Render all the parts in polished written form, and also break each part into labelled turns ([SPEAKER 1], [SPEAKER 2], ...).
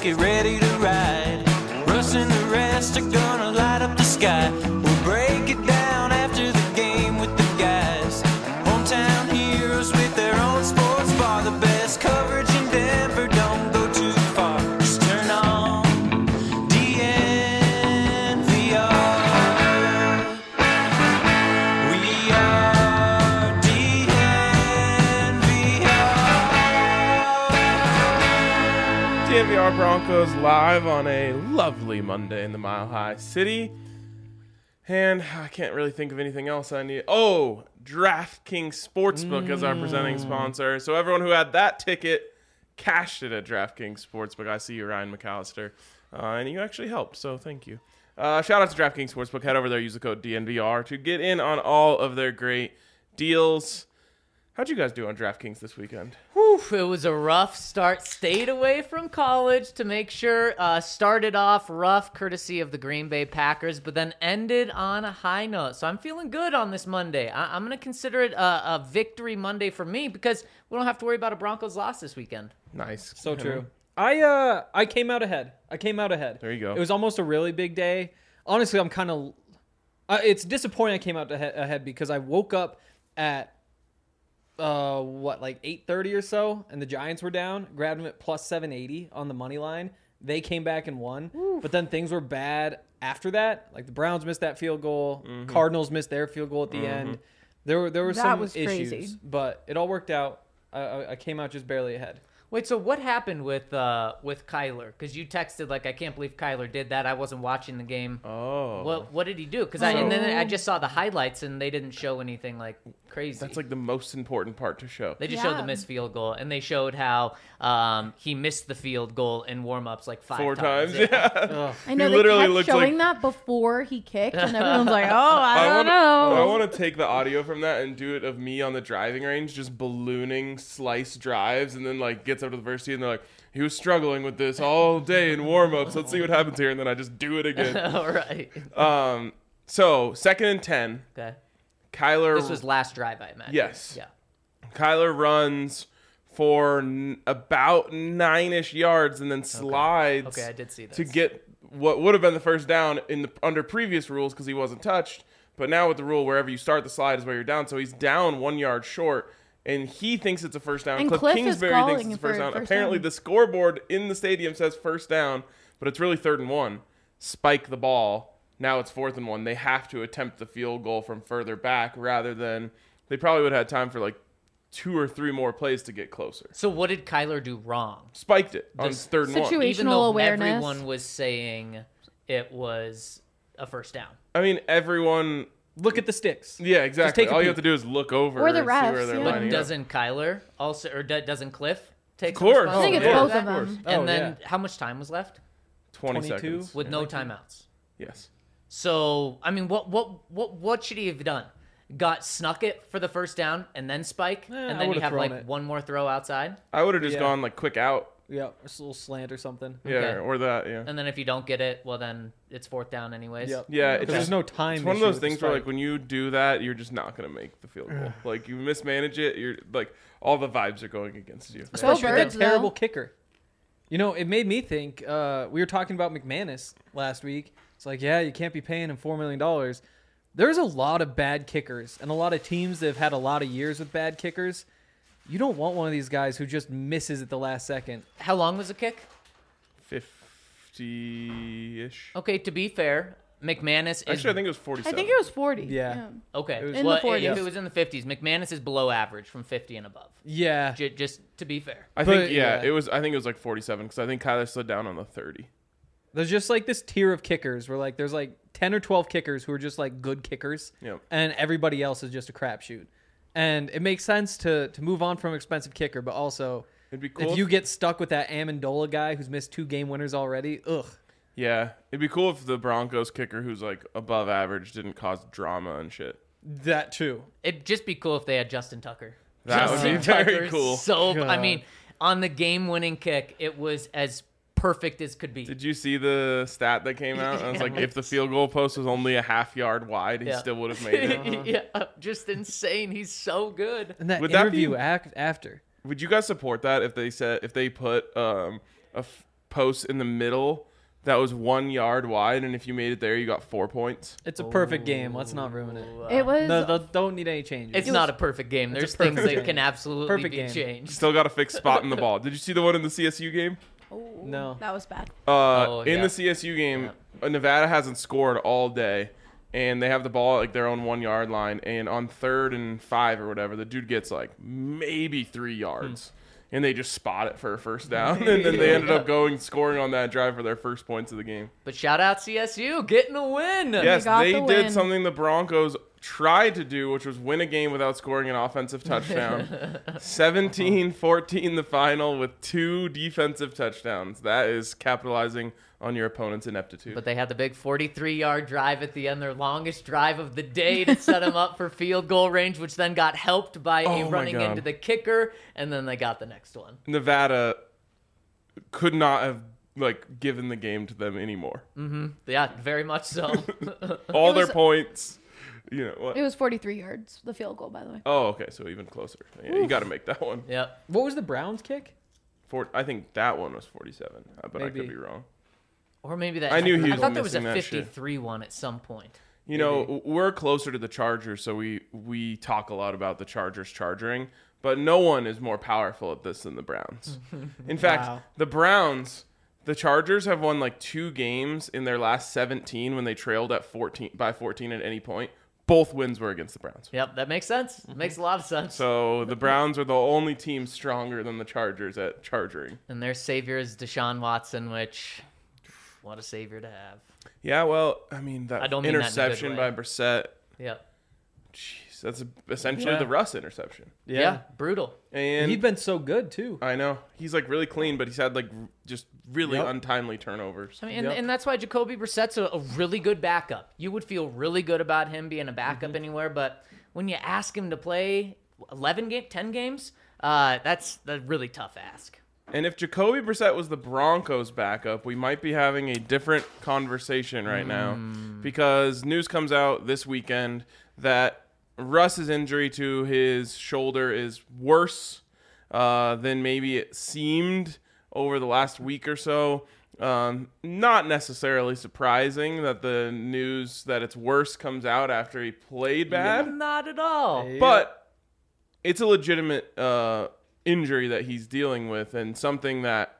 [SPEAKER 1] get ready to ride. Russ and the rest are gonna light up the sky. We'll break it down after the game with the guys. Hometown heroes with their own sports bar. The best coverage in Denver, don't go too far. Just turn on DNVR. We are
[SPEAKER 2] DNVR Broncos live on a lovely Monday in the Mile High City. And I can't really think of anything else I need. Oh, DraftKings Sportsbook as our presenting sponsor. So everyone who had that ticket cashed it at DraftKings Sportsbook. I see you, Ryan McAllister. And you actually helped, so thank you. Shout out to DraftKings Sportsbook. Head over there, use the code DNVR to get in on all of their great deals. How'd you guys do on DraftKings this weekend?
[SPEAKER 3] Whew, it was a rough start. Stayed away from college to make sure. Started off rough, courtesy of the Green Bay Packers, but then ended on a high note. So I'm feeling good on this Monday. I'm going to consider it a victory Monday for me because we don't have to worry about a Broncos loss this weekend.
[SPEAKER 2] Nice.
[SPEAKER 4] So true. I came out ahead.
[SPEAKER 2] There you go.
[SPEAKER 4] It was almost a really big day. Honestly, I'm kind of... it's disappointing I came out ahead because I woke up at... like 8:30 or so, and the Giants were down. Grabbed them at plus 780 on the money line. They came back and won. Oof. But then things were bad after that. Like the Browns missed that field goal. Mm-hmm. Cardinals missed their field goal at the end. There were some issues, crazy. But it all worked out. I came out just barely ahead.
[SPEAKER 3] Wait, so what happened with Kyler? Because you texted like, I can't believe Kyler did that. I wasn't watching the game.
[SPEAKER 2] Oh.
[SPEAKER 3] What did he do? Because and then I just saw the highlights and they didn't show anything like crazy.
[SPEAKER 2] That's like the most important part to show.
[SPEAKER 3] They just showed the missed field goal, and they showed how he missed the field goal in warm-ups like 4 times.
[SPEAKER 2] Yeah.
[SPEAKER 5] I know
[SPEAKER 2] he
[SPEAKER 5] they
[SPEAKER 2] literally
[SPEAKER 5] kept showing that before he kicked, and everyone's like, "Oh, I don't know."
[SPEAKER 2] I want to take the audio from that and do it of me on the driving range, just ballooning slice drives, and then like gets up to the first tee, and they're like, "He was struggling with this all day in warm-ups. Let's see what happens here," and then I just do it again.
[SPEAKER 3] All right.
[SPEAKER 2] So 2nd and 10.
[SPEAKER 3] Okay.
[SPEAKER 2] Kyler.
[SPEAKER 3] This was last drive, I imagine.
[SPEAKER 2] Yes.
[SPEAKER 3] Yeah.
[SPEAKER 2] Kyler runs for about 9-ish yards and then slides.
[SPEAKER 3] Okay, I did see this.
[SPEAKER 2] To get what would have been the first down under previous rules because he wasn't touched. But now with the rule, wherever you start the slide is where you're down. So he's down 1 yard short, and he thinks it's a first down.
[SPEAKER 5] And
[SPEAKER 2] Cliff
[SPEAKER 5] Cliff
[SPEAKER 2] Kingsbury thinks it's a first down. Apparently, the scoreboard in the stadium says first down, but it's really 3rd and 1. Spike the ball. Now it's 4th and 1. They have to attempt the field goal from further back rather than they probably would have had time for like 2 or 3 more plays to get closer.
[SPEAKER 3] So what did Kyler do wrong?
[SPEAKER 2] Spiked it on 3rd and 1.
[SPEAKER 5] Situational
[SPEAKER 3] Even though
[SPEAKER 5] awareness.
[SPEAKER 3] everyone was saying it was a first down.
[SPEAKER 2] I mean, everyone...
[SPEAKER 4] Look at the sticks.
[SPEAKER 2] Yeah, exactly.
[SPEAKER 4] Just take a
[SPEAKER 2] All you
[SPEAKER 4] peek.
[SPEAKER 2] have to do is look over
[SPEAKER 5] Or the
[SPEAKER 2] and see
[SPEAKER 5] refs,
[SPEAKER 2] where they're
[SPEAKER 5] yeah.
[SPEAKER 2] lining
[SPEAKER 3] But
[SPEAKER 2] up.
[SPEAKER 3] doesn't Kyler also, or doesn't Cliff take
[SPEAKER 2] Of course.
[SPEAKER 5] I think it's
[SPEAKER 3] responsibility?
[SPEAKER 5] both of them.
[SPEAKER 3] And
[SPEAKER 4] Oh,
[SPEAKER 3] then how much time was left?
[SPEAKER 2] 20
[SPEAKER 4] 22?
[SPEAKER 2] seconds.
[SPEAKER 3] With no timeouts.
[SPEAKER 2] Yes.
[SPEAKER 3] So, I mean, what should he have done? Snuck it for the first down and then spike? And
[SPEAKER 4] I
[SPEAKER 3] then you
[SPEAKER 4] would've
[SPEAKER 3] have
[SPEAKER 4] thrown
[SPEAKER 3] like
[SPEAKER 4] it.
[SPEAKER 3] one more throw outside?
[SPEAKER 2] I would have just
[SPEAKER 4] Yeah.
[SPEAKER 2] gone like quick out.
[SPEAKER 4] Yeah, a little slant or something.
[SPEAKER 2] Yeah,
[SPEAKER 3] Okay.
[SPEAKER 2] or that, yeah.
[SPEAKER 3] And then if you don't get it, well, then it's 4th down anyways.
[SPEAKER 4] Yep.
[SPEAKER 2] Yeah,
[SPEAKER 4] Because there's no time.
[SPEAKER 2] It's one of
[SPEAKER 4] issue
[SPEAKER 2] those
[SPEAKER 4] with the
[SPEAKER 2] things where,
[SPEAKER 4] spike.
[SPEAKER 2] like, when you do that, you're just not going to make the field goal. Like, you mismanage it, you're, like, all the vibes are going against you.
[SPEAKER 4] Especially with
[SPEAKER 5] Birds,
[SPEAKER 4] that terrible
[SPEAKER 5] though.
[SPEAKER 4] kicker. You know, it made me think, we were talking about McManus last week. It's like, yeah, you can't be paying him $4 million. There's a lot of bad kickers and a lot of teams that have had a lot of years with bad kickers. You don't want one of these guys who just misses at the last second.
[SPEAKER 3] How long was the kick?
[SPEAKER 2] 50-ish.
[SPEAKER 3] Okay, to be fair, McManus is...
[SPEAKER 2] Actually, I think it was 47.
[SPEAKER 5] I think it was 40.
[SPEAKER 4] Yeah.
[SPEAKER 3] Okay.
[SPEAKER 4] It was-
[SPEAKER 5] In the 40s.
[SPEAKER 3] If it was in the 50s, McManus is below average from 50 and above.
[SPEAKER 4] Yeah.
[SPEAKER 3] Just to be fair.
[SPEAKER 2] I think,
[SPEAKER 4] But,
[SPEAKER 2] yeah,
[SPEAKER 4] yeah.
[SPEAKER 2] I think it was like 47 because I think Kyler slid down on the 30.
[SPEAKER 4] There's just like this tier of kickers where like there's like 10 or 12 kickers who are just like good kickers.
[SPEAKER 2] Yep.
[SPEAKER 4] And everybody else is just a crapshoot. And it makes sense to move on from expensive kicker, but also
[SPEAKER 2] It'd be cool
[SPEAKER 4] if you get stuck with that Amendola guy who's missed 2 game winners already, ugh.
[SPEAKER 2] Yeah, it'd be cool if the Broncos kicker who's like above average didn't cause drama and shit.
[SPEAKER 4] That too.
[SPEAKER 3] It'd just be cool if they had Justin Tucker.
[SPEAKER 2] That would be
[SPEAKER 3] Justin
[SPEAKER 2] very
[SPEAKER 3] Tucker,
[SPEAKER 2] cool.
[SPEAKER 3] So, I
[SPEAKER 4] God.
[SPEAKER 3] mean, on the game-winning kick, it was as perfect as could be.
[SPEAKER 2] Did you see the stat that came out? I was like, if the field goal post was only a half yard wide, he
[SPEAKER 3] Yeah.
[SPEAKER 2] still would have made it.
[SPEAKER 3] Yeah, just insane. He's so good.
[SPEAKER 4] And that
[SPEAKER 2] Would that
[SPEAKER 4] interview
[SPEAKER 2] be-
[SPEAKER 4] after.
[SPEAKER 2] Would you guys support that if they put post in the middle that was 1 yard wide, and if you made it there, you got 4 points.
[SPEAKER 4] It's a perfect game. Let's not ruin it.
[SPEAKER 5] It was.
[SPEAKER 4] No, don't need any changes.
[SPEAKER 3] It's not a perfect game. There's
[SPEAKER 4] a
[SPEAKER 3] things
[SPEAKER 4] perfect
[SPEAKER 3] that
[SPEAKER 4] game.
[SPEAKER 3] can absolutely
[SPEAKER 4] Perfect
[SPEAKER 3] be
[SPEAKER 4] game.
[SPEAKER 3] changed.
[SPEAKER 2] Still got a fixed spot in the ball. Did you see the one in the CSU game?
[SPEAKER 4] No.
[SPEAKER 5] That was bad.
[SPEAKER 2] In
[SPEAKER 3] yeah.
[SPEAKER 2] the CSU game, Nevada hasn't scored all day, and they have the ball at like their own 1 yard line. And on 3rd and 5 or whatever, the dude gets like maybe 3 yards, and they just spot it for a first down. And then they ended up scoring on that drive for their first points of the game.
[SPEAKER 3] But shout out CSU getting a win.
[SPEAKER 2] Yes,
[SPEAKER 5] got
[SPEAKER 2] they
[SPEAKER 5] the
[SPEAKER 2] did
[SPEAKER 5] win.
[SPEAKER 2] something the Broncos tried to do, which was win a game without scoring an offensive touchdown. 17-14 the final with 2 defensive touchdowns. That is capitalizing on your opponent's ineptitude.
[SPEAKER 3] But they had the big 43-yard drive at the end, their longest drive of the day to set them up for field goal range, which then got helped by
[SPEAKER 2] Oh
[SPEAKER 3] a
[SPEAKER 2] my
[SPEAKER 3] running
[SPEAKER 2] God.
[SPEAKER 3] into the kicker, and then they got the next one.
[SPEAKER 2] Nevada could not have given the game to them anymore.
[SPEAKER 3] Yeah, very much so.
[SPEAKER 2] All their
[SPEAKER 5] was-
[SPEAKER 2] points. You know what?
[SPEAKER 5] It was 43 yards, the field goal, by the way.
[SPEAKER 2] Oh, okay, so even closer. Yeah, you got to make that one.
[SPEAKER 3] Yep.
[SPEAKER 4] What was the Browns kick?
[SPEAKER 2] I think that one was 47, but I
[SPEAKER 4] Maybe.
[SPEAKER 2] could be wrong.
[SPEAKER 3] Or maybe that.
[SPEAKER 2] I knew he
[SPEAKER 3] I
[SPEAKER 2] was
[SPEAKER 3] thought there was a
[SPEAKER 2] missing that shit.
[SPEAKER 3] 53 one at some point.
[SPEAKER 2] You know, we're closer to the Chargers, so we talk a lot about the Chargers charging, but no one is more powerful at this than the Browns. In fact,
[SPEAKER 4] Wow.
[SPEAKER 2] the Chargers have won like 2 games in their last 17 when they trailed at 14 at any point. Both wins were against the Browns.
[SPEAKER 3] Yep, that makes sense. Makes a lot of sense.
[SPEAKER 2] So the Browns are the only team stronger than the Chargers at charging.
[SPEAKER 3] And their savior is Deshaun Watson, which, what a savior to have.
[SPEAKER 2] Yeah, well, I mean, that
[SPEAKER 3] I don't mean that in a good
[SPEAKER 2] interception
[SPEAKER 3] way.
[SPEAKER 2] by Brissett,
[SPEAKER 3] Yep.
[SPEAKER 2] jeez, that's essentially
[SPEAKER 4] Yeah.
[SPEAKER 2] the Russ interception.
[SPEAKER 3] Yeah, brutal.
[SPEAKER 2] And
[SPEAKER 4] He'd been so good too.
[SPEAKER 2] I know. He's like really clean, but he's had like just really
[SPEAKER 4] Yep.
[SPEAKER 2] untimely turnovers.
[SPEAKER 3] I mean,
[SPEAKER 4] Yep.
[SPEAKER 3] and that's why Jacoby Brissett's a really good backup. You would feel really good about him being a backup anywhere, but when you ask him to play 10 games, that's a really tough ask.
[SPEAKER 2] And if Jacoby Brissett was the Broncos backup, we might be having a different conversation right now, because news comes out this weekend that Russ's injury to his shoulder is worse than maybe it seemed over the last week or so. Not necessarily surprising that the news that it's worse comes out after he played bad,
[SPEAKER 3] Not at all.
[SPEAKER 2] but it's a legitimate injury that he's dealing with, and something that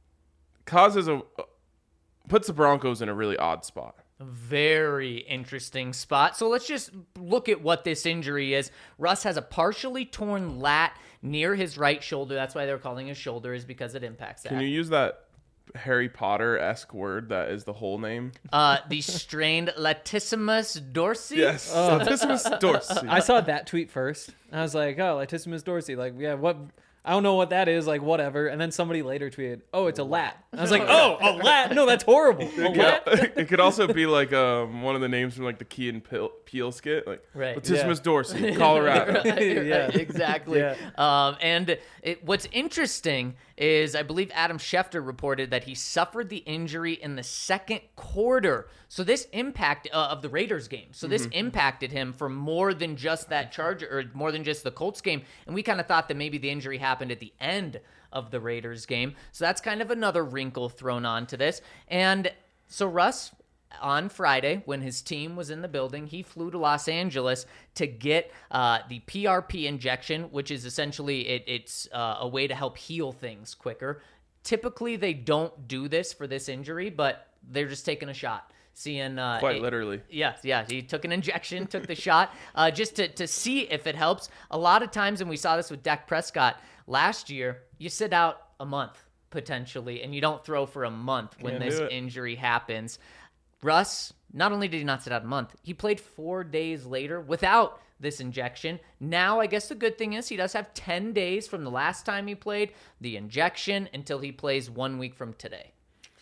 [SPEAKER 2] puts the Broncos in a really odd spot.
[SPEAKER 3] Very interesting spot. So let's just look at what this injury is. Russ has a partially torn lat near his right shoulder. That's why they're calling his shoulder, is because it impacts that.
[SPEAKER 2] Can you use that Harry Potter-esque word that is the whole name?
[SPEAKER 3] The strained latissimus dorsi.
[SPEAKER 2] Yes. Latissimus dorsi.
[SPEAKER 4] I saw that tweet first. I was like, oh, latissimus dorsi. Like, yeah, what? I don't know what that is. Like, whatever. And then somebody later tweeted, oh, it's a lat. I was like, oh, a lat? No, that's horrible. A lat?
[SPEAKER 2] It could also be like one of the names from like the Key and Peele skit, like
[SPEAKER 3] Right.
[SPEAKER 2] Latissimus dorsi, Colorado.
[SPEAKER 4] Yeah.
[SPEAKER 3] Exactly.
[SPEAKER 4] Yeah.
[SPEAKER 3] And what's interesting is I believe Adam Schefter reported that he suffered the injury in the second quarter. So this impact of the Raiders game. So this impacted him for more than just that Charger, or more than just the Colts game. And we kind of thought that maybe the injury happened at the end of the Raiders game. So that's kind of another wrinkle thrown onto this. And so Russ, on Friday, when his team was in the building, he flew to Los Angeles to get the PRP injection, which is essentially it's a way to help heal things quicker. Typically, they don't do this for this injury, but they're just taking a shot. Seeing
[SPEAKER 2] Quite literally.
[SPEAKER 3] Yeah. He took an injection, took the shot, just to see if it helps. A lot of times, and we saw this with Dak Prescott last year, you sit out a month potentially, and you don't throw for a month when
[SPEAKER 2] Can't
[SPEAKER 3] this
[SPEAKER 2] do it.
[SPEAKER 3] injury happens. Russ, not only did he not sit out a month, he played 4 days later without this injection. Now, I guess the good thing is he does have 10 days from the last time he played the injection until he plays 1 week from today.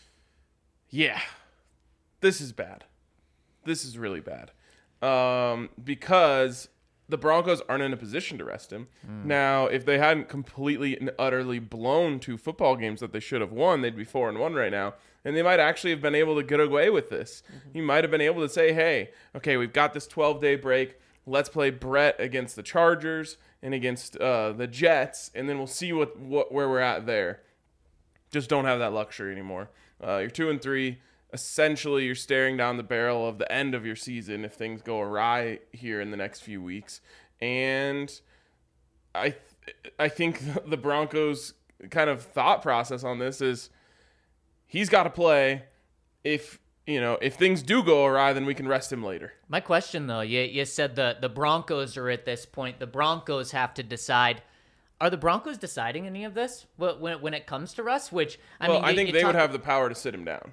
[SPEAKER 2] Yeah, this is bad. This is really bad. Because the Broncos aren't in a position to rest him. Now, if they hadn't completely and utterly blown 2 football games that they should have won, they'd be 4-1 right now. And they might actually have been able to get away with this. He might have been able to say, hey, okay, we've got this 12-day break. Let's play Brett against the Chargers and against the Jets, and then we'll see where we're at there. just don't have that luxury anymore. You're 2-3. Essentially, you're staring down the barrel of the end of your season if things go awry here in the next few weeks. And I think the Broncos' kind of thought process on this is he's got to play. If things do go awry, then we can rest him later.
[SPEAKER 3] My question, though, you said the Broncos are at this point. The Broncos have to decide. Are the Broncos deciding any of this when it comes to Russ? Which,
[SPEAKER 2] I think they would have the power to sit him down.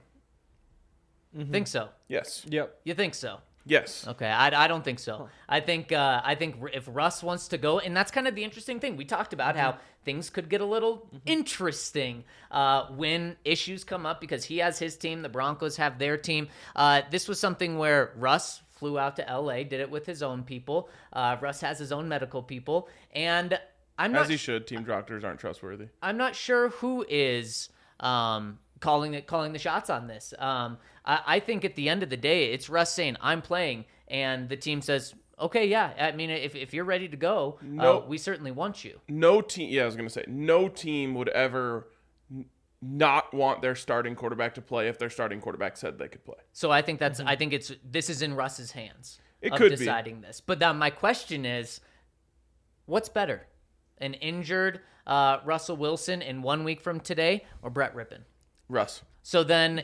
[SPEAKER 3] Think so?
[SPEAKER 2] Yes.
[SPEAKER 4] Yep.
[SPEAKER 3] You think so?
[SPEAKER 2] Yes.
[SPEAKER 3] Okay, I don't think so. I think if Russ wants to go, and that's kind of the interesting thing. We talked about how things could get a little interesting when issues come up because he has his team, the Broncos have their team. This was something where Russ flew out to L.A., did it with his own people. Russ has his own medical people, and I'm not.
[SPEAKER 2] As he should. Team doctors aren't trustworthy.
[SPEAKER 3] I'm not sure who is calling the shots on this. I think at the end of the day, it's Russ saying, I'm playing, and the team says, okay, yeah. I mean, if you're ready to go, we certainly want you.
[SPEAKER 2] No team, I was going to say, no team would ever not want their starting quarterback to play if their starting quarterback said they could play.
[SPEAKER 3] So I think this is in Russ's hands.
[SPEAKER 2] It could be
[SPEAKER 3] deciding this. But then my question is, what's better? An injured Russell Wilson in 1 week from today or Brett Rippon?
[SPEAKER 2] Russ.
[SPEAKER 3] So then,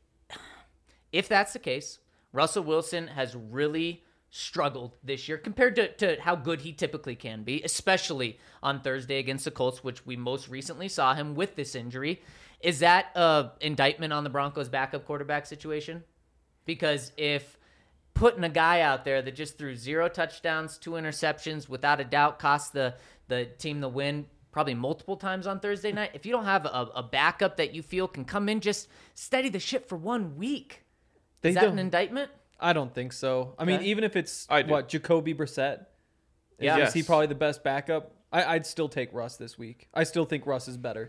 [SPEAKER 3] if that's the case, Russell Wilson has really struggled this year compared to how good he typically can be, especially on Thursday against the Colts, which we most recently saw him with this injury. Is that an indictment on the Broncos' backup quarterback situation? Because if putting a guy out there that just threw 0 touchdowns, 2 interceptions, without a doubt cost the team the win probably multiple times on Thursday night, if you don't have a backup that you feel can come in, just steady the ship for 1 week, is that an indictment?
[SPEAKER 4] I don't think so. I mean, even if it's, Jacoby Brissett?
[SPEAKER 2] Yes.
[SPEAKER 4] Is he probably the best backup? I'd still take Russ this week. I still think Russ is better.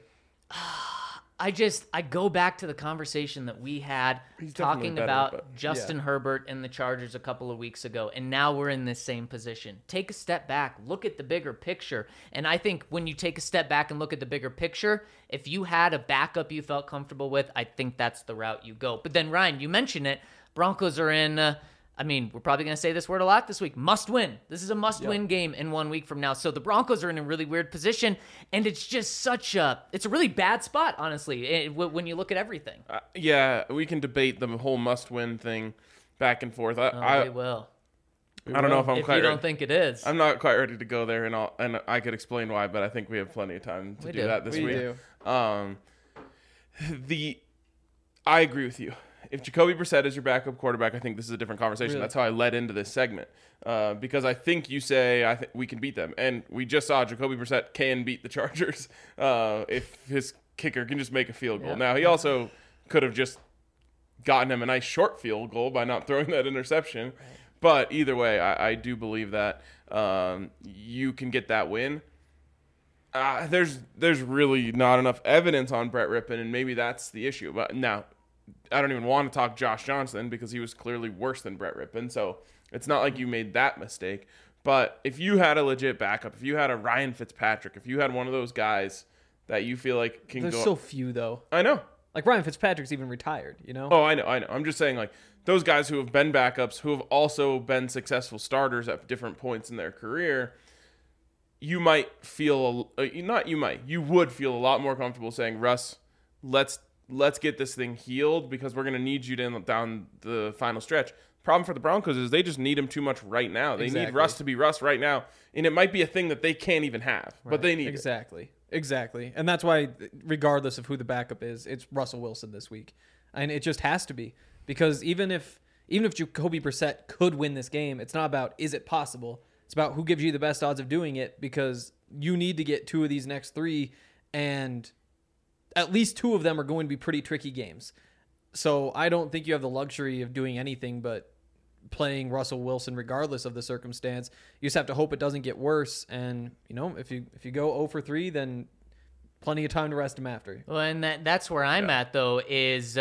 [SPEAKER 3] I go back to the conversation that we had talking about Justin Herbert and the Chargers a couple of weeks ago, and now we're in this same position. Take a step back, look at the bigger picture, and I think when you take a step back and look at the bigger picture, if you had a backup you felt comfortable with, I think that's the route you go. But then, Ryan, you mentioned it, Broncos are in, we're probably going to say this word a lot this week, must win. This is a must-win game in 1 week from now. So the Broncos are in a really weird position, and it's just it's a really bad spot, honestly, when you look at everything.
[SPEAKER 2] We can debate the whole must-win thing back and forth.
[SPEAKER 3] We will.
[SPEAKER 2] I don't know if I'm
[SPEAKER 3] if
[SPEAKER 2] quite
[SPEAKER 3] you
[SPEAKER 2] ready.
[SPEAKER 3] don't think it is.
[SPEAKER 2] I'm not quite ready to go there, and I could explain why, but I think we have plenty of time to do that this week. I agree with you. If Jacoby Brissett is your backup quarterback, I think this is a different conversation. Really? That's how I led into this segment. Because I think you say, I think we can beat them. And we just saw Jacoby Brissett can beat the Chargers if his kicker can just make a field goal. Yeah. Now, he also could have just gotten him a nice short field goal by not throwing that interception. Right. But either way, I do believe that you can get that win. There's really not enough evidence on Brett Rippon, and maybe that's the issue. But now, I don't even want to talk Josh Johnson because he was clearly worse than Brett Rippon. So it's not like you made that mistake. But if you had a legit backup, if you had a Ryan Fitzpatrick, if you had one of those guys that you feel like can
[SPEAKER 4] There's
[SPEAKER 2] go.
[SPEAKER 4] so few, though.
[SPEAKER 2] I know.
[SPEAKER 4] Like Ryan Fitzpatrick's even retired, you know?
[SPEAKER 2] Oh, I know. I'm just saying, like, those guys who have been backups, who have also been successful starters at different points in their career, you might feel, you would feel a lot more comfortable saying, Russ, let's get this thing healed because we're going to need you down the final stretch. Problem for the Broncos is they just need him too much right now. They need Russ to be Russ right now. And it might be a thing that they can't even have, but they need it.
[SPEAKER 4] Exactly. And that's why, regardless of who the backup is, it's Russell Wilson this week. And it just has to be. Because even if Jacoby Brissett could win this game, it's not about is it possible. It's about who gives you the best odds of doing it, because you need to get 2 of these next 3, and at least 2 of them are going to be pretty tricky games. So I don't think you have the luxury of doing anything but playing Russell Wilson regardless of the circumstance. You just have to hope it doesn't get worse. And, if you go 0 for 3, then plenty of time to rest him after.
[SPEAKER 3] Well, and that's where I'm at, though, is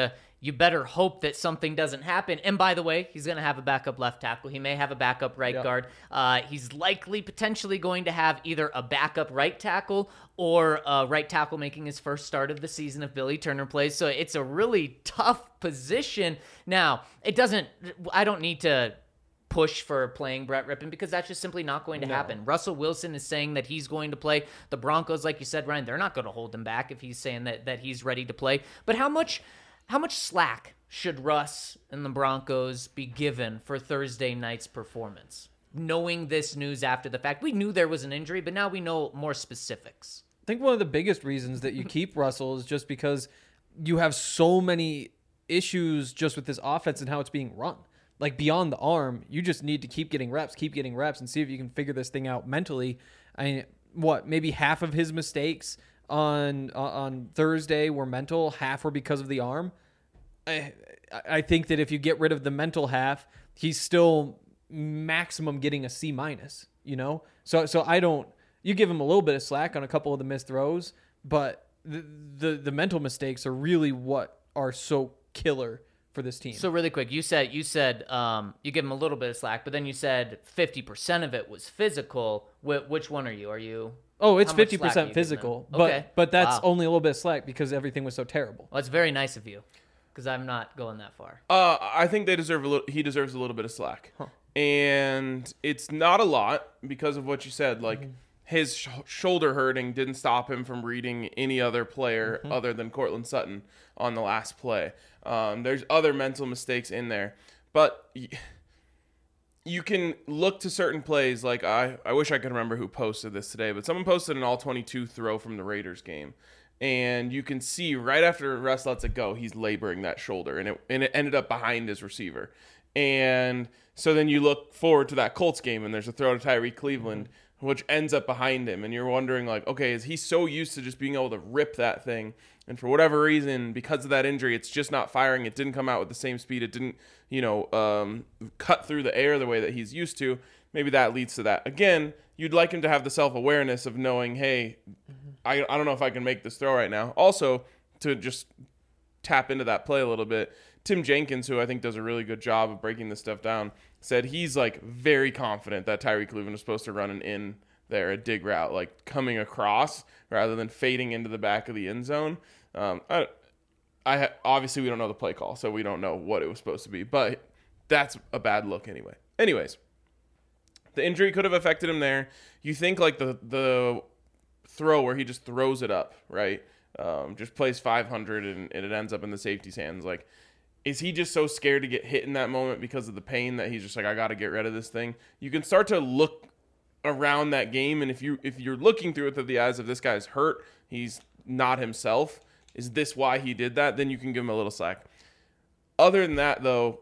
[SPEAKER 3] you better hope that something doesn't happen. And by the way, he's going to have a backup left tackle. He may have a backup right guard. He's likely potentially going to have either a backup right tackle or a right tackle making his first start of the season if Billy Turner plays. So it's a really tough position. Now, I don't need to push for playing Brett Rippon because that's just simply not going to happen. Russell Wilson is saying that he's going to play. The Broncos, like you said, Ryan, they're not going to hold him back if he's saying that he's ready to play. But how much slack should Russ and the Broncos be given for Thursday night's performance? Knowing this news after the fact, we knew there was an injury, but now we know more specifics.
[SPEAKER 4] I think one of the biggest reasons that you keep Russell is just because you have so many issues just with this offense and how it's being run. Like beyond the arm, you just need to keep getting reps and see if you can figure this thing out mentally. I mean, maybe half of his mistakes on Thursday were mental, half were because of the arm. I think that if you get rid of the mental half, he's still maximum getting a C-, you know? So I don't, you give him a little bit of slack on a couple of the missed throws, but the mental mistakes are really what are so killer for this team.
[SPEAKER 3] So really quick, you said you give him a little bit of slack, but then you said 50% of it was physical. Which one are you? Are you?
[SPEAKER 4] Oh, it's 50% physical, but that's only a little bit of slack because everything was so terrible.
[SPEAKER 3] Well, that's very nice of you, because I'm not going that far.
[SPEAKER 2] I think he deserves a little bit of slack, and it's not a lot because of what you said. Like his shoulder hurting didn't stop him from reading any other player other than Cortland Sutton on the last play. There's other mental mistakes in there, but you can look to certain plays. Like I wish I could remember who posted this today, but someone posted an all-22 throw from the Raiders game, and you can see right after Russ lets it go, he's laboring that shoulder, and it ended up behind his receiver. And so then you look forward to that Colts game, and there's a throw to Tyreek Cleveland, which ends up behind him, and you're wondering, like, okay, is he so used to just being able to rip that thing, and for whatever reason, because of that injury, it's just not firing, it didn't come out with the same speed, it didn't, cut through the air the way that he's used to. Maybe that leads to that. Again, you'd like him to have the self-awareness of knowing, hey, I don't know if I can make this throw right now. Also, to just tap into that play a little bit, Tim Jenkins, who I think does a really good job of breaking this stuff down, said he's like very confident that Tyreek Cleveland was supposed to run an in there, a dig route, like coming across rather than fading into the back of the end zone. Obviously we don't know the play call, so we don't know what it was supposed to be, but that's a bad look anyway. Anyways, the injury could have affected him there. You think like the throw where he just throws it up, right? Just plays 500 and it ends up in the safety's hands. Like, is he just so scared to get hit in that moment because of the pain that he's just like, I got to get rid of this thing? You can start to look around that game, and if you're looking through it through the eyes of this guy's hurt, he's not himself, is this why he did that? Then you can give him a little slack. Other than that, though,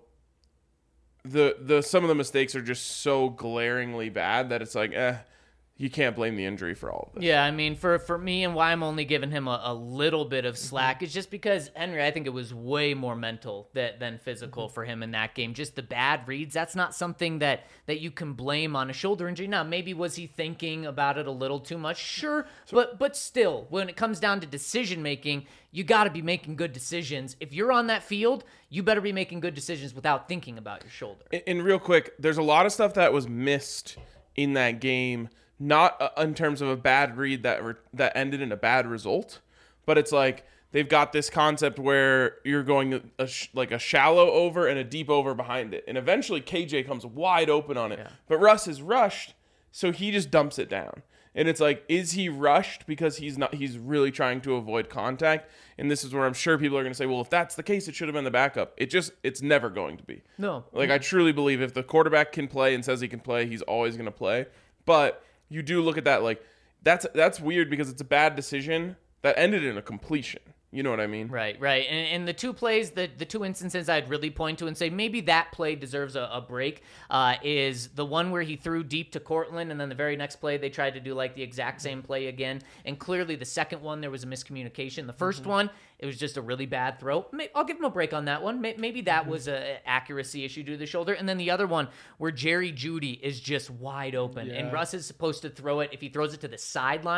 [SPEAKER 2] the some of the mistakes are just so glaringly bad that it's like, you can't blame the injury for all of this.
[SPEAKER 3] Yeah, I mean, for me and why I'm only giving him a little bit of slack is just because, Henry, I think it was way more mental than physical for him in that game. Just the bad reads, that's not something that you can blame on a shoulder injury. Now, maybe was he thinking about it a little too much? Sure, but still, when it comes down to decision-making, you got to be making good decisions. If you're on that field, you better be making good decisions without thinking about your shoulder.
[SPEAKER 2] And real quick, there's a lot of stuff that was missed in that game, not in terms of a bad read that ended in a bad result, but it's like they've got this concept where you're going like a shallow over and a deep over behind it, and eventually KJ comes wide open on it. Yeah. But Russ is rushed, so he just dumps it down. And it's like, is he rushed because he's really trying to avoid contact? And this is where I'm sure people are going to say, well, if that's the case, it should have been the backup. It's never going to be.
[SPEAKER 3] No.
[SPEAKER 2] Like, I truly believe if the quarterback can play and says he can play, he's always going to play. But you do look at that like, that's weird because it's a bad decision that ended in a completion. You know what I mean?
[SPEAKER 3] Right. And the two plays, the two instances I'd really point to and say maybe that play deserves a break is the one where he threw deep to Cortland, and then the very next play they tried to do like the exact same play again. And clearly the second one, there was a miscommunication. The first one, it was just a really bad throw. I'll give him a break on that one. Maybe that was an accuracy issue due to the shoulder. And then the other one where Jerry Jeudy is just wide open, and Russ is supposed to throw it. If he throws it to the sideline,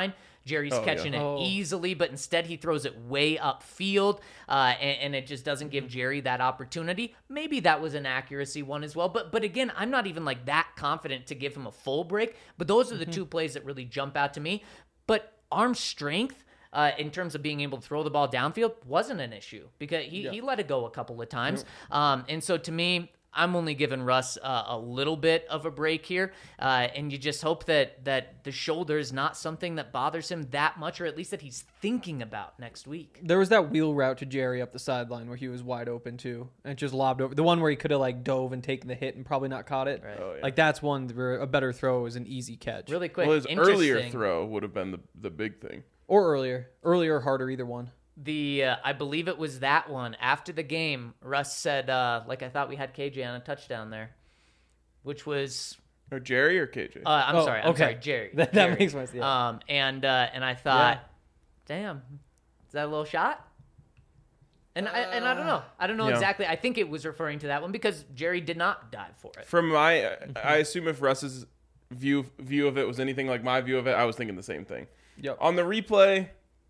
[SPEAKER 3] Jerry's
[SPEAKER 2] Oh,
[SPEAKER 3] catching
[SPEAKER 2] yeah.
[SPEAKER 3] it easily, but instead he throws it way upfield, and it just doesn't give Jerry that opportunity. Maybe that was an accuracy one as well, but again, I'm not even like that confident to give him a full break, but those are the two plays that really jump out to me. But arm strength, in terms of being able to throw the ball downfield, wasn't an issue because he let it go a couple of times. And so to me, I'm only giving Russ a little bit of a break here, and you just hope that the shoulder is not something that bothers him that much, or at least that he's thinking about next week.
[SPEAKER 4] There was that wheel route to Jerry up the sideline where he was wide open too, and just lobbed over. The one where he could have like dove and taken the hit and probably not caught it.
[SPEAKER 3] Right.
[SPEAKER 2] Oh, yeah.
[SPEAKER 4] Like that's one where a better throw is an easy catch.
[SPEAKER 3] Really quick,
[SPEAKER 2] Well, his earlier
[SPEAKER 3] interesting.
[SPEAKER 2] throw would have been the big thing.
[SPEAKER 4] Or earlier or harder, either one.
[SPEAKER 3] I believe it was that one after the game. Russ said, "Like I thought we had KJ on a touchdown there," which was
[SPEAKER 2] Or Jerry or KJ?
[SPEAKER 3] I'm sorry,
[SPEAKER 4] okay.
[SPEAKER 3] Jerry.
[SPEAKER 4] That
[SPEAKER 3] Jerry.
[SPEAKER 4] makes more sense. Yeah.
[SPEAKER 3] And I thought, damn, is that a little shot? And I don't know. I don't know
[SPEAKER 2] Yeah.
[SPEAKER 3] exactly. I think it was referring to that one because Jerry did not dive for it.
[SPEAKER 2] From my, I assume if Russ's view of it was anything like my view of it, I was thinking the same thing.
[SPEAKER 4] Yep.
[SPEAKER 2] On the replay,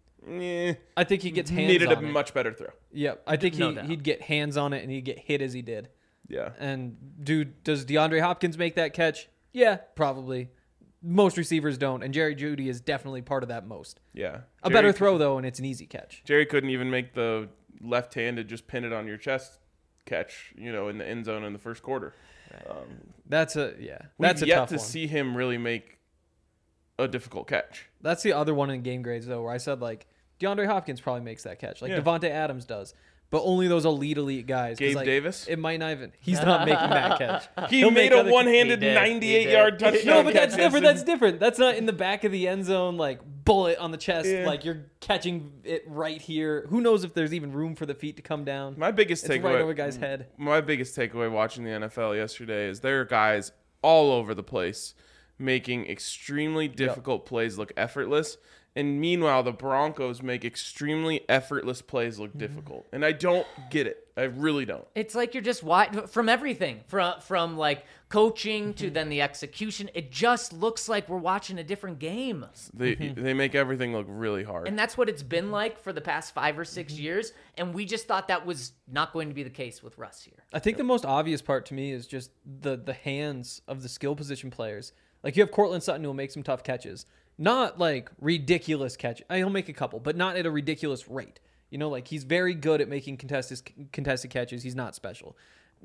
[SPEAKER 4] I think he gets hands
[SPEAKER 2] needed a
[SPEAKER 4] on it.
[SPEAKER 2] much better throw.
[SPEAKER 4] Yep. I think
[SPEAKER 3] No doubt.
[SPEAKER 4] he'd get hands on it and he'd get hit as he did.
[SPEAKER 2] Yeah.
[SPEAKER 4] And does DeAndre Hopkins make that catch? Yeah, probably. Most receivers don't, and Jerry Jeudy is definitely part of that most.
[SPEAKER 2] Yeah.
[SPEAKER 4] A better throw though, and it's an easy catch.
[SPEAKER 2] Jerry couldn't even make the left-handed just pin it on your chest catch, in the end zone in the first quarter.
[SPEAKER 4] That's a
[SPEAKER 2] We've yet
[SPEAKER 4] tough
[SPEAKER 2] to
[SPEAKER 4] one.
[SPEAKER 2] see him really make a difficult catch.
[SPEAKER 4] That's the other one in game grades though, where I said like DeAndre Hopkins probably makes that catch, like
[SPEAKER 2] Yeah.
[SPEAKER 4] Devontae Adams does, but only those elite guys. 'Cause,
[SPEAKER 2] Gabe
[SPEAKER 4] like,
[SPEAKER 2] Davis?
[SPEAKER 4] it might not even. He's not making that catch.
[SPEAKER 2] He
[SPEAKER 4] He'll
[SPEAKER 2] made
[SPEAKER 4] make
[SPEAKER 2] a
[SPEAKER 4] other-
[SPEAKER 2] one-handed
[SPEAKER 3] He did.
[SPEAKER 2] 98-yard
[SPEAKER 3] He did.
[SPEAKER 2] touchdown.
[SPEAKER 4] No, but that's
[SPEAKER 2] catch.
[SPEAKER 4] different. That's different. That's not in the back of the end zone, like bullet on the chest.
[SPEAKER 2] Yeah.
[SPEAKER 4] Like you're catching it right here. Who knows if there's even room for the feet to come down?
[SPEAKER 2] My biggest
[SPEAKER 4] It's
[SPEAKER 2] takeaway,
[SPEAKER 4] right over a guy's head.
[SPEAKER 2] My biggest takeaway watching the NFL yesterday is there are guys all over the place making extremely difficult plays look effortless. And meanwhile, the Broncos make extremely effortless plays look difficult. And I don't get it. I really don't.
[SPEAKER 3] It's like you're just from everything, from like coaching to then the execution. It just looks like we're watching a different game.
[SPEAKER 2] They make everything look really hard.
[SPEAKER 3] And that's what it's been like for the past 5 or 6 years. And we just thought that was not going to be the case with Russ here.
[SPEAKER 4] I think the most obvious part to me is just the hands of the skill position players. Like you have Cortland Sutton who will make some tough catches. Not like ridiculous catch. He'll make a couple, but not at a ridiculous rate. Like he's very good at making contested catches. He's not special.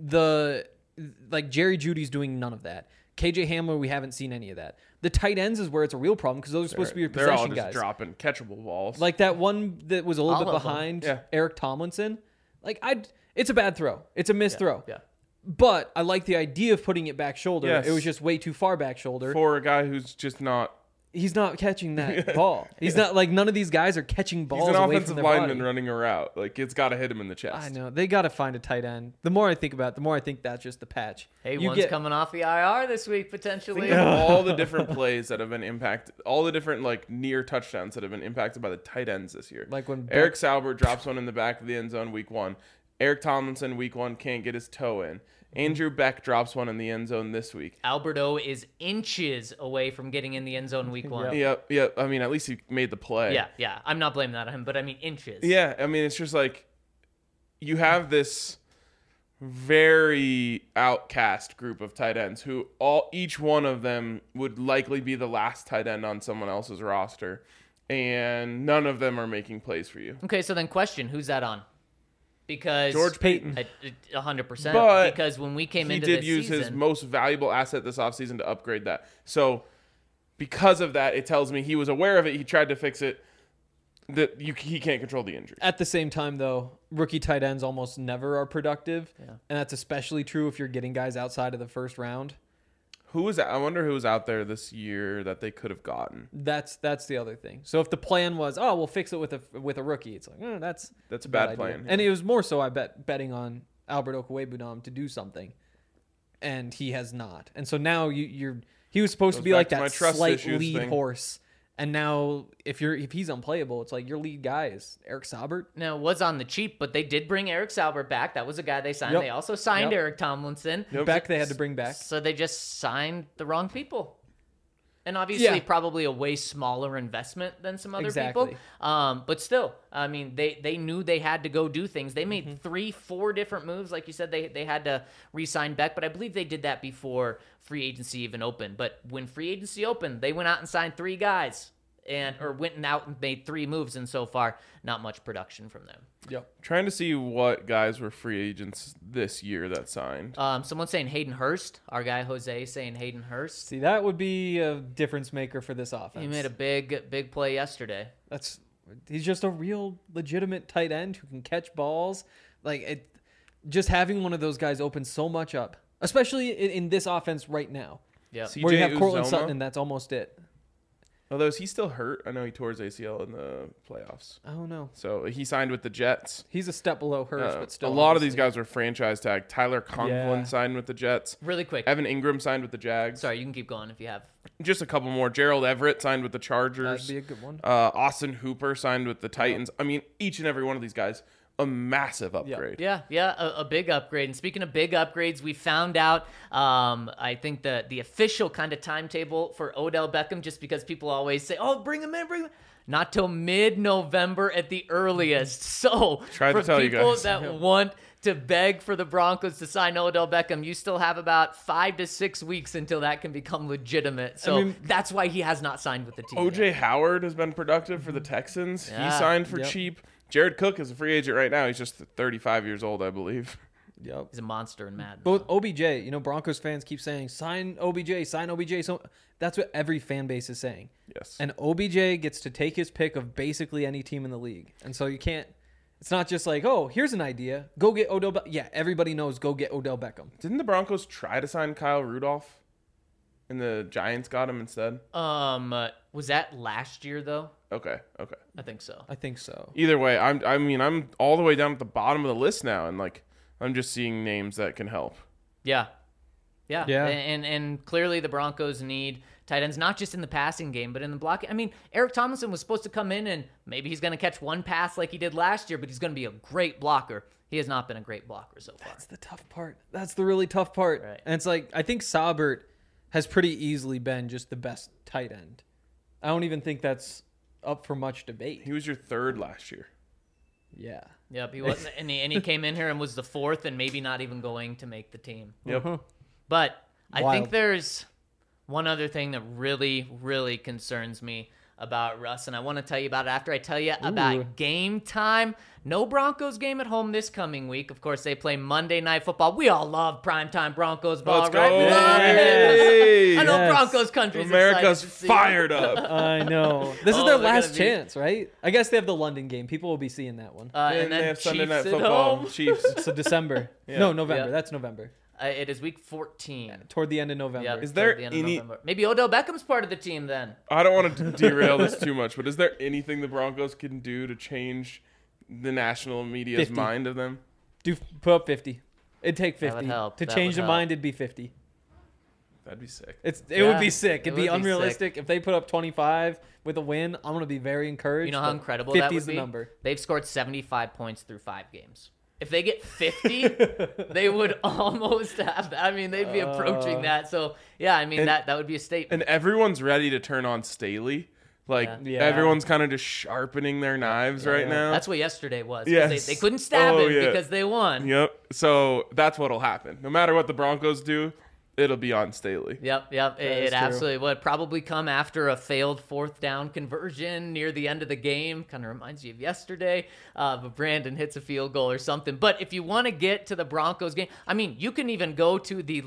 [SPEAKER 4] Like Jerry Jeudy's doing none of that. KJ Hamler, we haven't seen any of that. The tight ends is where it's a real problem because those are supposed to be your
[SPEAKER 2] They're all
[SPEAKER 4] possession
[SPEAKER 2] just
[SPEAKER 4] guys.
[SPEAKER 2] dropping catchable balls.
[SPEAKER 4] Like that one that was a little
[SPEAKER 3] All
[SPEAKER 4] bit
[SPEAKER 3] of them.
[SPEAKER 4] behind
[SPEAKER 2] Yeah.
[SPEAKER 4] Eric Tomlinson. Like it's a bad throw. It's a missed throw.
[SPEAKER 3] Yeah.
[SPEAKER 4] But I like the idea of putting it back shoulder.
[SPEAKER 2] Yes.
[SPEAKER 4] It was just way too far back shoulder.
[SPEAKER 2] for a guy who's just not.
[SPEAKER 4] He's not catching that ball. He's not like none of these guys are catching balls
[SPEAKER 2] He's an
[SPEAKER 4] away from
[SPEAKER 2] offensive
[SPEAKER 4] their
[SPEAKER 2] lineman
[SPEAKER 4] body.
[SPEAKER 2] running a route. Like, it's got to hit him in the chest.
[SPEAKER 4] I know. They got to find a tight end. The more I think about it, the more I think that's just the patch.
[SPEAKER 3] Hey,
[SPEAKER 4] You
[SPEAKER 3] one's
[SPEAKER 4] get-
[SPEAKER 3] coming off the IR this week, potentially.
[SPEAKER 2] Think of all the different plays that have been impacted, all the different like near touchdowns that have been impacted by the tight ends this year.
[SPEAKER 4] Like when
[SPEAKER 2] Eric Sauber drops one in the back of the end zone week 1. Eric Tomlinson week 1 can't get his toe in. Andrew Beck drops one in the end zone this week.
[SPEAKER 3] Alberto is inches away from getting in the end zone week 1.
[SPEAKER 2] Yep. I mean, at least he made the play.
[SPEAKER 3] Yeah. I'm not blaming that on him, but I mean inches.
[SPEAKER 2] Yeah, I mean, it's just like you have this very outcast group of tight ends who each one of them would likely be the last tight end on someone else's roster, and none of them are making plays for you.
[SPEAKER 3] Okay, so then question, who's that on? Because
[SPEAKER 2] George Payton.
[SPEAKER 3] 100%.
[SPEAKER 2] But
[SPEAKER 3] because when we came
[SPEAKER 2] he
[SPEAKER 3] into
[SPEAKER 2] did
[SPEAKER 3] this
[SPEAKER 2] use his
[SPEAKER 3] season,
[SPEAKER 2] most valuable asset this offseason to upgrade that. So because of that, it tells me he was aware of it. He tried to fix it. That he can't control the injury.
[SPEAKER 4] At the same time, though, rookie tight ends almost never are productive, and that's especially true if you're getting guys outside of the first round.
[SPEAKER 2] I wonder who was out there this year that they could have gotten.
[SPEAKER 4] That's the other thing. So if the plan was, we'll fix it with a rookie, it's like that's
[SPEAKER 2] a bad
[SPEAKER 4] idea.
[SPEAKER 2] plan.
[SPEAKER 4] And it was more so, I betting on Albert Okwuegbunam to do something, and he has not. And so now he was supposed to be
[SPEAKER 2] back
[SPEAKER 4] like
[SPEAKER 2] to my
[SPEAKER 4] that
[SPEAKER 2] trust
[SPEAKER 4] slight
[SPEAKER 2] issues
[SPEAKER 4] lead
[SPEAKER 2] thing.
[SPEAKER 4] horse, and now if he's unplayable, it's like your lead guy is Eric Saubert.
[SPEAKER 3] now it was on the cheap, but they did bring Eric Sauber back. That was a guy they signed.
[SPEAKER 4] Yep.
[SPEAKER 3] They also signed
[SPEAKER 4] Yep.
[SPEAKER 3] Eric Tomlinson.
[SPEAKER 4] Beck they had to bring back.
[SPEAKER 3] So they just signed the wrong people. And obviously,
[SPEAKER 4] Yeah.
[SPEAKER 3] probably a way smaller investment than some other
[SPEAKER 4] Exactly.
[SPEAKER 3] people. But still, I mean, they knew they had to go do things. They made 3-4 different moves. Like you said, they had to re-sign Beck, but I believe they did that before free agency even opened. But when free agency opened, they went out and signed 3 guys. Or went out and made 3 moves, and so far, not much production from them.
[SPEAKER 4] Yep.
[SPEAKER 2] Trying to see what guys were free agents this year that signed.
[SPEAKER 3] Someone's saying Hayden Hurst. Our guy Jose saying Hayden Hurst.
[SPEAKER 4] See, that would be a difference maker for this offense.
[SPEAKER 3] He made a big play yesterday.
[SPEAKER 4] He's just a real legitimate tight end who can catch balls. Just having one of those guys opens so much up, especially in this offense right now,
[SPEAKER 3] Yep.
[SPEAKER 2] CJ
[SPEAKER 4] where you have Cortland
[SPEAKER 2] Uzomah?
[SPEAKER 4] Sutton and that's almost it.
[SPEAKER 2] Although, is he still hurt? I know he tore his ACL in the playoffs.
[SPEAKER 4] I don't know.
[SPEAKER 2] So he signed with the Jets.
[SPEAKER 4] He's a step below Hurst, but still.
[SPEAKER 2] A lot of these
[SPEAKER 4] obviously.
[SPEAKER 2] guys were franchise tag. Tyler Conklin
[SPEAKER 4] Yeah.
[SPEAKER 2] signed with the Jets.
[SPEAKER 3] Really quick.
[SPEAKER 2] Evan Ingram signed with the Jags.
[SPEAKER 3] Sorry, you can keep going if you have.
[SPEAKER 2] Just a couple more. Gerald Everett signed with the Chargers.
[SPEAKER 4] That'd be a good one.
[SPEAKER 2] Austin Hooper signed with the Titans. I mean, each and every one of these guys, a massive upgrade.
[SPEAKER 3] Yeah, a big upgrade. And speaking of big upgrades, we found out, I think the official kind of timetable for Odell Beckham, just because people always say, "Oh, bring him in." Not till mid-November at the earliest. So
[SPEAKER 2] Tried to
[SPEAKER 3] for
[SPEAKER 2] tell you
[SPEAKER 3] people
[SPEAKER 2] guys.
[SPEAKER 3] that want to beg for the Broncos to sign Odell Beckham, you still have about 5 to 6 weeks until that can become legitimate. So
[SPEAKER 4] I mean,
[SPEAKER 3] that's why he has not signed with the team.
[SPEAKER 2] OJ Howard has been productive for the Texans.
[SPEAKER 3] Yeah.
[SPEAKER 2] He signed for
[SPEAKER 4] Yet.
[SPEAKER 2] cheap. Jared Cook is a free agent right now. He's just 35 years old, I believe.
[SPEAKER 4] Yep.
[SPEAKER 3] He's a monster in Madden.
[SPEAKER 4] But OBJ, Broncos fans keep saying, sign OBJ, sign OBJ. So that's what every fan base is saying.
[SPEAKER 2] Yes.
[SPEAKER 4] And OBJ gets to take his pick of basically any team in the league. And so you can't, it's not just like, oh, here's an idea. Go get Odell Beckham. Yeah, everybody knows go get Odell Beckham.
[SPEAKER 2] Didn't the Broncos try to sign Kyle Rudolph? And the Giants got him instead?
[SPEAKER 3] Was that last year though?
[SPEAKER 2] Okay.
[SPEAKER 3] I think so.
[SPEAKER 4] I think so.
[SPEAKER 2] Either way, I'm all the way down at the bottom of the list now, and I'm just seeing names that can help.
[SPEAKER 3] Yeah.
[SPEAKER 4] Yeah.
[SPEAKER 3] And clearly the Broncos need tight ends, not just in the passing game, but in the blocking. I mean, Eric Tomlinson was supposed to come in and maybe he's going to catch one pass like he did last year, but he's going to be a great blocker. He has not been a great blocker so far.
[SPEAKER 4] That's the tough part. That's the really tough part.
[SPEAKER 3] Right.
[SPEAKER 4] And it's like, I think Saubert has pretty easily been just the best tight end. I don't even think that's up for much debate.
[SPEAKER 2] He was your third last year.
[SPEAKER 4] Yeah.
[SPEAKER 3] Yep, he wasn't, and he came in here and was the 4th and maybe not even going to make the team.
[SPEAKER 2] Yep.
[SPEAKER 3] But I
[SPEAKER 4] Wild.
[SPEAKER 3] think there's one other thing that really, really concerns me about Russ, and I want to tell you about it after I tell you about Game Time. No Broncos game at home this coming week. Of course, they play Monday Night Football. We all love primetime Broncos ball,
[SPEAKER 2] Let's
[SPEAKER 3] right?
[SPEAKER 2] go.
[SPEAKER 3] We love
[SPEAKER 2] Hey.
[SPEAKER 3] it. I know
[SPEAKER 4] Yes.
[SPEAKER 3] Broncos country's
[SPEAKER 2] America's
[SPEAKER 3] excited to see
[SPEAKER 2] fired up.
[SPEAKER 4] I know. This is
[SPEAKER 3] Oh,
[SPEAKER 4] their
[SPEAKER 3] they're
[SPEAKER 4] last
[SPEAKER 3] gonna be-
[SPEAKER 4] chance, right? I guess they have the London game. People will be seeing that one.
[SPEAKER 3] And
[SPEAKER 2] And
[SPEAKER 3] then
[SPEAKER 2] they have Sunday
[SPEAKER 3] Chiefs
[SPEAKER 2] Night
[SPEAKER 3] at
[SPEAKER 2] Football.
[SPEAKER 3] home.
[SPEAKER 2] Chiefs.
[SPEAKER 4] So December.
[SPEAKER 2] Yeah.
[SPEAKER 4] No, November.
[SPEAKER 3] Yeah.
[SPEAKER 4] That's November.
[SPEAKER 3] It is week 14.
[SPEAKER 4] Toward the end of November.
[SPEAKER 3] Yep,
[SPEAKER 2] Is there
[SPEAKER 3] toward the end of
[SPEAKER 2] any-
[SPEAKER 3] November. Maybe Odell Beckham's part of the team then.
[SPEAKER 2] I don't want to derail this too much, but is there anything the Broncos can do to change the national media's
[SPEAKER 4] 50.
[SPEAKER 2] mind of them?
[SPEAKER 4] Put up 50. It'd take 50.
[SPEAKER 3] That would help.
[SPEAKER 4] To
[SPEAKER 3] That
[SPEAKER 4] change
[SPEAKER 3] would
[SPEAKER 4] the
[SPEAKER 3] help.
[SPEAKER 4] mind, it'd be 50.
[SPEAKER 2] That'd be sick.
[SPEAKER 4] It
[SPEAKER 3] Yeah,
[SPEAKER 4] would be sick.
[SPEAKER 3] it
[SPEAKER 4] It'd be
[SPEAKER 3] would be
[SPEAKER 4] unrealistic. If they put up 25 with a win, I'm going to be very encouraged.
[SPEAKER 3] You know how
[SPEAKER 4] but
[SPEAKER 3] incredible
[SPEAKER 4] 50
[SPEAKER 3] that would
[SPEAKER 4] is the
[SPEAKER 3] be?
[SPEAKER 4] number.
[SPEAKER 3] They've scored 75 points through 5 games. If they get 50, they would almost have that. I mean, they'd be approaching that. So, yeah, I mean,
[SPEAKER 2] And-
[SPEAKER 3] that would be a statement.
[SPEAKER 2] And everyone's ready to turn on Staley.
[SPEAKER 4] Yeah.
[SPEAKER 2] Everyone's kind of just sharpening their knives right now.
[SPEAKER 3] That's what yesterday was. 'cause
[SPEAKER 2] Yes.
[SPEAKER 3] They couldn't stab
[SPEAKER 2] Oh,
[SPEAKER 3] him
[SPEAKER 2] yeah.
[SPEAKER 3] because they won.
[SPEAKER 2] Yep. So that's what'll happen. No matter what the Broncos do, it'll be on Staley.
[SPEAKER 3] Yep.
[SPEAKER 4] is
[SPEAKER 3] It
[SPEAKER 4] true.
[SPEAKER 3] absolutely would. Probably come after a failed 4th down conversion near the end of the game. Kind of reminds you of yesterday. But Brandon hits a field goal or something. But if you want to get to the Broncos game, I mean, you can even go to the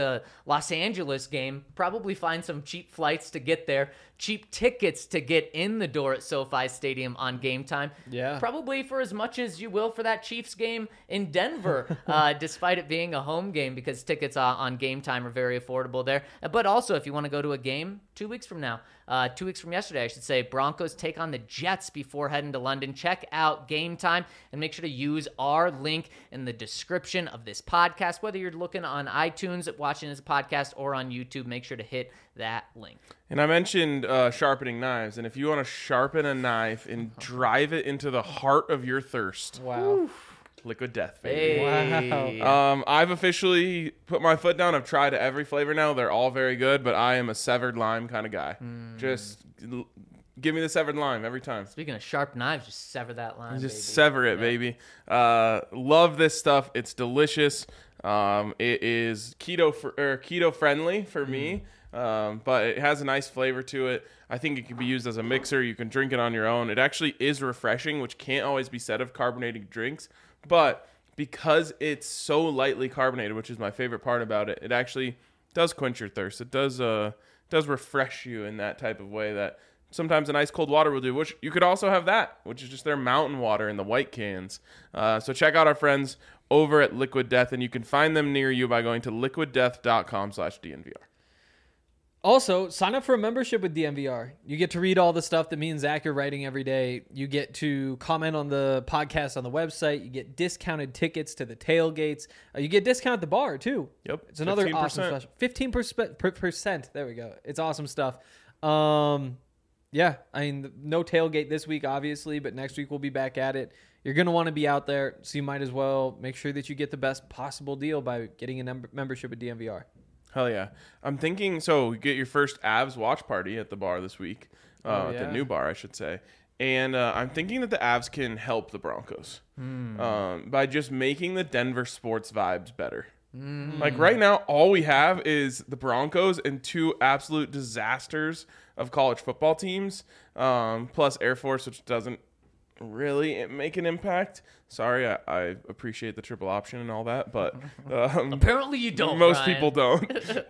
[SPEAKER 3] Los Angeles game, probably find some cheap flights to get there, cheap tickets to get in the door at SoFi Stadium on Game Time.
[SPEAKER 4] Yeah.
[SPEAKER 3] Probably for as much as you will for that Chiefs game in Denver, despite it being a home game, because tickets on Game Time are very affordable there. But also, if you want to go to a game 2 weeks from now, 2 weeks from yesterday, I should say, Broncos take on the Jets before heading to London. Check out Game Time and make sure to use our link in the description of this podcast. Whether you're looking on iTunes, watching this podcast, or on YouTube, make sure to hit that link.
[SPEAKER 2] And I mentioned sharpening knives. And if you want to sharpen a knife and drive it into the heart of your thirst,
[SPEAKER 4] Wow.
[SPEAKER 2] Liquid Death, baby.
[SPEAKER 3] Hey.
[SPEAKER 4] Wow.
[SPEAKER 2] I've officially put my foot down. I've tried every flavor now. They're all very good, but I am a severed lime kind of guy. Just give me the severed lime every time.
[SPEAKER 3] Speaking of sharp knives, just sever that line.
[SPEAKER 2] Just
[SPEAKER 3] baby.
[SPEAKER 2] sever it, baby. Love this stuff. It's delicious. It is keto friendly for me, but it has a nice flavor to it. I think it can be used as a mixer. You can drink it on your own. It actually is refreshing, which can't always be said of carbonated drinks. But because it's so lightly carbonated, which is my favorite part about it, it actually does quench your thirst. It does refresh you in that type of way that sometimes an ice cold water will do, which you could also have that, which is just their mountain water in the white cans. So check out our friends over at Liquid Death, and you can find them near you by going to liquiddeath.com/DNVR.
[SPEAKER 4] Also, sign up for a membership with DNVR. You get to read all the stuff that me and Zach are writing every day. You get to comment on the podcast on the website. You get discounted tickets to the tailgates. You get discount at the bar, too.
[SPEAKER 2] Yep.
[SPEAKER 4] It's another
[SPEAKER 2] 15%.
[SPEAKER 4] awesome special. 15%. There we go. It's awesome stuff. Yeah, I mean, no tailgate this week, obviously, but next week we'll be back at it. You're going to want to be out there, so you might as well make sure that you get the best possible deal by getting a membership with DNVR.
[SPEAKER 2] Hell yeah. I'm thinking, so you get your first Avs watch party at the bar this week, at the new bar, I should say. And I'm thinking that the Avs can help the Broncos by just making the Denver sports vibes better. Like right now, all we have is the Broncos and two absolute disasters of college football teams, plus Air Force, which doesn't really make an impact. Sorry, I appreciate the triple option and all that, but
[SPEAKER 3] Apparently you don't.
[SPEAKER 2] most
[SPEAKER 3] Ryan.
[SPEAKER 2] people don't.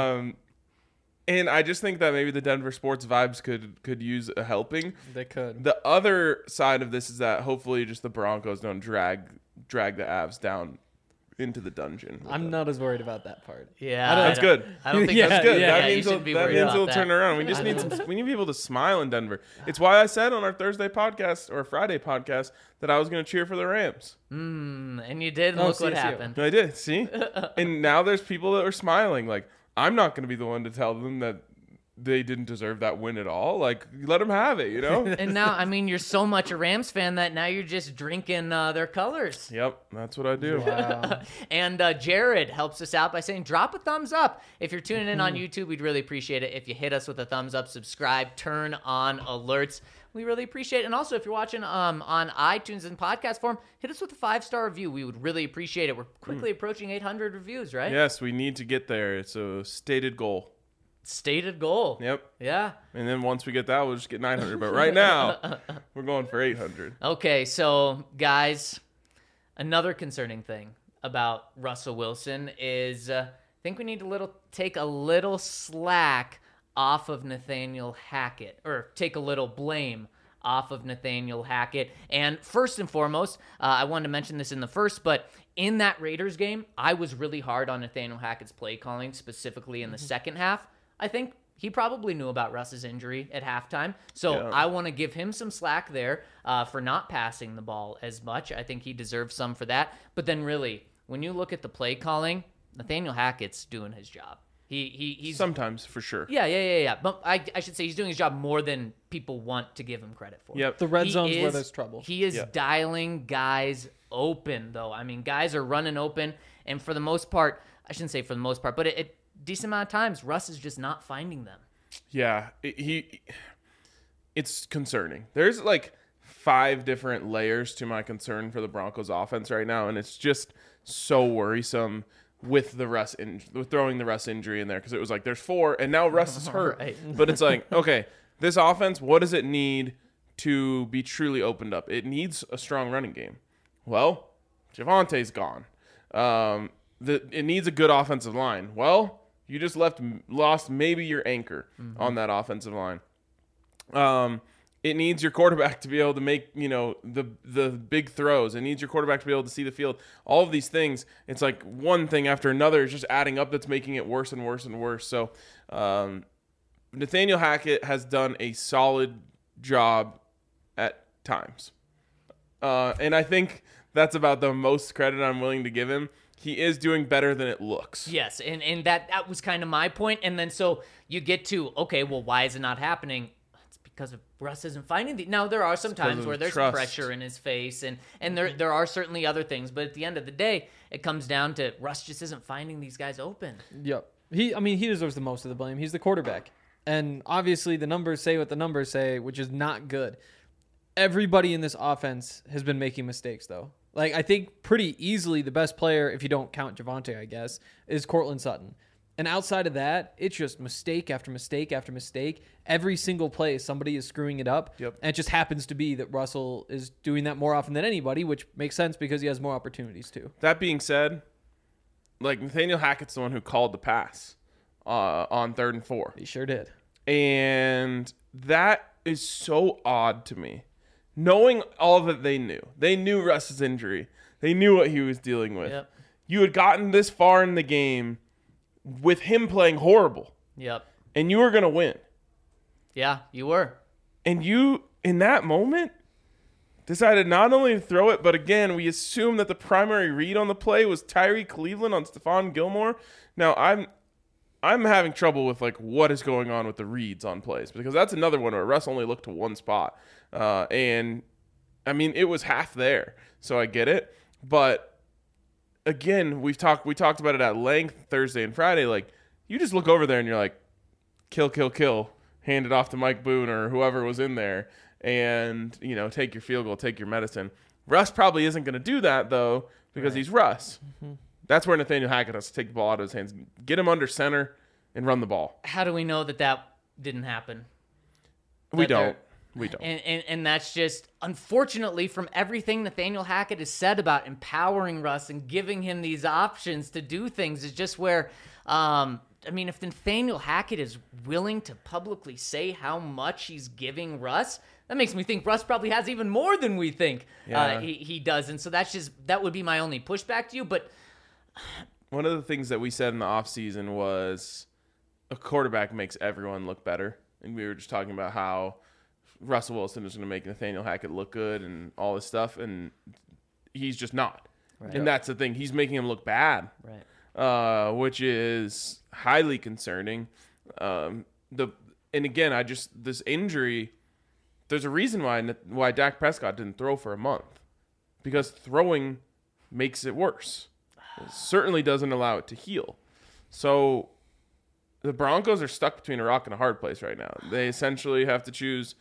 [SPEAKER 2] And I just think that maybe the Denver sports vibes could use a helping.
[SPEAKER 4] They could.
[SPEAKER 2] The other side of this is that hopefully just the Broncos don't drag the Avs down into the dungeon.
[SPEAKER 4] I'm not as worried about that part.
[SPEAKER 3] Yeah,
[SPEAKER 2] That's good.
[SPEAKER 3] I don't think
[SPEAKER 4] Yeah,
[SPEAKER 2] That's good.
[SPEAKER 3] Yeah,
[SPEAKER 2] that
[SPEAKER 3] you
[SPEAKER 2] means
[SPEAKER 3] shouldn't be
[SPEAKER 2] that
[SPEAKER 3] worried
[SPEAKER 2] means
[SPEAKER 3] about
[SPEAKER 2] it'll
[SPEAKER 3] that.
[SPEAKER 2] turn around. We just need we need people to smile in Denver. It's why I said on our Thursday podcast or Friday podcast that I was going to cheer for the Rams.
[SPEAKER 3] And you did.
[SPEAKER 4] Oh,
[SPEAKER 3] Look what
[SPEAKER 4] CSU.
[SPEAKER 3] happened.
[SPEAKER 2] I did. See, and now there's people that are smiling. Like I'm not going to be the one to tell them that they didn't deserve that win at all. Like let them have it. You know.
[SPEAKER 3] And now, I mean, you're so much a Rams fan that now you're just drinking their colors.
[SPEAKER 2] Yep, that's what I do.
[SPEAKER 4] Wow.
[SPEAKER 3] And Jared helps us out by saying, drop a thumbs up. If you're tuning in on YouTube, we'd really appreciate it if you hit us with a thumbs up, subscribe, turn on alerts. We really appreciate it. And also, if you're watching on iTunes in podcast form, hit us with a 5-star review. We would really appreciate it. We're quickly approaching 800 reviews, right?
[SPEAKER 2] Yes, we need to get there. It's a stated goal.
[SPEAKER 3] Stated goal.
[SPEAKER 2] Yep.
[SPEAKER 3] Yeah.
[SPEAKER 2] And then once we get that, we'll just get 900. But right now, we're going for 800.
[SPEAKER 3] Okay, so guys, another concerning thing about Russell Wilson is I think we need to take a little slack off of Nathaniel Hackett, or take a little blame off of Nathaniel Hackett. And first and foremost, I wanted to mention this in the first, but in that Raiders game, I was really hard on Nathaniel Hackett's play calling, specifically in the second half. I think he probably knew about Russ's injury at halftime. So
[SPEAKER 2] Yeah.
[SPEAKER 3] I want to give him some slack there for not passing the ball as much. I think he deserves some for that. But then really, when you look at the play calling, Nathaniel Hackett's doing his job. He's
[SPEAKER 2] Sometimes, for sure.
[SPEAKER 3] Yeah. But I should say he's doing his job more than people want to give him credit for.
[SPEAKER 2] Yep.
[SPEAKER 4] The red
[SPEAKER 3] He
[SPEAKER 4] zone's where
[SPEAKER 3] is-
[SPEAKER 4] there's trouble.
[SPEAKER 3] He is
[SPEAKER 2] Yeah.
[SPEAKER 3] dialing guys open, though. I mean, guys are running open, and for the most part, I shouldn't say for the most part, but it decent amount of times, Russ is just not finding them.
[SPEAKER 2] Yeah. It's concerning. There's like 5 different layers to my concern for the Broncos offense right now, and it's just so worrisome with with throwing the Russ injury in there, because it was like there's 4 and now Russ is hurt.
[SPEAKER 3] Right.
[SPEAKER 2] But it's like, okay, this offense, what does it need to be truly opened up? It needs a strong running game. Well, Javante's gone. It needs a good offensive line. Well, you just lost maybe your anchor on that offensive line. It needs your quarterback to be able to make, the big throws. It needs your quarterback to be able to see the field. All of these things, it's like one thing after another is just adding up that's making it worse and worse and worse. So Nathaniel Hackett has done a solid job at times. And I think that's about the most credit I'm willing to give him. He is doing better than it looks.
[SPEAKER 3] Yes, and that was kind of my point. And then so you get to, okay, well, why is it not happening? because of Russ isn't finding the. Now there are some times
[SPEAKER 2] of
[SPEAKER 3] where there's
[SPEAKER 2] trust.
[SPEAKER 3] pressure in his face, and there are certainly other things. But at the end of the day, it comes down to Russ just isn't finding these guys open.
[SPEAKER 4] Yep. He deserves the most of the blame. He's the quarterback. And obviously the numbers say what the numbers say, which is not good. Everybody in this offense has been making mistakes, though. Like, I think pretty easily the best player, if you don't count Javonte, I guess, is Cortland Sutton. And outside of that, it's just mistake after mistake after mistake. Every single play, somebody is screwing it up.
[SPEAKER 2] Yep.
[SPEAKER 4] And it just happens to be that Russell is doing that more often than anybody, which makes sense because he has more opportunities too.
[SPEAKER 2] That being said, like Nathaniel Hackett's the one who called the pass on 3rd and 4.
[SPEAKER 4] He sure did.
[SPEAKER 2] And that is so odd to me. Knowing all that they knew Russ's injury. They knew what he was dealing with.
[SPEAKER 3] Yep.
[SPEAKER 2] You had gotten this far in the game with him playing horrible,
[SPEAKER 3] Yep.
[SPEAKER 2] and you were going to win.
[SPEAKER 3] Yeah, you were.
[SPEAKER 2] And you, in that moment, decided not only to throw it, but again, we assume that the primary read on the play was Tyree Cleveland on Stephon Gilmore. Now, I'm having trouble with like what is going on with the reads on plays, because that's another one where Russ only looked to one spot. And I mean, it was half there, so I get it. But again, we talked about it at length Thursday and Friday. Like, you just look over there and you're like, kill, hand it off to Mike Boone or whoever was in there, and take your field goal, take your medicine. Russ probably isn't going to do that though, because he's Russ. Mm-hmm. That's where Nathaniel Hackett has to take the ball out of his hands, get him under center, and run the ball.
[SPEAKER 3] How do we know that didn't happen?
[SPEAKER 2] We don't.
[SPEAKER 3] And that's just, unfortunately, from everything Nathaniel Hackett has said about empowering Russ and giving him these options to do things, is just where, if Nathaniel Hackett is willing to publicly say how much he's giving Russ, that makes me think Russ probably has even more than we think he does. And so that would be my only pushback to you. But
[SPEAKER 2] one of the things that we said in the offseason was a quarterback makes everyone look better. And we were just talking about how Russell Wilson is going to make Nathaniel Hackett look good and all this stuff, and he's just not. Right. And that's the thing. He's making him look bad, right? Which is highly concerning. And again, this injury, there's a reason why Dak Prescott didn't throw for a month, because throwing makes it worse. It certainly doesn't allow it to heal. So the Broncos are stuck between a rock and a hard place right now. They essentially have to choose,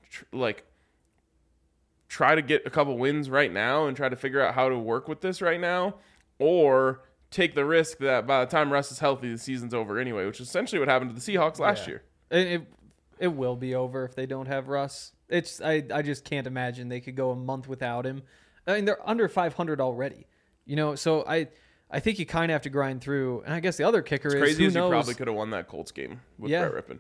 [SPEAKER 2] try to get a couple wins right now and try to figure out how to work with this right now, or take the risk that by the time Russ is healthy, the season's over anyway, which is essentially what happened to the Seahawks last year.
[SPEAKER 4] It will be over if they don't have Russ. I just can't imagine they could go a month without him. I mean, they're under 500 already, so I think you kind of have to grind through. And I guess the other kicker is,
[SPEAKER 2] crazy
[SPEAKER 4] who
[SPEAKER 2] as
[SPEAKER 4] knows?
[SPEAKER 2] You probably could have won that Colts game with Brett Rippon.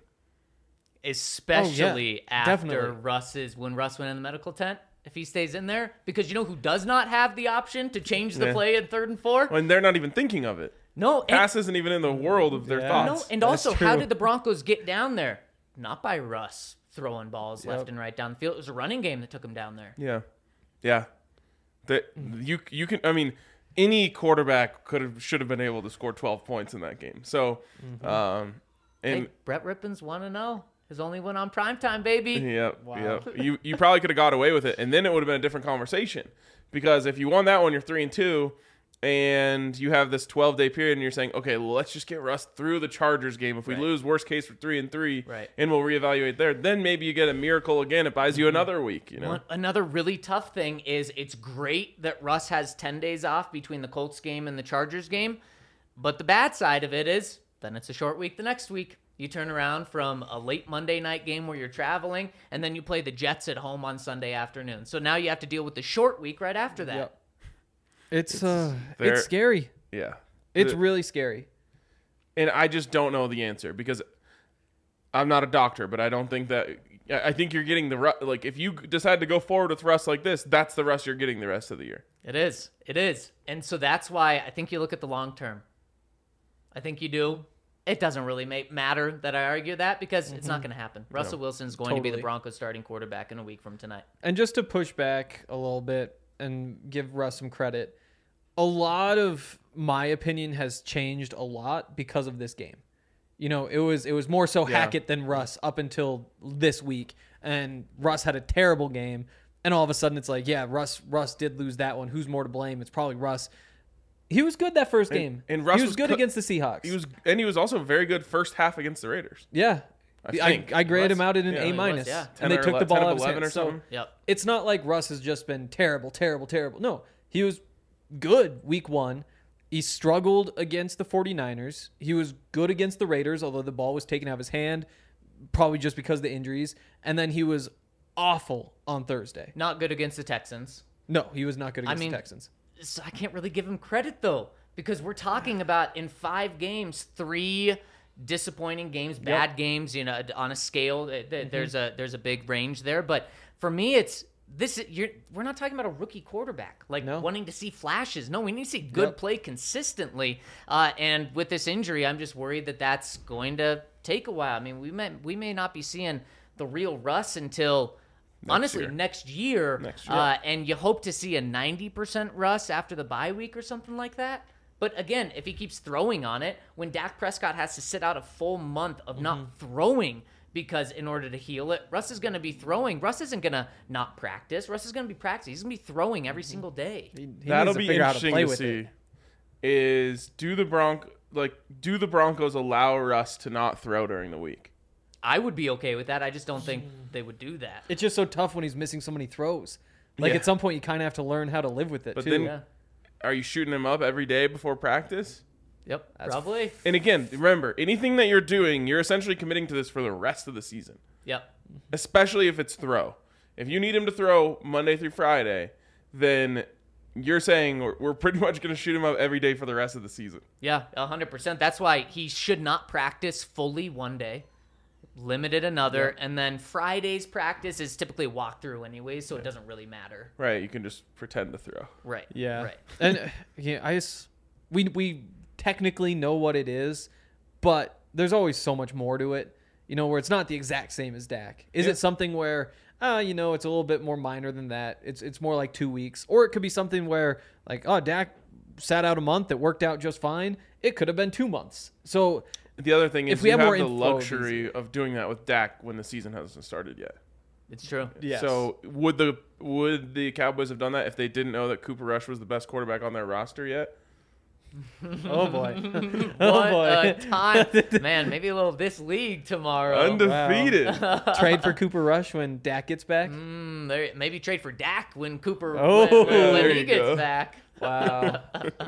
[SPEAKER 3] Especially after
[SPEAKER 4] definitely.
[SPEAKER 3] when Russ went in the medical tent, if he stays in there, because who does not have the option to change the play at 3rd and 4?
[SPEAKER 2] And they're not even thinking of it.
[SPEAKER 3] No.
[SPEAKER 2] Pass isn't even in the world of their thoughts.
[SPEAKER 3] No, and also, how did the Broncos get down there? Not by Russ throwing balls left and right down the field. It was a running game that took him down there.
[SPEAKER 2] Yeah. That you can. I mean, any quarterback should have been able to score 12 points in that game. So,
[SPEAKER 3] hey, Brett Rippon's 1-0. His only win on primetime, baby.
[SPEAKER 2] Yep. You probably could have got away with it, and then it would have been a different conversation. Because if you won that one, you're 3-2, and you have this 12-day period, and you're saying, okay, well, let's just get Russ through the Chargers game. If we lose, worst case, we're 3-3, and we'll reevaluate there. Then maybe you get a miracle again. It buys you another week.
[SPEAKER 3] Another really tough thing is it's great that Russ has 10 days off between the Colts game and the Chargers game, but the bad side of it is then it's a short week the next week. You turn around from a late Monday night game where you're traveling, and then you play the Jets at home on Sunday afternoon. So now you have to deal with the short week right after that.
[SPEAKER 4] Yep. It's scary.
[SPEAKER 2] Yeah.
[SPEAKER 4] It's really scary.
[SPEAKER 2] And I just don't know the answer, because I'm not a doctor, but I don't think that – I think you're getting the – like, if you decide to go forward with Russ like this, that's the Russ you're getting the rest of the year.
[SPEAKER 3] It is. And so that's why I think you look at the long term. I think you do. It doesn't really matter that I argue that, because it's not going to happen. Russell Wilson's going to be the Broncos starting quarterback in a week from tonight.
[SPEAKER 4] And just to push back a little bit and give Russ some credit, a lot of my opinion has changed a lot because of this game. It was more so Hackett than Russ up until this week. and Russ had a terrible game. And all of a sudden it's like, yeah, Russ did lose that one. Who's more to blame? It's probably Russ. He was good that first game.
[SPEAKER 2] And Russ
[SPEAKER 4] he was good against the Seahawks.
[SPEAKER 2] He was also very good first half against the Raiders.
[SPEAKER 4] Yeah. I graded him out at an
[SPEAKER 2] Yeah,
[SPEAKER 4] A
[SPEAKER 2] he
[SPEAKER 4] minus.
[SPEAKER 3] yeah.
[SPEAKER 4] And they took the ball out of his
[SPEAKER 2] 11
[SPEAKER 4] hands.
[SPEAKER 2] or something.
[SPEAKER 3] Yep.
[SPEAKER 4] It's not like Russ has just been terrible. No, he was good week 1. He struggled against the 49ers. He was good against the Raiders, although the ball was taken out of his hand, probably just because of the injuries. And then he was awful on Thursday.
[SPEAKER 3] Not good against the Texans.
[SPEAKER 4] No, he was not good against
[SPEAKER 3] mean,
[SPEAKER 4] the Texans.
[SPEAKER 3] So I can't really give him credit, though, because we're talking about in 5 games, 3 disappointing games, bad games, on a scale. There's a big range there. But for me, we're not talking about a rookie quarterback, wanting to see flashes. No, we need to see good play consistently. And with this injury, I'm just worried that that's going to take a while. I mean, we may not be seeing the real Russ until next year. And you hope to see a 90% Russ after the bye week or something like that. But again, if he keeps throwing on it, when Dak Prescott has to sit out a full month of not throwing because in order to heal it, Russ is going to be throwing. Russ isn't going to not practice. Russ is going to be practicing. He's going to be throwing every single day.
[SPEAKER 4] He
[SPEAKER 2] That'll
[SPEAKER 4] needs to
[SPEAKER 2] be
[SPEAKER 4] figure out how to
[SPEAKER 2] interesting
[SPEAKER 4] play
[SPEAKER 2] to
[SPEAKER 4] with
[SPEAKER 2] see.
[SPEAKER 4] it.
[SPEAKER 2] Is do the Broncos allow Russ to not throw during the week?
[SPEAKER 3] I would be okay with that. I just don't think they would do that.
[SPEAKER 4] It's just so tough when he's missing so many throws. Like
[SPEAKER 2] Yeah.
[SPEAKER 4] at some point, you kind of have to learn how to live with it
[SPEAKER 2] But
[SPEAKER 4] too.
[SPEAKER 2] then-
[SPEAKER 3] Yeah.
[SPEAKER 2] Are you shooting him up every day before practice?
[SPEAKER 3] Yep, probably.
[SPEAKER 2] And again, remember, anything that you're doing, you're essentially committing to this for the rest of the season,
[SPEAKER 3] Yep.
[SPEAKER 2] especially if it's throw. If you need him to throw Monday through Friday, then you're saying we're pretty much going to shoot him up every day for the rest of the season.
[SPEAKER 3] Yeah, 100%. That's why he should not practice fully one day, limited another, and then Friday's practice is typically a walkthrough anyways, so it doesn't really matter.
[SPEAKER 2] Right, you can just pretend to throw.
[SPEAKER 3] Right.
[SPEAKER 4] Yeah.
[SPEAKER 3] Right.
[SPEAKER 4] And we technically know what it is, but there's always so much more to it, where it's not the exact same as Dak. Is it something where, it's a little bit more minor than that? It's more like 2 weeks. Or it could be something where, Dak sat out a month, it worked out just fine. It could have been 2 months. So
[SPEAKER 2] The other thing is
[SPEAKER 4] If we
[SPEAKER 2] you
[SPEAKER 4] have
[SPEAKER 2] have
[SPEAKER 4] more
[SPEAKER 2] the
[SPEAKER 4] info, it'd be
[SPEAKER 2] luxury of doing that with Dak when the season hasn't started yet.
[SPEAKER 3] It's true.
[SPEAKER 4] yes.
[SPEAKER 2] So would the Cowboys have done that if they didn't know that Cooper Rush was the best quarterback on their roster yet?
[SPEAKER 4] oh boy.
[SPEAKER 3] What
[SPEAKER 4] oh boy.
[SPEAKER 3] a time. Man, maybe a little this league tomorrow.
[SPEAKER 2] Undefeated.
[SPEAKER 4] Trade for Cooper Rush when Dak gets back.
[SPEAKER 3] Maybe trade for Dak when Cooper
[SPEAKER 4] Oh,
[SPEAKER 3] when
[SPEAKER 2] there
[SPEAKER 3] he
[SPEAKER 2] you
[SPEAKER 3] gets
[SPEAKER 2] go.
[SPEAKER 3] back.
[SPEAKER 4] Wow.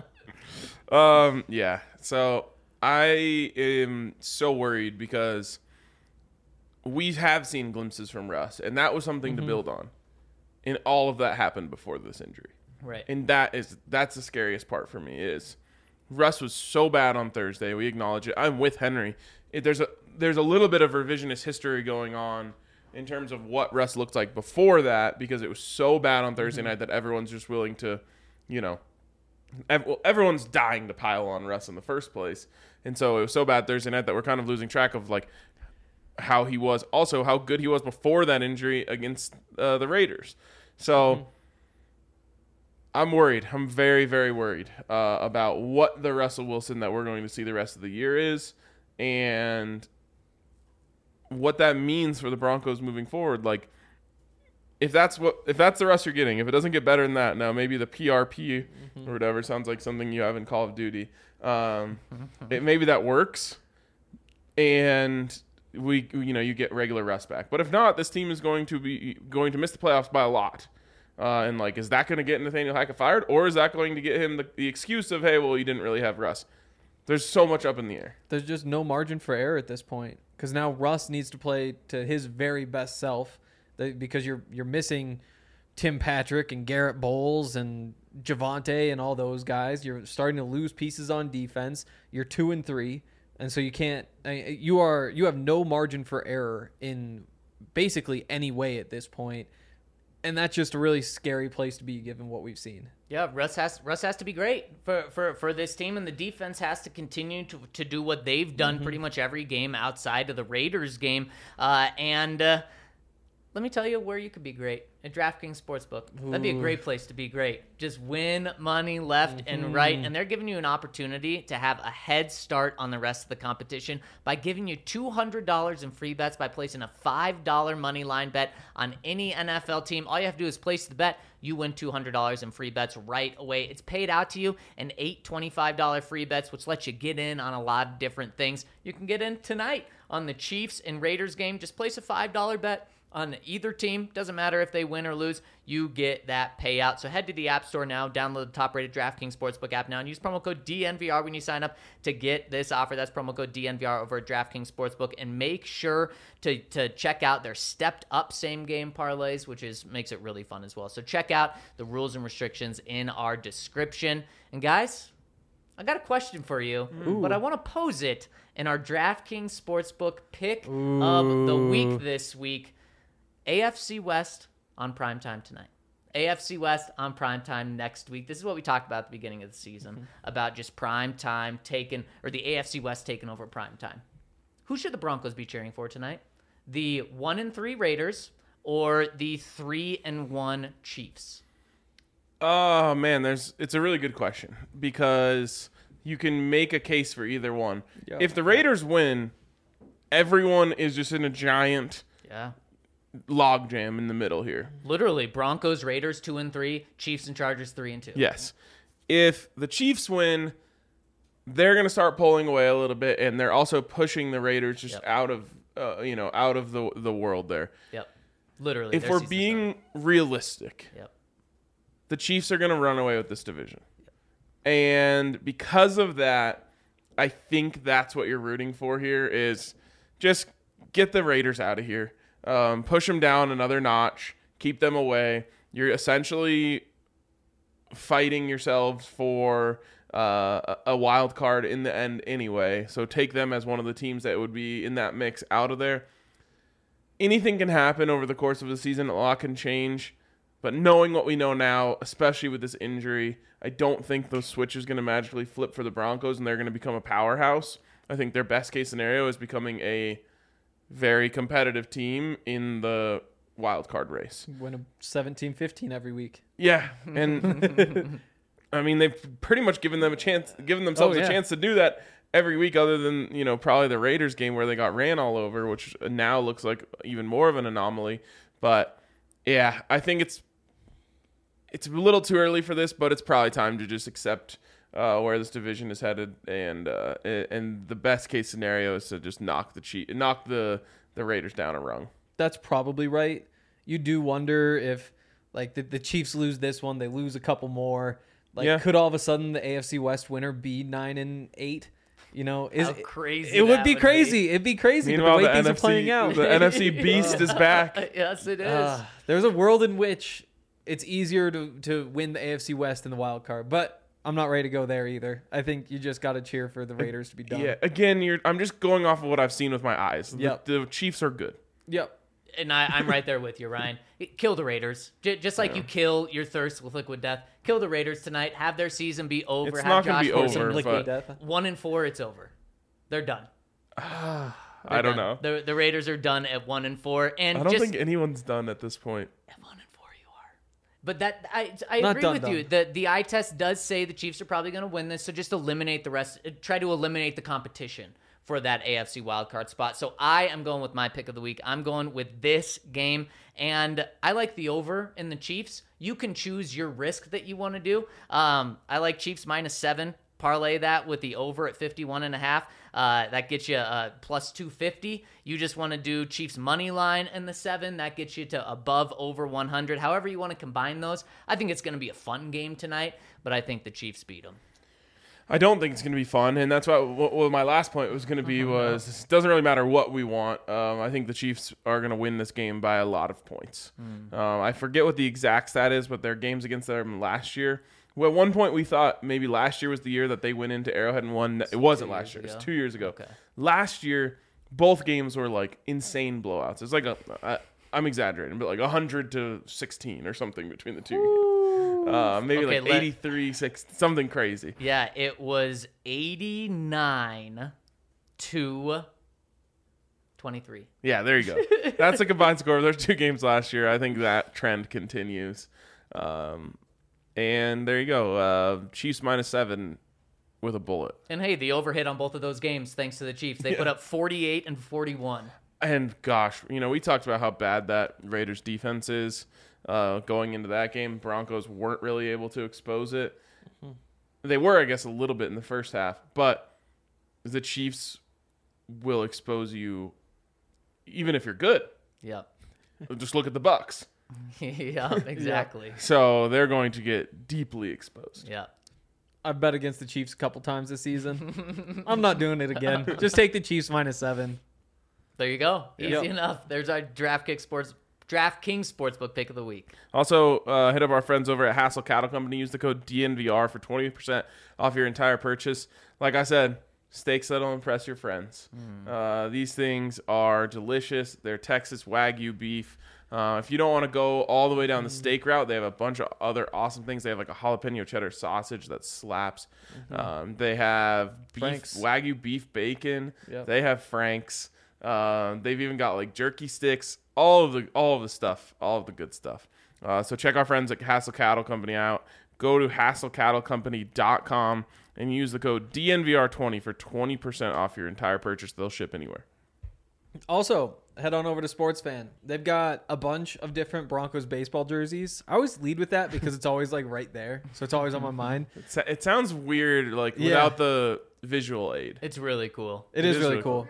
[SPEAKER 2] Yeah. So I am so worried because we have seen glimpses from Russ, and that was something to build on. And all of that happened before this injury.
[SPEAKER 3] Right.
[SPEAKER 2] And that's the scariest part for me is Russ was so bad on Thursday. We acknowledge it. I'm with Henry. There's a little bit of revisionist history going on in terms of what Russ looked like before that because it was so bad on Thursday night that everyone's just willing to, everyone's dying to pile on Russ in the first place. And so it was so bad Thursday night that we're kind of losing track of how he was, also how good he was before that injury against the Raiders. So I'm worried. I'm very, very worried about what the Russell Wilson that we're going to see the rest of the year is and what that means for the Broncos moving forward. If that's the Russ you're getting, if it doesn't get better than that, now maybe the PRP or whatever sounds like something you have in Call of Duty. Maybe that works, and you get regular Russ back. But if not, this team is going to miss the playoffs by a lot. And is that going to get Nathaniel Hackett fired, or is that going to get him the excuse of, hey, well, you didn't really have Russ? There's so much up in the air.
[SPEAKER 4] There's just no margin for error at this point because now Russ needs to play to his very best self because you're missing Tim Patrick and Garrett Bowles and Javonte and all those guys. You're starting to lose pieces on defense. You're 2-3, and so you can't. You have no margin for error in basically any way at this point. And that's just a really scary place to be given what we've seen.
[SPEAKER 3] Yeah, Russ has to be great for this team, and the defense has to continue to do what they've done pretty much every game outside of the Raiders game. And let me tell you where you could be great. At DraftKings Sportsbook. That'd be a great place to be great. Just win money left and right. And they're giving you an opportunity to have a head start on the rest of the competition by giving you $200 in free bets by placing a $5 money line bet on any NFL team. All you have to do is place the bet. You win $200 in free bets right away. It's paid out to you in 8 $25 free bets, which lets you get in on a lot of different things. You can get in tonight on the Chiefs and Raiders game. Just place a $5 bet on either team. Doesn't matter if they win or lose, you get that payout. So head to the App Store now, download the top-rated DraftKings Sportsbook app now, and use promo code DNVR when you sign up to get this offer. That's promo code DNVR over at DraftKings Sportsbook. And make sure to check out their stepped-up same-game parlays, which makes it really fun as well. So check out the rules and restrictions in our description. And guys, I got a question for you, but I want to pose it in our DraftKings Sportsbook pick of the week this week. AFC West on primetime tonight. AFC West on primetime next week. This is what we talked about at the beginning of the season, about just primetime or the AFC West taking over primetime. Who should the Broncos be cheering for tonight? The 1-3 Raiders or the 3-1 Chiefs?
[SPEAKER 2] Oh, man, it's a really good question because you can make a case for either one.
[SPEAKER 4] Yeah.
[SPEAKER 2] If the Raiders win, everyone is just in a giant logjam in the middle here.
[SPEAKER 3] Literally, Broncos, Raiders 2-3, Chiefs and Chargers 3-2.
[SPEAKER 2] Yes. If the Chiefs win, they're going to start pulling away a little bit, and they're also pushing the Raiders just out of the world there.
[SPEAKER 3] Yep. Literally.
[SPEAKER 2] If we're being realistic, the Chiefs are going to run away with this division. And because of that, I think that's what you're rooting for here is just get the Raiders out of here. Push them down another notch, keep them away. You're essentially fighting yourselves for a wild card in the end anyway. So take them as one of the teams that would be in that mix out of there. Anything can happen over the course of the season. A lot can change. But knowing what we know now, especially with this injury, I don't think those switches going to magically flip for the Broncos and they're going to become a powerhouse. I think their best case scenario is becoming a very competitive team in the wild card race.
[SPEAKER 4] Win a 17-15 every week.
[SPEAKER 2] Yeah, and I mean they've pretty much given themselves a chance to do that every week, other than probably the Raiders game where they got ran all over, which now looks like even more of an anomaly. But yeah, I think it's a little too early for this, but it's probably time to just accept where this division is headed, and the best case scenario is to just knock the Raiders down a rung.
[SPEAKER 4] That's probably right. You do wonder if the Chiefs lose this one, they lose a couple more. Could all of a sudden the AFC West winner be 9-8?
[SPEAKER 3] How crazy!
[SPEAKER 4] It would be crazy. It'd be crazy.
[SPEAKER 2] Meanwhile,
[SPEAKER 4] the way things
[SPEAKER 2] NFC,
[SPEAKER 4] are playing out.
[SPEAKER 2] The NFC beast is back.
[SPEAKER 3] Yes, it is.
[SPEAKER 4] There's a world in which it's easier to win the AFC West in the wild card, but I'm not ready to go there either. I think you just got to cheer for the Raiders to be done.
[SPEAKER 2] Yeah, again, I'm just going off of what I've seen with my eyes.
[SPEAKER 4] Yep.
[SPEAKER 2] The Chiefs are good.
[SPEAKER 4] Yep.
[SPEAKER 3] And I'm right there with you, Ryan. Kill the Raiders. Just like you kill your thirst with liquid death. Kill the Raiders tonight. Have their season be over.
[SPEAKER 2] It's
[SPEAKER 3] have
[SPEAKER 2] not going to be over.
[SPEAKER 4] Liquid
[SPEAKER 2] But
[SPEAKER 4] death.
[SPEAKER 3] 1-4, it's over. They're done.
[SPEAKER 2] I don't know.
[SPEAKER 3] The Raiders are done at 1-4. And
[SPEAKER 2] I don't think anyone's done at this point.
[SPEAKER 3] At 1-4 you are. But that I
[SPEAKER 4] Not
[SPEAKER 3] agree
[SPEAKER 4] done,
[SPEAKER 3] with you. The eye test does say the Chiefs are probably going to win this. So just eliminate the rest. Try to eliminate the competition for that AFC wildcard spot. So I am going with my pick of the week. I'm going with this game. And I like the over in the Chiefs. You can choose your risk that you want to do. I like Chiefs -7. Parlay that with the over at 51.5. That gets you plus 250. You just want to do Chiefs money line and the 7. That gets you to above over 100. However you want to combine those. I think it's going to be a fun game tonight, but I think the Chiefs beat them.
[SPEAKER 2] I don't think it's going to be fun, and that's what my last point was going to be was it doesn't really matter what we want. I think the Chiefs are going to win this game by a lot of points. I forget what the exact stat is, but their games against them last year. Well, at one point, we thought maybe last year was the year that they went into Arrowhead and won. It wasn't last year. It was 2 years ago.
[SPEAKER 3] Okay.
[SPEAKER 2] Last year, both games were like insane blowouts. It's like I'm exaggerating, but like 100-16 or something between the two. Maybe
[SPEAKER 3] Okay,
[SPEAKER 2] like 83-6, something crazy.
[SPEAKER 3] Yeah, it was 89-7. 23.
[SPEAKER 2] Yeah, there you go. That's the combined score of those 2 games last year. I think that trend continues. And there you go. Chiefs -7 with a bullet.
[SPEAKER 3] And hey, the overhit on both of those games, thanks to the Chiefs. They put up 48 and 41.
[SPEAKER 2] And gosh, we talked about how bad that Raiders defense is going into that game. Broncos weren't really able to expose it. They were, I guess, a little bit in the first half, but the Chiefs will expose you even if you're good.
[SPEAKER 3] Yep.
[SPEAKER 2] Just look at the Bucks.
[SPEAKER 3] Yep, exactly.
[SPEAKER 2] So they're going to get deeply exposed.
[SPEAKER 3] Yep.
[SPEAKER 4] I've bet against the Chiefs a couple times this season. I'm not doing it again. Just take the Chiefs -7.
[SPEAKER 3] There you go.
[SPEAKER 4] Yep.
[SPEAKER 3] Easy enough. There's our DraftKings Sportsbook pick of the week.
[SPEAKER 2] Also, hit up our friends over at Hassel Cattle Company. Use the code DNVR for 20% off your entire purchase. Like I said, steaks that'll impress your friends. These things are delicious. They're Texas Wagyu beef. If you don't want to go all the way down the steak route, they have a bunch of other awesome things. They have like a jalapeno cheddar sausage that slaps. They have
[SPEAKER 4] Frank's.
[SPEAKER 2] Wagyu beef bacon.
[SPEAKER 4] Yep.
[SPEAKER 2] They have Frank's. They've even got like jerky sticks. All of the stuff, all of the good stuff. So check our friends at Hassel Cattle Company out. Go to HassleCattleCompany.com and use the code DNVR20 for 20% off your entire purchase. They'll ship anywhere.
[SPEAKER 4] Also, head on over to Sports Fan. They've got a bunch of different Broncos baseball jerseys. I always lead with that because it's always like right there, so it's always on my mind.
[SPEAKER 2] It sounds weird, like
[SPEAKER 4] Yeah.
[SPEAKER 2] without the visual aid.
[SPEAKER 3] It's really cool.
[SPEAKER 4] It is really cool.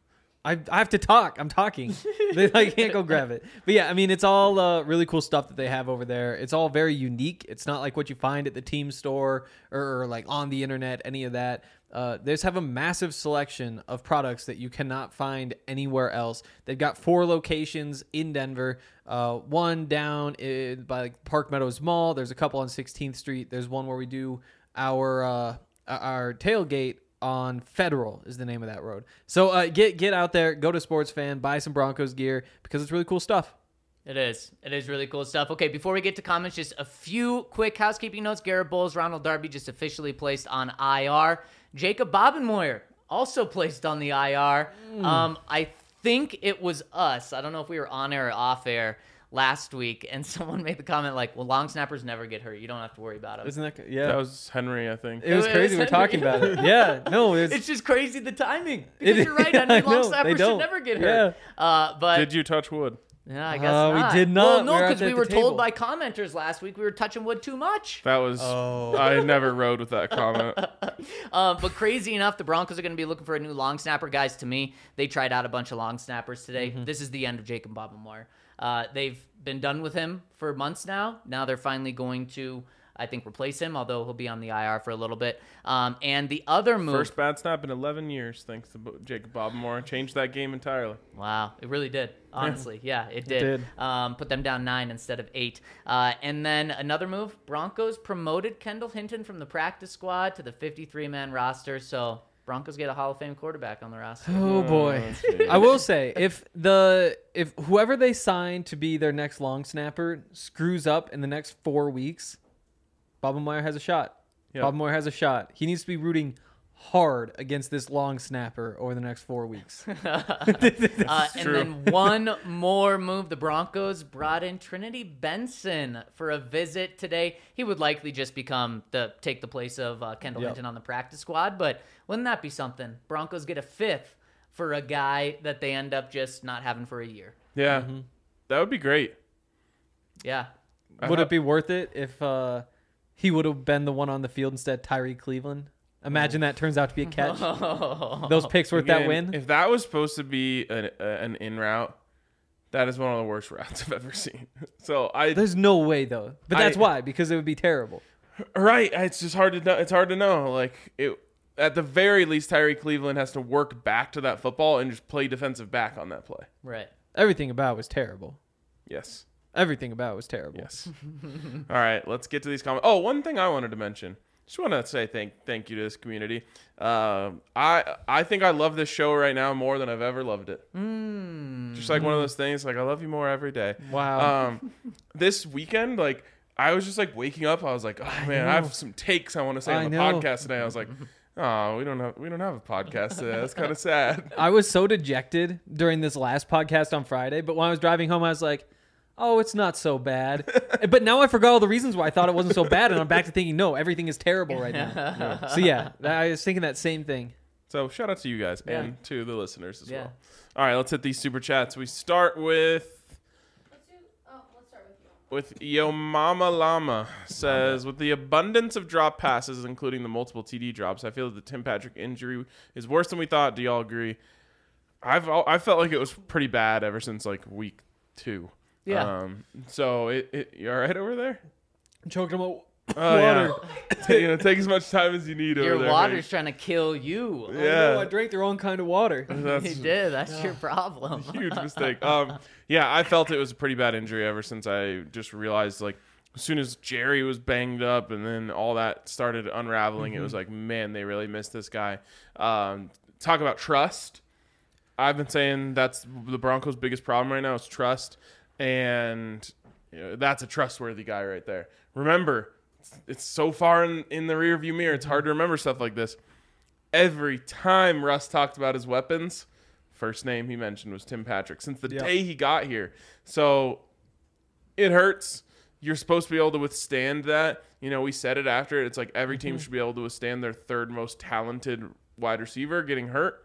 [SPEAKER 4] I have to talk. I'm talking. I can't go grab it. But yeah, I mean, it's all really cool stuff that they have over there. It's all very unique. It's not like what you find at the team store or like on the internet, any of that. They just have a massive selection of products that you cannot find anywhere else. They've got 4 locations in Denver, one down by like Park Meadows Mall. There's a couple on 16th Street. There's one where we do our tailgate on Federal is the name of that road. So get out there, go to Sports Fan, buy some Broncos gear because it's really cool stuff.
[SPEAKER 3] It is. It is really cool stuff. Okay, before we get to comments, just a few quick housekeeping notes. Garrett Bowles, Ronald Darby just officially placed on IR. Jacob Bobenmoyer also placed on the IR. I think it was us. I don't know if we were on air or off air last week, and someone made the comment like, well, long snappers never get hurt. You don't have to worry about them.
[SPEAKER 4] Isn't that yeah?
[SPEAKER 2] That was Henry, I think.
[SPEAKER 4] It was crazy. We were talking about it. Yeah, no,
[SPEAKER 3] It's just crazy the timing. Because you're right. I
[SPEAKER 4] I
[SPEAKER 3] mean, long
[SPEAKER 4] know,
[SPEAKER 3] snappers
[SPEAKER 4] they
[SPEAKER 3] should
[SPEAKER 4] don't.
[SPEAKER 3] never get hurt. But
[SPEAKER 2] Did you touch wood?
[SPEAKER 3] yeah, I guess not.
[SPEAKER 4] we did not.
[SPEAKER 3] Well,
[SPEAKER 4] We
[SPEAKER 3] no,
[SPEAKER 4] were
[SPEAKER 3] because
[SPEAKER 4] at
[SPEAKER 3] we
[SPEAKER 4] the
[SPEAKER 3] were
[SPEAKER 4] table.
[SPEAKER 3] told by commenters last week we were touching wood too much.
[SPEAKER 2] That was. I never rode with that comment.
[SPEAKER 3] But crazy enough, the Broncos are going to be looking for a new long snapper. Guys, to me, they tried out a bunch of long snappers today. This is the end of Jacob Bobenmoyer. They've been done with him for months now. Now they're finally going to, I think, replace him, although he'll be on the IR for a little bit. And the other move...
[SPEAKER 2] First bad snap in 11 years, thanks to Jacob Bobenmoyer. Changed that game entirely.
[SPEAKER 3] Wow, it really did. Honestly, yeah, it did.
[SPEAKER 4] did.
[SPEAKER 3] Put them down 9 instead of 8. And then another move, Broncos promoted Kendall Hinton from the practice squad to the 53-man roster. So Broncos get a Hall of Fame quarterback on the roster.
[SPEAKER 4] Oh boy.
[SPEAKER 2] geez.
[SPEAKER 4] I will say if whoever they sign to be their next long snapper screws up in the next 4 weeks, Bobenmoyer has a shot.
[SPEAKER 2] Yep.
[SPEAKER 4] Bobenmoyer has a shot. He needs to be rooting hard against this long snapper over the next 4 weeks.
[SPEAKER 3] And
[SPEAKER 2] true.
[SPEAKER 3] then one more move. The Broncos brought in Trinity Benson for a visit today. He would likely just take the place of Kendall
[SPEAKER 4] Yep.
[SPEAKER 3] Hinton on the practice squad. But wouldn't that be something? Broncos get a 5th for a guy that they end up just not having for a year.
[SPEAKER 2] Yeah, that would be great.
[SPEAKER 3] Yeah.
[SPEAKER 4] Would it be worth it if he would have been the one on the field instead of Tyree Cleveland? Imagine that turns out to be a catch. Those picks worth that
[SPEAKER 2] Again,
[SPEAKER 4] win.
[SPEAKER 2] If that was supposed to be an in route, that is one of the worst routes I've ever seen. So
[SPEAKER 4] There's no way though. But that's why, because it would be terrible.
[SPEAKER 2] right. It's just hard to know. It's hard to know. Like at the very least, Tyree Cleveland has to work back to that football and just play defensive back on that play.
[SPEAKER 3] Right.
[SPEAKER 4] Everything about it was terrible.
[SPEAKER 2] Yes.
[SPEAKER 4] Everything about it was terrible.
[SPEAKER 2] Yes. All right. Let's get to these comments. Oh, one thing I wanted to mention. Just want to say thank you to this community. I think I love this show right now more than I've ever loved it. Just like one of those things, like I love you more every day.
[SPEAKER 4] Wow.
[SPEAKER 2] This weekend, I was just waking up. I was like, oh man, I have some takes I want to say on the
[SPEAKER 4] know.
[SPEAKER 2] podcast today. I was like, Oh, we don't have a podcast today. That's kind of sad.
[SPEAKER 4] I was so dejected during this last podcast on Friday, but when I was driving home, I was like, oh, it's not so bad. But now I forgot all the reasons why I thought it wasn't so bad, and I'm back to thinking, no, everything is terrible right now. So yeah, I was thinking that same thing.
[SPEAKER 2] So shout out to you guys and to the listeners as
[SPEAKER 3] Yeah.
[SPEAKER 2] well. All right, let's hit these super chats. We start with Yo Mama Llama says, with the abundance of drop passes, including the multiple TD drops, I feel that the Tim Patrick injury is worse than we thought. Do y'all agree? I felt like it was pretty bad ever since like week 2.
[SPEAKER 3] Yeah.
[SPEAKER 2] So you all right over there?
[SPEAKER 4] I'm choking on
[SPEAKER 2] Water. Take as much time as you need over
[SPEAKER 3] Your
[SPEAKER 2] there.
[SPEAKER 3] water's trying to kill you.
[SPEAKER 2] Yeah.
[SPEAKER 4] I drank the wrong kind of water.
[SPEAKER 3] You did. That's your problem.
[SPEAKER 2] Huge mistake. Yeah, I felt it was a pretty bad injury ever since I just realized, like, as soon as Jerry was banged up and then all that started unraveling, it was like, man, they really missed this guy. Talk about trust. I've been saying that's the Broncos' biggest problem right now is trust, and that's a trustworthy guy right there. Remember, it's so far in the rearview mirror, it's hard to remember stuff like this. Every time Russ talked about his weapons, first name he mentioned was Tim Patrick since the day he got here. So it hurts. You're supposed to be able to withstand that. We said it after. It's like every team should be able to withstand their third most talented wide receiver getting hurt.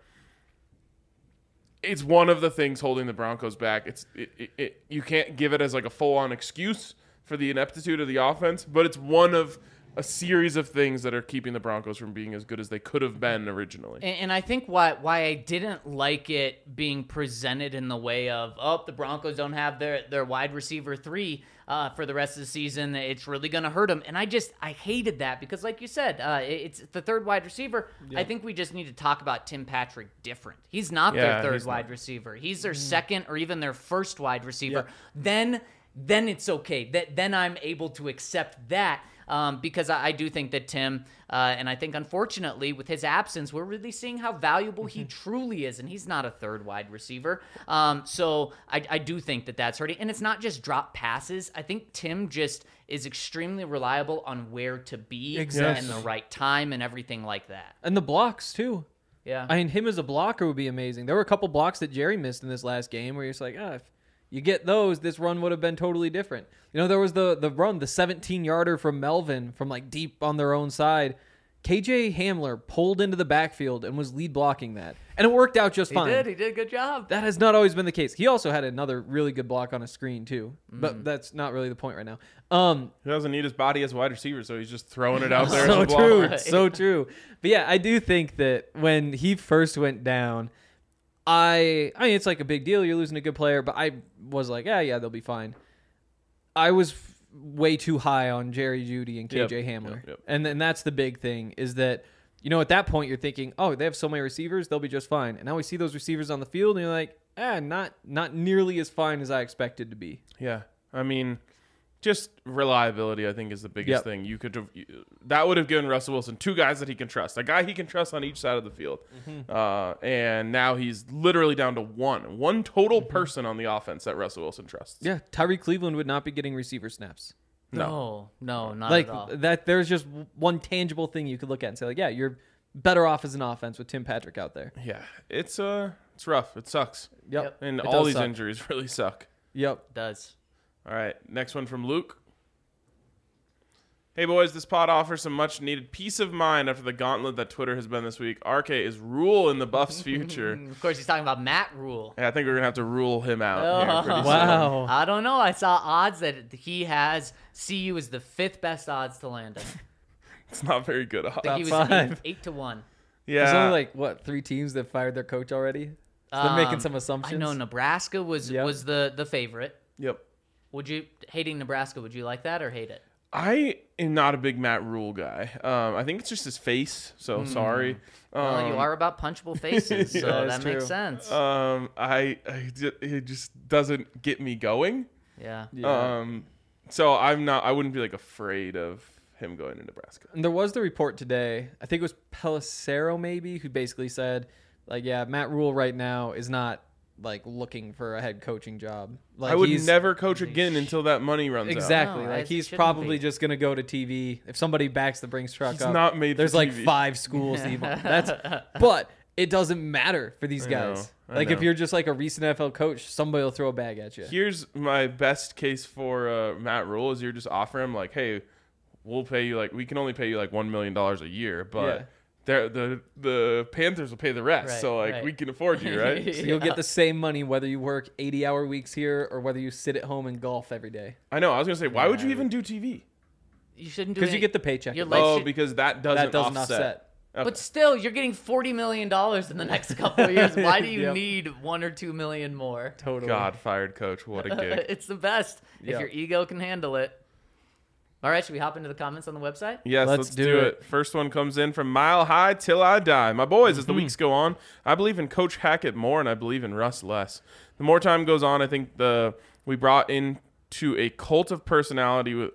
[SPEAKER 2] It's one of the things holding the Broncos back. You can't give it as like a full-on excuse for the ineptitude of the offense, but it's one of a series of things that are keeping the Broncos from being as good as they could have been originally.
[SPEAKER 3] And I think why I didn't like it being presented in the way of, the Broncos don't have their wide receiver 3 for the rest of the season. It's really going to hurt them. And I hated that because, like you said, it's the third wide receiver. Yep. I think we just need to talk about Tim Patrick different. He's not their third wide receiver. He's their second or even their first wide receiver. Yep. Then it's okay. Then I'm able to accept that. Because I do think that Tim, and I think unfortunately with his absence, we're really seeing how valuable he truly is, and he's not a third wide receiver. So I do think that that's hurting, and it's not just drop passes. I think Tim just is extremely reliable on where to be and the right time and everything like that.
[SPEAKER 4] And the blocks too.
[SPEAKER 3] Yeah.
[SPEAKER 4] I mean, him as a blocker would be amazing. There were a couple blocks that Jerry missed in this last game where you're just like, if you get those, this run would have been totally different. There was the run, the 17-yarder from Melvin from like deep on their own side. KJ Hamler pulled into the backfield and was lead blocking that. And it worked out just fine.
[SPEAKER 3] He did a good job.
[SPEAKER 4] That has not always been the case. He also had another really good block on a screen too. But that's not really the point right now.
[SPEAKER 2] He doesn't need his body as a wide receiver, so he's just throwing it out there
[SPEAKER 4] so
[SPEAKER 2] as a blocker.
[SPEAKER 4] true. So true. But yeah, I do think that when he first went down, I mean, it's like a big deal. You're losing a good player, but I was like, yeah, they'll be fine. I was way too high on Jerry Jeudy and KJ Hamler.
[SPEAKER 2] Yep.
[SPEAKER 4] And that's the big thing is that, at that point you're thinking, oh, they have so many receivers, they'll be just fine. And now we see those receivers on the field and you're like, not nearly as fine as I expected to be.
[SPEAKER 2] Yeah. I mean, just reliability, I think, is the biggest thing. That would have given Russell Wilson 2 guys that he can trust, a guy he can trust on each side of the field, and now he's literally down to one total person on the offense that Russell Wilson trusts.
[SPEAKER 4] Yeah, Tyree Cleveland would not be getting receiver snaps.
[SPEAKER 3] No, not
[SPEAKER 4] like
[SPEAKER 3] at all.
[SPEAKER 4] that. There's just one tangible thing you could look at and say, like, yeah, you're better off as an offense with Tim Patrick out there.
[SPEAKER 2] Yeah, it's rough. It sucks.
[SPEAKER 4] Yep.
[SPEAKER 2] And
[SPEAKER 4] It
[SPEAKER 2] all
[SPEAKER 4] does
[SPEAKER 2] these
[SPEAKER 4] suck.
[SPEAKER 2] injuries really suck.
[SPEAKER 4] Yep.
[SPEAKER 3] It does.
[SPEAKER 2] All right, next one from Luke. Hey, boys, this pod offers some much-needed peace of mind after the gauntlet that Twitter has been this week. RK is Rule in the Buffs' future.
[SPEAKER 3] Of course, he's talking about Matt Rule.
[SPEAKER 2] Yeah, I think we're going to have to rule him out here pretty soon.
[SPEAKER 4] Wow.
[SPEAKER 3] I don't know. I saw odds that he has CU is the 5th best odds to land him.
[SPEAKER 2] It's not very good.
[SPEAKER 3] I think he was
[SPEAKER 4] Top 5.
[SPEAKER 3] 8 to 1.
[SPEAKER 4] There's
[SPEAKER 2] Yeah.
[SPEAKER 4] only 3 teams that fired their coach already. So they're making some assumptions.
[SPEAKER 3] I know Nebraska was the favorite.
[SPEAKER 2] Yep.
[SPEAKER 3] Hating Nebraska, would you like that or hate it?
[SPEAKER 2] I am not a big Matt Rule guy. I think it's just his face, so sorry.
[SPEAKER 3] Well, you are about punchable faces, so
[SPEAKER 2] Yeah,
[SPEAKER 3] that makes sense.
[SPEAKER 2] It just doesn't get me going.
[SPEAKER 3] Yeah.
[SPEAKER 2] So I wouldn't be like afraid of him going to Nebraska.
[SPEAKER 4] And there was the report today, I think it was Pelissero maybe, who basically said, like, yeah, Matt Rule right now is not like looking for a head coaching job. Like
[SPEAKER 2] I would
[SPEAKER 4] he's,
[SPEAKER 2] never coach again until that money runs out.
[SPEAKER 4] exactly
[SPEAKER 3] No,
[SPEAKER 4] like
[SPEAKER 3] it
[SPEAKER 4] he's
[SPEAKER 3] shouldn't
[SPEAKER 4] probably
[SPEAKER 3] be.
[SPEAKER 4] just gonna go to TV if somebody backs the Brinks truck
[SPEAKER 2] He's
[SPEAKER 4] up.
[SPEAKER 2] not made for
[SPEAKER 4] There's like
[SPEAKER 2] TV.
[SPEAKER 4] 5 schools. To even, but it doesn't matter for these guys.
[SPEAKER 2] I
[SPEAKER 4] Like if
[SPEAKER 2] know.
[SPEAKER 4] you're just like a recent NFL coach, somebody will throw a bag at you.
[SPEAKER 2] Here's my best case for Matt Rule is you're just offering him like, hey, we'll pay you we can only pay you like $1 million a year, but the Panthers will pay the rest.
[SPEAKER 3] Right,
[SPEAKER 2] so
[SPEAKER 3] right.
[SPEAKER 2] we can afford you, right?
[SPEAKER 4] So you'll get the same money whether you work 80-hour weeks here or whether you sit at home and golf every day.
[SPEAKER 2] I know. I was gonna say, why would you even do TV?
[SPEAKER 3] You shouldn't do
[SPEAKER 4] Because
[SPEAKER 3] it.
[SPEAKER 4] you get the paycheck.
[SPEAKER 3] Your
[SPEAKER 4] at
[SPEAKER 3] legs
[SPEAKER 4] least.
[SPEAKER 2] Oh,
[SPEAKER 3] should-
[SPEAKER 2] because that
[SPEAKER 4] That doesn't
[SPEAKER 2] offset.
[SPEAKER 4] offset.
[SPEAKER 2] Okay.
[SPEAKER 3] But still, you're getting $40 million in the next couple of years. Why do you
[SPEAKER 4] Yep.
[SPEAKER 3] need $1 or $2 million more?
[SPEAKER 4] Totally.
[SPEAKER 2] God fired coach. What a gig.
[SPEAKER 3] It's the best if
[SPEAKER 4] Yeah.
[SPEAKER 3] your ego can handle it. All right, should we hop into the comments on the website?
[SPEAKER 2] Yes,
[SPEAKER 4] Let's
[SPEAKER 2] let's
[SPEAKER 4] do
[SPEAKER 2] do
[SPEAKER 4] it.
[SPEAKER 2] it. First one comes in from Mile High Till I Die. My boys, as the weeks go on, I believe in Coach Hackett more and I believe in Russ less. The more time goes on, I think we brought into a cult of personality with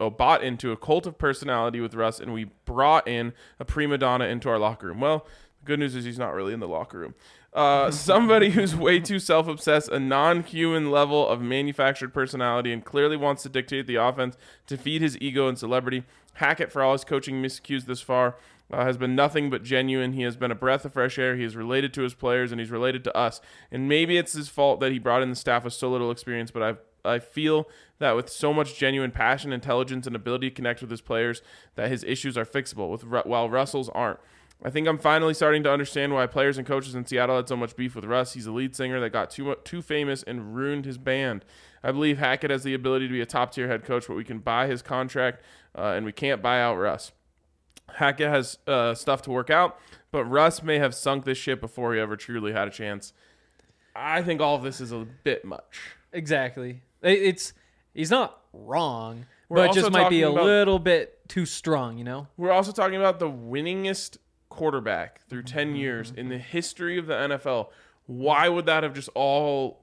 [SPEAKER 2] Russ, and we brought in a prima donna into our locker room. Well, the good news is he's not really in the locker room. Somebody who's way too self-obsessed, a non-human level of manufactured personality, and clearly wants to dictate the offense to feed his ego and celebrity. Hackett, for all his coaching miscues this far, has been nothing but genuine. He has been a breath of fresh air. He is related to his players, and he's related to us. And maybe it's his fault that he brought in the staff with so little experience, but I feel that with so much genuine passion, intelligence, and ability to connect with his players, that his issues are fixable, while Russell's aren't. I think I'm finally starting to understand why players and coaches in Seattle had so much beef with Russ. He's a lead singer that got too famous and ruined his band. I believe Hackett has the ability to be a top-tier head coach, but we can buy his contract, and we can't buy out Russ. Hackett has stuff to work out, but Russ may have sunk this ship before he ever truly had a chance. I think all of this is a bit much.
[SPEAKER 4] Exactly. He's not wrong,
[SPEAKER 2] We're
[SPEAKER 4] but
[SPEAKER 2] also
[SPEAKER 4] just might be a
[SPEAKER 2] talking about-
[SPEAKER 4] little bit too strong, you know?
[SPEAKER 2] We're also talking about the winningest quarterback through 10 years in the history of the NFL. Why would that have just all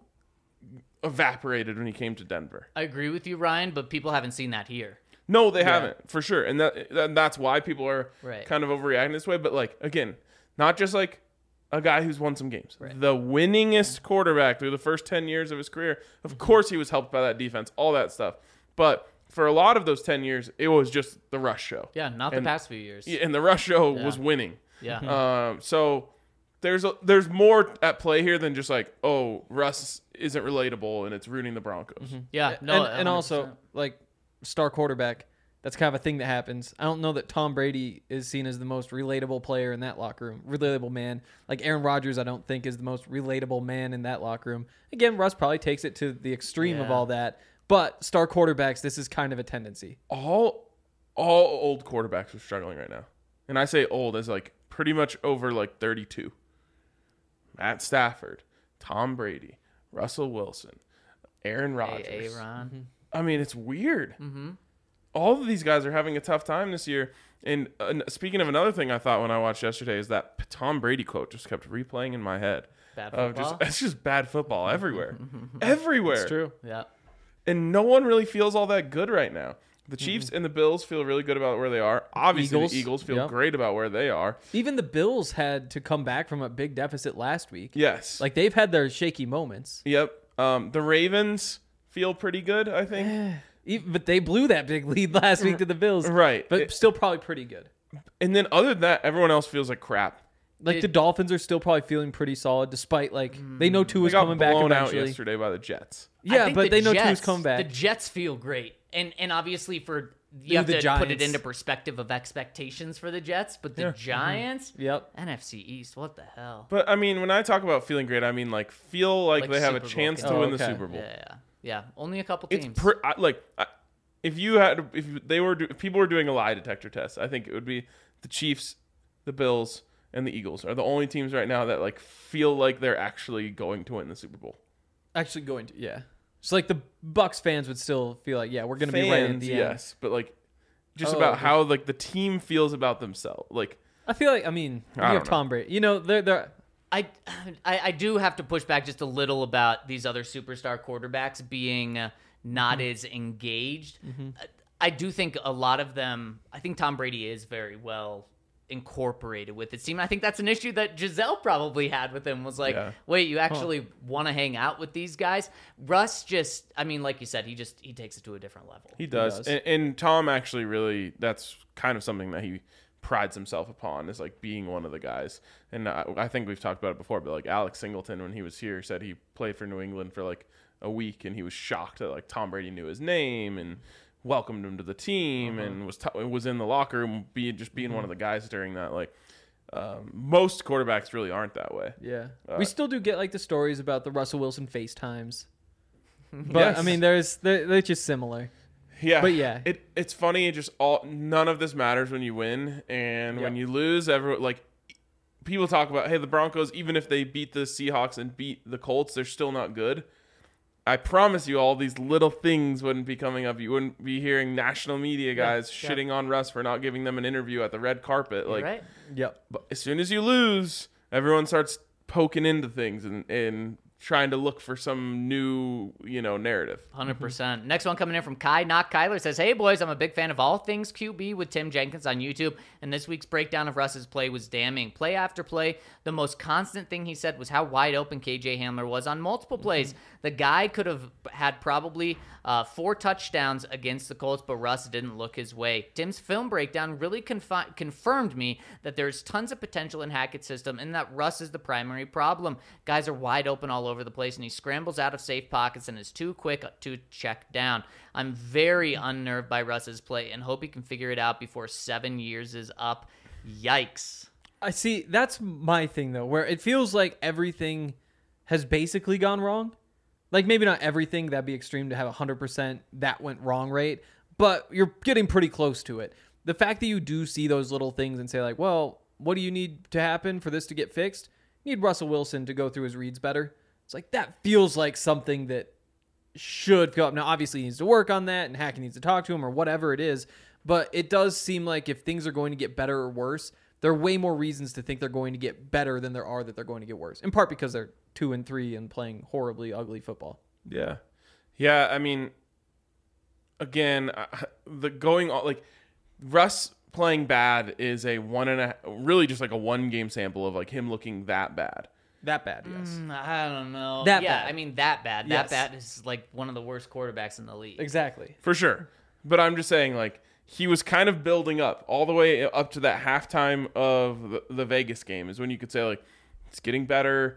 [SPEAKER 2] evaporated when he came to Denver?
[SPEAKER 3] I agree with you, Ryan, but people haven't seen that here.
[SPEAKER 2] No, they haven't, for sure. And that's why people are
[SPEAKER 3] Right.
[SPEAKER 2] kind of overreacting this way. But, again, not just a guy who's won some games.
[SPEAKER 3] Right.
[SPEAKER 2] The winningest quarterback through the first 10 years of his career. Of course he was helped by that defense, all that stuff. But for a lot of those 10 years, it was just the Rush show.
[SPEAKER 3] Yeah, not the
[SPEAKER 2] And-
[SPEAKER 3] past few years.
[SPEAKER 2] Yeah, and the Rush show was winning.
[SPEAKER 3] Yeah.
[SPEAKER 2] So there's more at play here than just Russ isn't relatable and it's ruining the Broncos.
[SPEAKER 3] Yeah. No,
[SPEAKER 4] and also,
[SPEAKER 3] 100%.
[SPEAKER 4] like, star quarterback, that's kind of a thing that happens. I don't know that Tom Brady is seen as the most relatable player in that locker room, relatable man. Like Aaron Rodgers, I don't think is the most relatable man in that locker room. Again, Russ probably takes it to the extreme of
[SPEAKER 3] Yeah.
[SPEAKER 4] all that. But star quarterbacks, this is kind of a tendency.
[SPEAKER 2] All old quarterbacks are struggling right now. And I say old as pretty much over 32. Matt Stafford, Tom Brady, Russell Wilson, Aaron Rodgers.
[SPEAKER 3] Aaron.
[SPEAKER 2] I mean, it's weird. All of these guys are having a tough time this year. And speaking of another thing I thought when I watched yesterday is that Tom Brady quote just kept replaying in my head.
[SPEAKER 3] Bad
[SPEAKER 2] Of
[SPEAKER 3] football?
[SPEAKER 2] it's just bad football everywhere. Everywhere.
[SPEAKER 4] It's true.
[SPEAKER 3] Yeah.
[SPEAKER 2] And no one really feels all that good right now. The Chiefs and the Bills feel really good about where they are. Obviously,
[SPEAKER 4] Eagles.
[SPEAKER 2] the Eagles feel
[SPEAKER 4] Yep.
[SPEAKER 2] great about where they are.
[SPEAKER 4] Even the Bills had to come back from a big deficit last week.
[SPEAKER 2] Yes.
[SPEAKER 4] Like, they've had their shaky moments.
[SPEAKER 2] Yep. The Ravens feel pretty good, I think.
[SPEAKER 4] But they blew that big lead last week to the Bills.
[SPEAKER 2] Right.
[SPEAKER 4] But still probably pretty good.
[SPEAKER 2] And then other than that, everyone else feels like crap.
[SPEAKER 4] Like, the Dolphins are still probably feeling pretty solid, despite, they know
[SPEAKER 2] They
[SPEAKER 4] Tua's
[SPEAKER 2] got
[SPEAKER 4] coming back
[SPEAKER 2] blown out
[SPEAKER 4] eventually.
[SPEAKER 2] yesterday by the Jets.
[SPEAKER 3] I
[SPEAKER 4] Yeah,
[SPEAKER 3] think
[SPEAKER 4] but
[SPEAKER 3] the
[SPEAKER 4] they know
[SPEAKER 3] Jets,
[SPEAKER 4] Tua's coming back.
[SPEAKER 3] The Jets feel great. And obviously you have
[SPEAKER 4] the
[SPEAKER 3] to put it
[SPEAKER 4] Giants.
[SPEAKER 3] into perspective of expectations for the Jets, but the Giants,
[SPEAKER 4] Yep.
[SPEAKER 3] NFC East, what the hell?
[SPEAKER 2] But, I mean, when I talk about feeling great, I mean, feel like they have a
[SPEAKER 3] Super Bowl
[SPEAKER 2] chance to
[SPEAKER 3] contender.
[SPEAKER 2] win the
[SPEAKER 4] okay.
[SPEAKER 2] Super Bowl.
[SPEAKER 3] Yeah. Only a couple
[SPEAKER 2] It's
[SPEAKER 3] teams.
[SPEAKER 2] if people were doing a lie detector test, I think it would be the Chiefs, the Bills, and the Eagles are the only teams right now that feel like they're actually going to win the Super Bowl.
[SPEAKER 4] Actually going to, yeah. So, the Bucks fans would still feel like, yeah, we're going to be right at the end.
[SPEAKER 2] Yes, but just
[SPEAKER 4] Oh,
[SPEAKER 2] about
[SPEAKER 4] okay.
[SPEAKER 2] how the team feels about themselves.
[SPEAKER 4] I feel like, you
[SPEAKER 2] I
[SPEAKER 4] have
[SPEAKER 2] don't know.
[SPEAKER 4] Tom Brady. They're
[SPEAKER 3] I do have to push back just a little about these other superstar quarterbacks being not as engaged. I do think a lot of them. I think Tom Brady is very well incorporated with it. I think that's an issue that Giselle probably had with him, was like, wait, you actually want to hang out with these guys? Russ just, I mean, like you said, he takes it to a different level.
[SPEAKER 2] He does. And Tom actually really, that's kind of something that he prides himself upon, is like being one of the guys. And I think we've talked about it before, but like Alex Singleton, when he was here, said he played for New England for like a week and he was shocked that like Tom Brady knew his name and welcomed him to the team and was in the locker room being one of the guys during that. Like most quarterbacks really aren't that way.
[SPEAKER 4] Yeah. We still do get like the stories about the Russell Wilson FaceTimes. But
[SPEAKER 2] Yes.
[SPEAKER 4] I mean, they're just similar.
[SPEAKER 2] Yeah.
[SPEAKER 4] But yeah.
[SPEAKER 2] It's funny. None of this matters when you win. And when you lose, people talk about, hey, the Broncos, even if they beat the Seahawks and beat the Colts, they're still not good. I promise you, all these little things wouldn't be coming up. You wouldn't be hearing national media guys shitting on Russ for not giving them an interview at the red carpet.
[SPEAKER 3] You're right.
[SPEAKER 4] Yep.
[SPEAKER 2] But as soon as you lose, everyone starts poking into things and trying to look for some new, narrative.
[SPEAKER 3] 100%. Next one coming in from Kai. Not Kyler says, hey, boys, I'm a big fan of all things QB with Tim Jenkins on YouTube, and this week's breakdown of Russ's play was damning. Play after play, the most constant thing he said was how wide open KJ Hamler was on multiple plays. The guy could have had probably 4 touchdowns against the Colts, but Russ didn't look his way. Tim's film breakdown really confirmed me that there's tons of potential in Hackett's system and that Russ is the primary problem. Guys are wide open all over the place, and he scrambles out of safe pockets and is too quick to check down. I'm very unnerved by Russ's play and hope he can figure it out before 7 years is up. Yikes.
[SPEAKER 4] I see. That's my thing, though, where it feels like everything has basically gone wrong. Like, maybe not everything. That'd be extreme to have 100% that went wrong rate, but you're getting pretty close to it. The fact that you do see those little things and say, like, well, what do you need to happen for this to get fixed? You need Russell Wilson to go through his reads better. It's like, that feels like something that should go up. Now, obviously, he needs to work on that, and Hackett needs to talk to him or whatever it is, but it does seem like if things are going to get better or worse, there are way more reasons to think they're going to get better than there are that they're going to get worse, in part because they're 2-3 and playing horribly ugly football.
[SPEAKER 2] Yeah. Yeah, I mean, again, Russ playing bad is really just like a 1-game sample of like him looking that bad.
[SPEAKER 4] That bad, yes.
[SPEAKER 3] I don't know.
[SPEAKER 4] That bad.
[SPEAKER 3] I mean, that bad.
[SPEAKER 4] Yes.
[SPEAKER 3] That bad is like one of the worst quarterbacks in the league.
[SPEAKER 4] Exactly.
[SPEAKER 2] For sure. But I'm just saying, like, he was kind of building up all the way up to that halftime of the Vegas game is when you could say, like, it's getting better.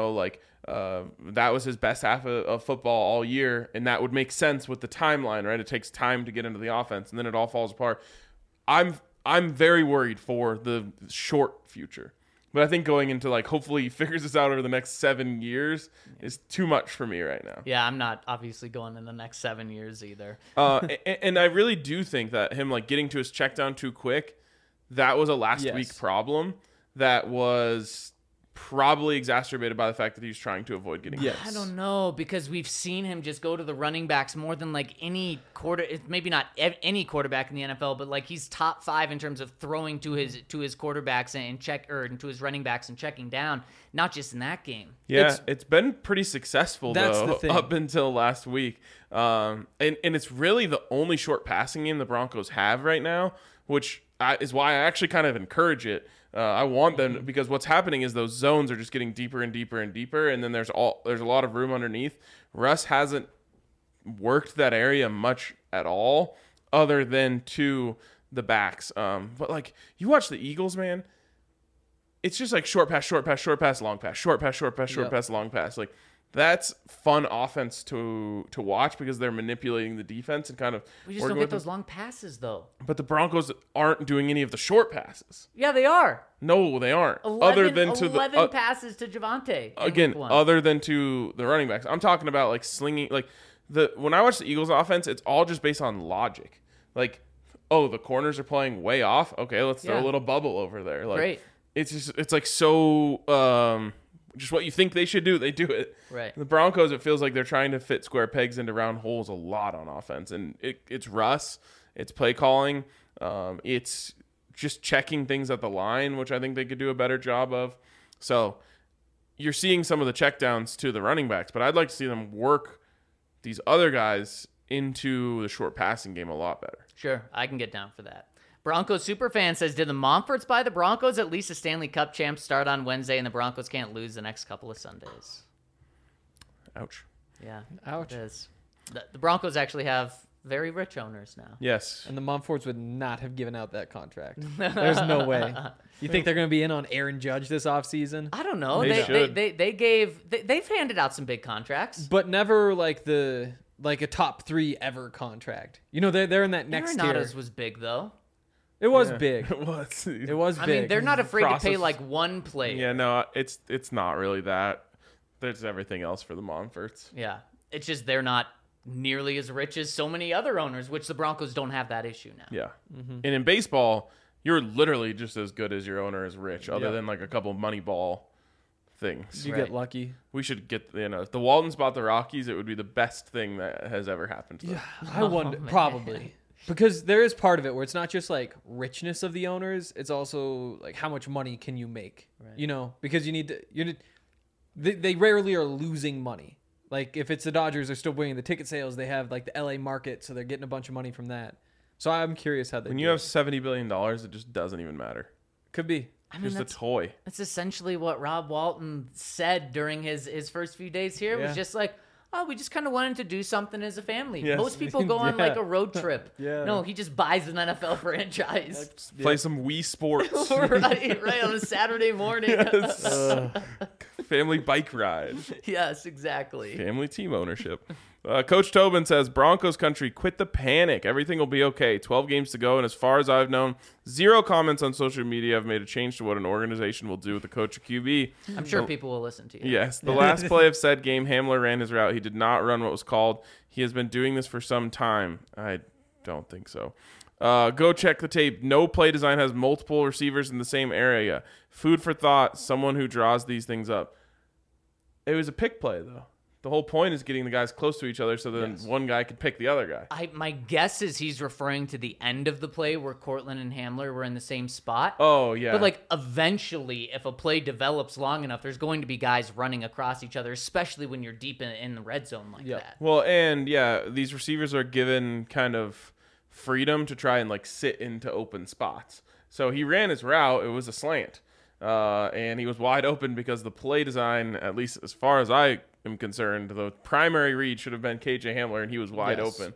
[SPEAKER 2] That was his best half of football all year, and that would make sense with the timeline, right? It takes time to get into the offense, and then it all falls apart. I'm very worried for the short future. But I think going into, like, hopefully he figures this out over the next 7 years is too much for me right now.
[SPEAKER 3] Yeah, I'm not obviously going in the next 7 years either.
[SPEAKER 2] And I really do think that him, like, getting to his check down too quick, that was a last week problem that was probably exacerbated by the fact that he was trying to avoid getting hit.
[SPEAKER 3] I don't know, because we've seen him just go to the running backs more than like any maybe not any quarterback in the NFL, but like he's top 5 in terms of throwing to his quarterbacks and to his running backs and checking down, not just in that game.
[SPEAKER 2] Yeah, it's been pretty successful
[SPEAKER 4] That's
[SPEAKER 2] though
[SPEAKER 4] the thing.
[SPEAKER 2] up until last week. And it's really the only short passing game the Broncos have right now, which is why I actually kind of encourage it. I want them, because what's happening is those zones are just getting deeper and deeper and deeper, and then there's a lot of room underneath. Russ hasn't worked that area much at all, other than to the backs. But like, you watch the Eagles, man, it's just like short pass, short pass, short pass, long pass, short pass, short pass, short pass, long pass. Like, that's fun offense to watch because they're manipulating the defense and kind of.
[SPEAKER 3] We just don't get those long passes though.
[SPEAKER 2] But the Broncos aren't doing any of the short passes.
[SPEAKER 3] Yeah, they are.
[SPEAKER 2] No, they aren't.
[SPEAKER 3] 11 passes to Javonte.
[SPEAKER 2] Other than to the running backs. I'm talking about like slinging. Like when I watch the Eagles offense, it's all just based on logic. Like, oh, the corners are playing way off. Okay, let's throw a little bubble over there. Like,
[SPEAKER 3] great.
[SPEAKER 2] It's like so. Just what you think they should do, they do it.
[SPEAKER 3] Right.
[SPEAKER 2] The Broncos, it feels like they're trying to fit square pegs into round holes a lot on offense, and it's Russ, it's play calling, it's just checking things at the line, which I think they could do a better job of. So you're seeing some of the checkdowns to the running backs, but I'd like to see them work these other guys into the short passing game a lot better.
[SPEAKER 3] Sure, I can get down for that. Broncos superfan says, did the Montforts buy the Broncos? At least the Stanley Cup champs start on Wednesday, and the Broncos can't lose the next couple of Sundays.
[SPEAKER 2] Ouch.
[SPEAKER 3] Yeah,
[SPEAKER 4] Ouch.
[SPEAKER 3] it is. The Broncos actually have very rich owners now.
[SPEAKER 2] Yes.
[SPEAKER 4] And the Montforts would not have given out that contract. There's no way. You think they're going to be in on Aaron Judge this offseason?
[SPEAKER 3] I don't know.
[SPEAKER 2] They should.
[SPEAKER 3] They've handed out some big contracts.
[SPEAKER 4] But never like a top 3 ever contract. You know, they're in that next tier.
[SPEAKER 3] Arenado's was big though.
[SPEAKER 4] It was
[SPEAKER 2] Yeah.
[SPEAKER 4] big.
[SPEAKER 2] It was.
[SPEAKER 4] It was
[SPEAKER 3] I
[SPEAKER 4] big.
[SPEAKER 3] mean, they're not afraid to pay
[SPEAKER 2] Process.
[SPEAKER 3] like one player.
[SPEAKER 2] Yeah, no, it's not really that. There's everything else for the Montforts.
[SPEAKER 3] Yeah. It's just they're not nearly as rich as so many other owners, which the Broncos don't have that issue now.
[SPEAKER 2] Yeah.
[SPEAKER 4] Mm-hmm.
[SPEAKER 2] And in baseball, you're literally just as good as your owner is rich, other
[SPEAKER 4] Yeah.
[SPEAKER 2] than like a couple money ball things.
[SPEAKER 4] You
[SPEAKER 3] Right.
[SPEAKER 4] get lucky.
[SPEAKER 2] We should get, if the Waltons bought the Rockies, it would be the best thing that has ever happened to them.
[SPEAKER 4] I wonder, probably. Because there is part of it where it's not just like richness of the owners, it's also like how much money can you make, you know, because they rarely are losing money. Like if it's the Dodgers, they're still bringing the ticket sales. They have like the LA market, so they're getting a bunch of money from that. So I'm curious how they
[SPEAKER 2] When
[SPEAKER 4] do
[SPEAKER 2] you have
[SPEAKER 4] it.
[SPEAKER 2] $70 billion, it just doesn't even matter.
[SPEAKER 4] Could be.
[SPEAKER 3] I mean,
[SPEAKER 2] Just a toy.
[SPEAKER 3] that's essentially what Rob Walton said during his first few days here. It
[SPEAKER 4] Yeah.
[SPEAKER 3] was just like, oh, we just kind of wanted to do something as a family.
[SPEAKER 2] Yes.
[SPEAKER 3] Most people go on
[SPEAKER 4] Yeah.
[SPEAKER 3] like a road trip.
[SPEAKER 4] Yeah.
[SPEAKER 3] No, he just buys an NFL franchise.
[SPEAKER 2] Play some Wii Sports.
[SPEAKER 3] right on a Saturday morning.
[SPEAKER 2] Family bike ride.
[SPEAKER 3] Yes, exactly.
[SPEAKER 2] Family team ownership. Coach Tobin says, Broncos country, quit the panic. Everything will be okay. 12 games to go, and as far as I've known, 0 comments on social media have made a change to what an organization will do with the coach of QB.
[SPEAKER 3] I'm sure people will listen to you.
[SPEAKER 2] Yes, the last play of said game, Hamler ran his route. He did not run what was called. He has been doing this for some time. I don't think so. Go check the tape. No play design has multiple receivers in the same area. Food for thought, someone who draws these things up. It was a pick play, though. The whole point is getting the guys close to each other so then one guy could pick the other guy.
[SPEAKER 3] My guess is he's referring to the end of the play where Cortland and Hamler were in the same spot.
[SPEAKER 2] Oh, yeah.
[SPEAKER 3] But like eventually, if a play develops long enough, there's going to be guys running across each other, especially when you're deep in the red zone like that.
[SPEAKER 2] Well, and yeah, these receivers are given kind of freedom to try and like sit into open spots. So he ran his route. It was a slant. And he was wide open because the play design, at least as far as I am concerned, the primary read should have been KJ Hamler, and he was wide open.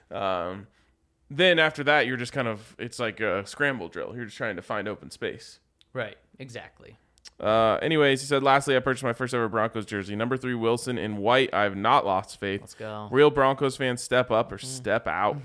[SPEAKER 2] Then after that, you're just kind of, it's like a scramble drill. You're just trying to find open space.
[SPEAKER 3] Right. Exactly.
[SPEAKER 2] Anyways, he said, lastly, I purchased my first ever Broncos jersey. Number 3, Wilson in white. I have not lost faith.
[SPEAKER 3] Let's go.
[SPEAKER 2] Real Broncos fans, step up or step out.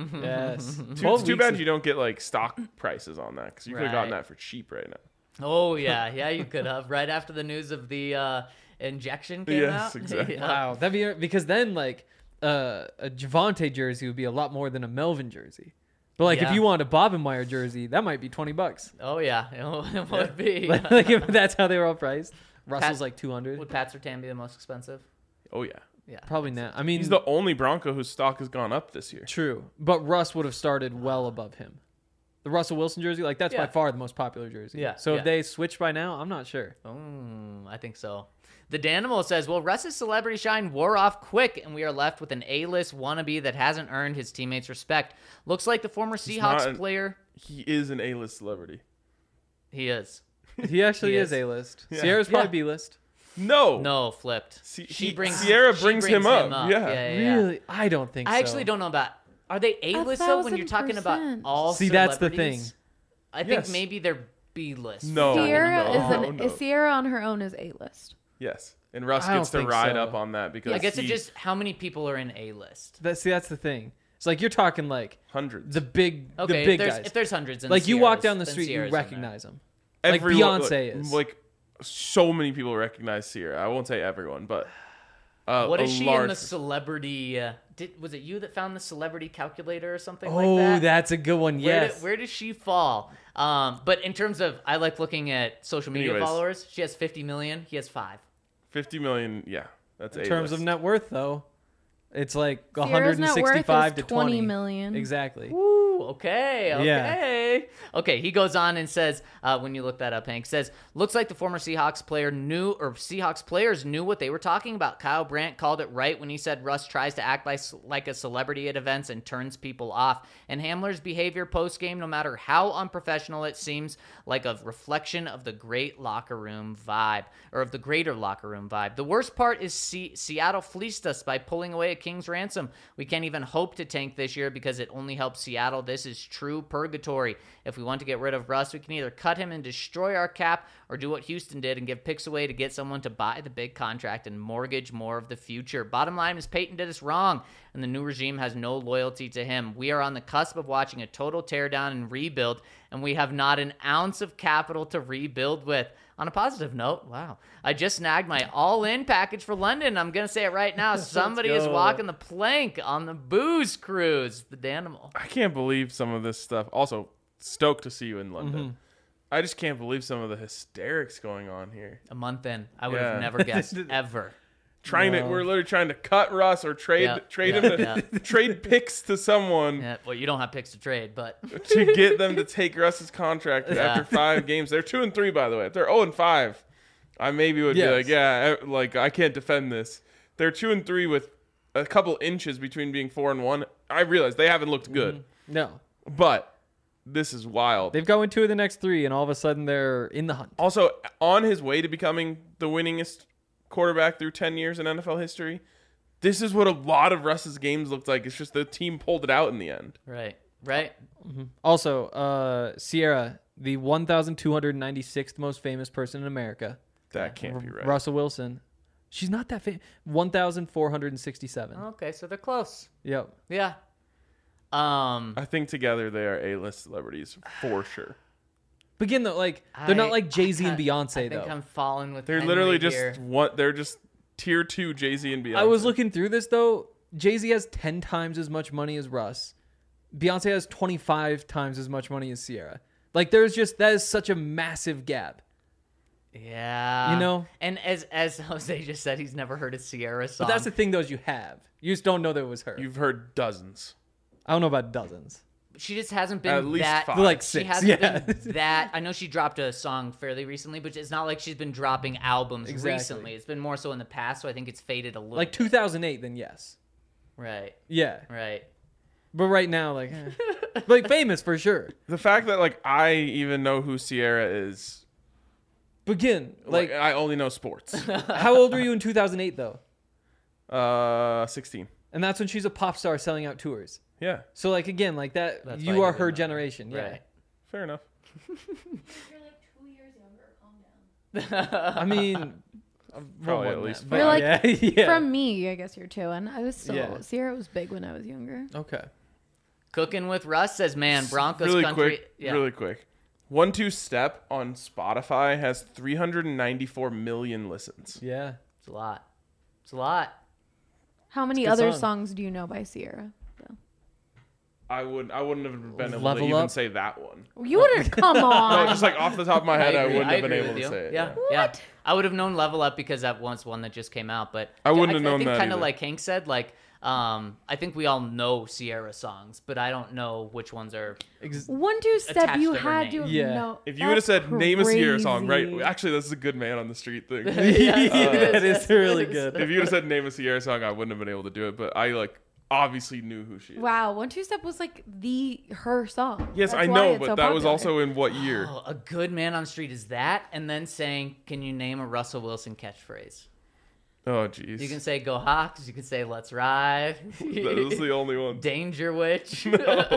[SPEAKER 4] Yes.
[SPEAKER 2] It's too bad you don't get like stock prices on that because you could have gotten
[SPEAKER 3] Right.
[SPEAKER 2] that for cheap right now.
[SPEAKER 3] Oh, yeah. Yeah, you could have. Right after the news of the injection came
[SPEAKER 2] Yes,
[SPEAKER 3] out.
[SPEAKER 2] exactly.
[SPEAKER 3] Yeah.
[SPEAKER 4] Wow. That'd be because then like a Javante jersey would be a lot more than a Melvin jersey. But like
[SPEAKER 3] Yeah.
[SPEAKER 4] if you want a Bobenmeyer jersey, that might be $20.
[SPEAKER 3] Oh, yeah. It would be.
[SPEAKER 4] Like if that's how they were all priced. Russell's like 200.
[SPEAKER 3] Would Pat Surtain be the most expensive?
[SPEAKER 2] Oh yeah,
[SPEAKER 3] Yeah.
[SPEAKER 4] Probably not. I mean,
[SPEAKER 2] he's the only Bronco whose stock has gone up this year.
[SPEAKER 4] true, but Russ would have started well above him. The Russell Wilson jersey, like that's by
[SPEAKER 3] Yeah.
[SPEAKER 4] far the most popular jersey.
[SPEAKER 3] Yeah,
[SPEAKER 4] So
[SPEAKER 3] yeah.
[SPEAKER 4] if they switched by now, I'm not sure.
[SPEAKER 3] I think so. The Danimal says, well, Russ's celebrity shine wore off quick, and we are left with an A-list wannabe that hasn't earned his teammates' respect. Looks like the former Seahawks
[SPEAKER 2] not
[SPEAKER 3] player.
[SPEAKER 2] He is an A-list celebrity.
[SPEAKER 3] He is.
[SPEAKER 4] He actually
[SPEAKER 3] He
[SPEAKER 4] is
[SPEAKER 3] is.
[SPEAKER 4] A-list.
[SPEAKER 2] Yeah.
[SPEAKER 4] Sierra's probably
[SPEAKER 3] Yeah.
[SPEAKER 4] B-list.
[SPEAKER 2] No,
[SPEAKER 3] No, flipped.
[SPEAKER 2] Sierra brings him up. Yeah.
[SPEAKER 4] Really? I don't think so.
[SPEAKER 3] I actually don't know about. Are they A-list though when you're talking about
[SPEAKER 5] 1,000%.
[SPEAKER 3] all
[SPEAKER 4] See, that's the
[SPEAKER 3] celebrities?
[SPEAKER 4] thing.
[SPEAKER 3] I think
[SPEAKER 2] Yes.
[SPEAKER 3] maybe they're B-list.
[SPEAKER 2] No.
[SPEAKER 5] Sierra
[SPEAKER 2] no,
[SPEAKER 5] is
[SPEAKER 2] no.
[SPEAKER 5] Sierra on her own is A-list.
[SPEAKER 2] Yes, and Russ
[SPEAKER 4] I don't
[SPEAKER 2] gets to
[SPEAKER 4] think
[SPEAKER 2] ride
[SPEAKER 4] so.
[SPEAKER 2] up on that because
[SPEAKER 3] I guess
[SPEAKER 2] he,
[SPEAKER 3] it's just how many people are in A-list.
[SPEAKER 4] That's the thing. It's like you're talking like
[SPEAKER 2] hundreds.
[SPEAKER 4] the big
[SPEAKER 3] Okay,
[SPEAKER 4] the big
[SPEAKER 3] if there's,
[SPEAKER 4] guys.
[SPEAKER 3] if there's hundreds, in
[SPEAKER 4] Like you walk
[SPEAKER 3] Sierras,
[SPEAKER 4] down the
[SPEAKER 3] then
[SPEAKER 4] street, you
[SPEAKER 3] Sierra's in there.
[SPEAKER 4] recognize them. Like
[SPEAKER 2] Everyone-
[SPEAKER 4] Beyonce is.
[SPEAKER 2] Like so many people recognize Sierra. I won't say everyone, but
[SPEAKER 3] What
[SPEAKER 2] a
[SPEAKER 3] is she in
[SPEAKER 2] large
[SPEAKER 3] the celebrity? Was it you that found the celebrity calculator or something
[SPEAKER 4] Oh,
[SPEAKER 3] like that?
[SPEAKER 4] that's a good one. Yes.
[SPEAKER 3] Where does she fall? But in terms of, I like looking at social media
[SPEAKER 2] Anyways.
[SPEAKER 3] followers. She has 50 million. He has 5.
[SPEAKER 2] 50 million. Yeah, that's
[SPEAKER 4] In terms of net worth, though, it's like
[SPEAKER 5] Sierra's net worth
[SPEAKER 4] 165
[SPEAKER 5] is
[SPEAKER 4] to 20
[SPEAKER 5] $20 million.
[SPEAKER 4] Exactly.
[SPEAKER 3] Ooh, okay. Okay, he goes on and says, when you look that up, Hank, says, looks like the former Seahawks players knew what they were talking about. Kyle Brandt called it right when he said Russ tries to act like a celebrity at events and turns people off. And Hamler's behavior post-game, no matter how unprofessional it seems, like a reflection of the greater locker room vibe. The worst part is Seattle fleeced us by pulling away a king's ransom. We can't even hope to tank this year because it only helps Seattle. This is true purgatory. If we want to get rid of Russ, we can either cut him and destroy our cap or do what Houston did and give picks away to get someone to buy the big contract and mortgage more of the future. Bottom line is Peyton did us wrong, and the new regime has no loyalty to him. We are on the cusp of watching a total teardown and rebuild, and we have not an ounce of capital to rebuild with. On a positive note, wow, I just snagged my all-in package for London. I'm going to say it right now. Somebody is walking the plank on the booze cruise, the Danimal.
[SPEAKER 2] I can't believe some of this stuff. Also, stoked to see you in London. I just can't believe some of the hysterics going on here.
[SPEAKER 3] A month in. I would have never guessed, ever.
[SPEAKER 2] We're literally trying to cut Russ or trade him to trade picks to someone.
[SPEAKER 3] Yeah, well, you don't have picks to trade, but
[SPEAKER 2] to get them to take Russ's contract after 5 games. They're 2-3, by the way. If they're 0-5, I maybe would be like, I can't defend this. They're 2-3 with a couple inches between being 4-1. I realize they haven't looked good.
[SPEAKER 4] No.
[SPEAKER 2] But this is wild.
[SPEAKER 4] They've gone 2 of the next 3, and all of a sudden they're in the hunt.
[SPEAKER 2] Also, on his way to becoming the winningest quarterback through 10 years in NFL history, this is what a lot of Russ's games looked like. It's just the team pulled it out in the end.
[SPEAKER 3] Right.
[SPEAKER 4] Also, Sierra, the 1,296th most famous person in America.
[SPEAKER 2] That can't be right.
[SPEAKER 4] Russell Wilson. She's not that famous. 1,467.
[SPEAKER 3] Okay, so they're close.
[SPEAKER 4] Yep.
[SPEAKER 3] Yeah.
[SPEAKER 2] I think together they are A-list celebrities for sure.
[SPEAKER 4] But again, though, like they're not like Jay-Z and Beyonce,
[SPEAKER 3] I think I'm falling with.
[SPEAKER 2] They're
[SPEAKER 3] Henry
[SPEAKER 2] literally
[SPEAKER 3] here.
[SPEAKER 2] they're just tier 2 Jay-Z and Beyonce.
[SPEAKER 4] I was looking through this though. Jay-Z has 10 times as much money as Russ. Beyonce has 25 times as much money as Sierra. Like that is such a massive gap.
[SPEAKER 3] Yeah.
[SPEAKER 4] You know?
[SPEAKER 3] And as Jose just said, he's never heard a Sierra song.
[SPEAKER 4] But that's the thing, though, is you have. You just don't know that it was her.
[SPEAKER 2] You've heard dozens.
[SPEAKER 4] I don't know about dozens.
[SPEAKER 3] She just hasn't been
[SPEAKER 2] At least
[SPEAKER 3] that.
[SPEAKER 2] 5.
[SPEAKER 4] Like
[SPEAKER 3] She
[SPEAKER 4] 6.
[SPEAKER 3] hasn't
[SPEAKER 4] Yeah.
[SPEAKER 3] been that. I know she dropped a song fairly recently, but it's not like she's been dropping albums recently. It's been more so in the past, so I think it's faded a little.
[SPEAKER 4] Like
[SPEAKER 3] bit.
[SPEAKER 4] 2008, then yes.
[SPEAKER 3] Right.
[SPEAKER 4] Yeah.
[SPEAKER 3] Right.
[SPEAKER 4] But right now, like, like famous for sure.
[SPEAKER 2] The fact that like I even know who Sierra is.
[SPEAKER 4] But again, like,
[SPEAKER 2] I only know sports.
[SPEAKER 4] how old were you in 2008 though?
[SPEAKER 2] 16.
[SPEAKER 4] And that's when she's a pop star selling out tours.
[SPEAKER 2] Yeah,
[SPEAKER 4] So like again, like that,
[SPEAKER 3] That's
[SPEAKER 4] you
[SPEAKER 3] why
[SPEAKER 4] are
[SPEAKER 3] you
[SPEAKER 4] her
[SPEAKER 3] would know.
[SPEAKER 4] generation. Yeah.
[SPEAKER 3] Right.
[SPEAKER 2] fair enough.
[SPEAKER 5] You're like 2 years younger. Calm down.
[SPEAKER 4] I mean,
[SPEAKER 2] Probably
[SPEAKER 4] more
[SPEAKER 2] at
[SPEAKER 4] than
[SPEAKER 2] least
[SPEAKER 4] that,
[SPEAKER 2] five.
[SPEAKER 5] You're like
[SPEAKER 4] yeah, yeah.
[SPEAKER 5] from me, I guess you're 2, and I was still
[SPEAKER 4] Yeah.
[SPEAKER 5] Sierra was big when I was younger.
[SPEAKER 4] Okay.
[SPEAKER 3] Cooking with Russ says, man, Broncos
[SPEAKER 2] Really
[SPEAKER 3] country.
[SPEAKER 2] quick,
[SPEAKER 3] Yeah.
[SPEAKER 2] really quick. 1-2 Step on Spotify has 394 million listens.
[SPEAKER 4] Yeah.
[SPEAKER 3] It's a lot. It's a lot.
[SPEAKER 5] How many
[SPEAKER 4] good
[SPEAKER 5] other
[SPEAKER 4] song.
[SPEAKER 5] songs do you know by Sierra?
[SPEAKER 2] I wouldn't have been able to
[SPEAKER 4] Level
[SPEAKER 2] even
[SPEAKER 4] Up?
[SPEAKER 2] say that one.
[SPEAKER 5] You wouldn't come
[SPEAKER 2] No,
[SPEAKER 5] on.
[SPEAKER 2] just like off the top of my head, I
[SPEAKER 3] agree.
[SPEAKER 2] wouldn't have been
[SPEAKER 3] agree
[SPEAKER 2] able
[SPEAKER 3] with
[SPEAKER 2] to
[SPEAKER 3] you.
[SPEAKER 2] say it.
[SPEAKER 3] Yeah, yeah. I would have known Level Up because that once one that just came out, but
[SPEAKER 2] I wouldn't have known
[SPEAKER 3] I think
[SPEAKER 2] that
[SPEAKER 3] kind of
[SPEAKER 2] either.
[SPEAKER 3] like Hank said, like I think we all know Sierra songs, but I don't know which ones are.
[SPEAKER 5] 1-2 Step,
[SPEAKER 3] Attached
[SPEAKER 5] you
[SPEAKER 3] to her
[SPEAKER 5] had
[SPEAKER 3] name.
[SPEAKER 5] to
[SPEAKER 4] Yeah.
[SPEAKER 5] know.
[SPEAKER 2] If you would have said name a Sierra song, right?
[SPEAKER 5] Crazy.
[SPEAKER 2] Actually, this is a good man on the street thing.
[SPEAKER 4] That is really good.
[SPEAKER 2] If you would have said name a Sierra song, I wouldn't have been able to do it. But I like obviously knew who she is.
[SPEAKER 5] Wow, 1-2 Step was like her song.
[SPEAKER 2] Yes,
[SPEAKER 5] That's
[SPEAKER 2] I
[SPEAKER 5] why
[SPEAKER 2] know,
[SPEAKER 5] it's
[SPEAKER 2] but
[SPEAKER 5] so
[SPEAKER 2] that was
[SPEAKER 5] popular.
[SPEAKER 2] also in what year?
[SPEAKER 3] Oh, a good man on the street is that, and then saying, "Can you name a Russell Wilson catchphrase?"
[SPEAKER 2] Oh, jeez.
[SPEAKER 3] You can say "Go Hawks." You can say "Let's Ride."
[SPEAKER 2] That is the only one.
[SPEAKER 3] Danger Witch.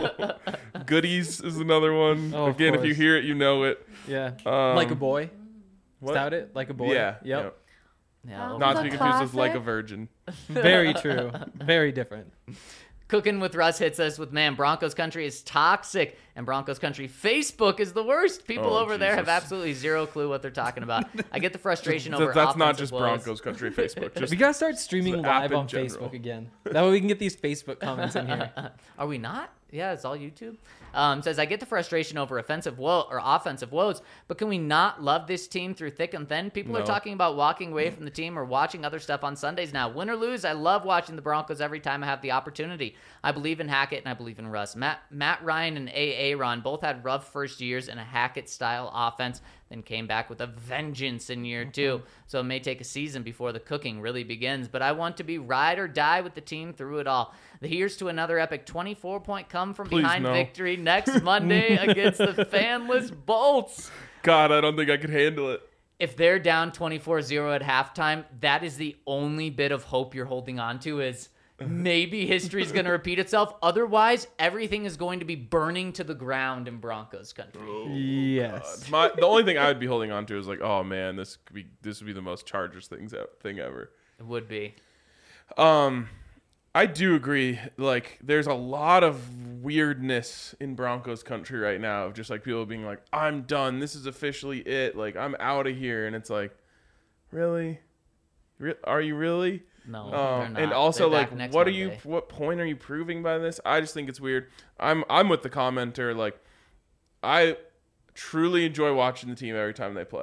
[SPEAKER 2] Goodies is another one.
[SPEAKER 4] Oh, of
[SPEAKER 2] Again, if you
[SPEAKER 4] course.
[SPEAKER 2] hear it, you know it.
[SPEAKER 4] Yeah.
[SPEAKER 2] Um,
[SPEAKER 4] Like a Boy.
[SPEAKER 2] What?
[SPEAKER 4] Stout it? Like a Boy.
[SPEAKER 2] Yeah.
[SPEAKER 4] Yep.
[SPEAKER 2] yeah.
[SPEAKER 3] Yeah,
[SPEAKER 2] Not to
[SPEAKER 5] a
[SPEAKER 2] be confused with Like a
[SPEAKER 5] classic.
[SPEAKER 2] Virgin.
[SPEAKER 4] Very true. Very different.
[SPEAKER 3] Cooking with Russ hits us with, man, Broncos country is toxic, and Broncos country Facebook is the worst. People
[SPEAKER 2] Oh,
[SPEAKER 3] over there have
[SPEAKER 2] Jesus.
[SPEAKER 3] absolutely zero clue what they're talking about. I get the frustration over
[SPEAKER 2] That's not
[SPEAKER 3] offensive
[SPEAKER 2] just
[SPEAKER 3] woes.
[SPEAKER 2] Broncos Country Facebook. Just
[SPEAKER 4] We gotta start streaming
[SPEAKER 2] the app
[SPEAKER 4] live
[SPEAKER 2] in
[SPEAKER 4] on
[SPEAKER 2] general.
[SPEAKER 4] Facebook again. That way we can get these Facebook comments in here.
[SPEAKER 3] Are we not? Yeah, it's all YouTube. Says, I get the frustration over offensive woes, but can we not love this team through thick and thin? People are
[SPEAKER 2] No.
[SPEAKER 3] talking about walking away from the team or watching other stuff on Sundays now. Win or lose, I love watching the Broncos every time I have the opportunity. I believe in Hackett and I believe in Russ. Matt Ryan and A.A. Ron both had rough first years in a Hackett-style offense, then came back with a vengeance in year 2. So it may take a season before the cooking really begins, but I want to be ride or die with the team through it all. Here's to another epic 24-point come from
[SPEAKER 2] Please,
[SPEAKER 3] behind
[SPEAKER 2] no.
[SPEAKER 3] victory next Monday against the fanless Bolts.
[SPEAKER 2] God, I don't think I could handle it.
[SPEAKER 3] If they're down 24-0 at halftime, that is the only bit of hope you're holding on to, is maybe history's going to repeat itself. Otherwise, everything is going to be burning to the ground in Broncos country.
[SPEAKER 4] Yes.
[SPEAKER 2] The only thing I would be holding on to is like, oh man, this would be the most Chargers thing ever.
[SPEAKER 3] It would be.
[SPEAKER 2] I do agree. Like, there's a lot of weirdness in Broncos country right now of just like people being like, I'm done. This is officially it. Like, I'm out of here. And it's like, really? Are you really?
[SPEAKER 3] No, they're not.
[SPEAKER 2] And also,
[SPEAKER 3] They're back
[SPEAKER 2] like,
[SPEAKER 3] next
[SPEAKER 2] what
[SPEAKER 3] Monday.
[SPEAKER 2] what point are you proving by this? I just think it's weird. I'm with the commenter. Like, I truly enjoy watching the team every time they play.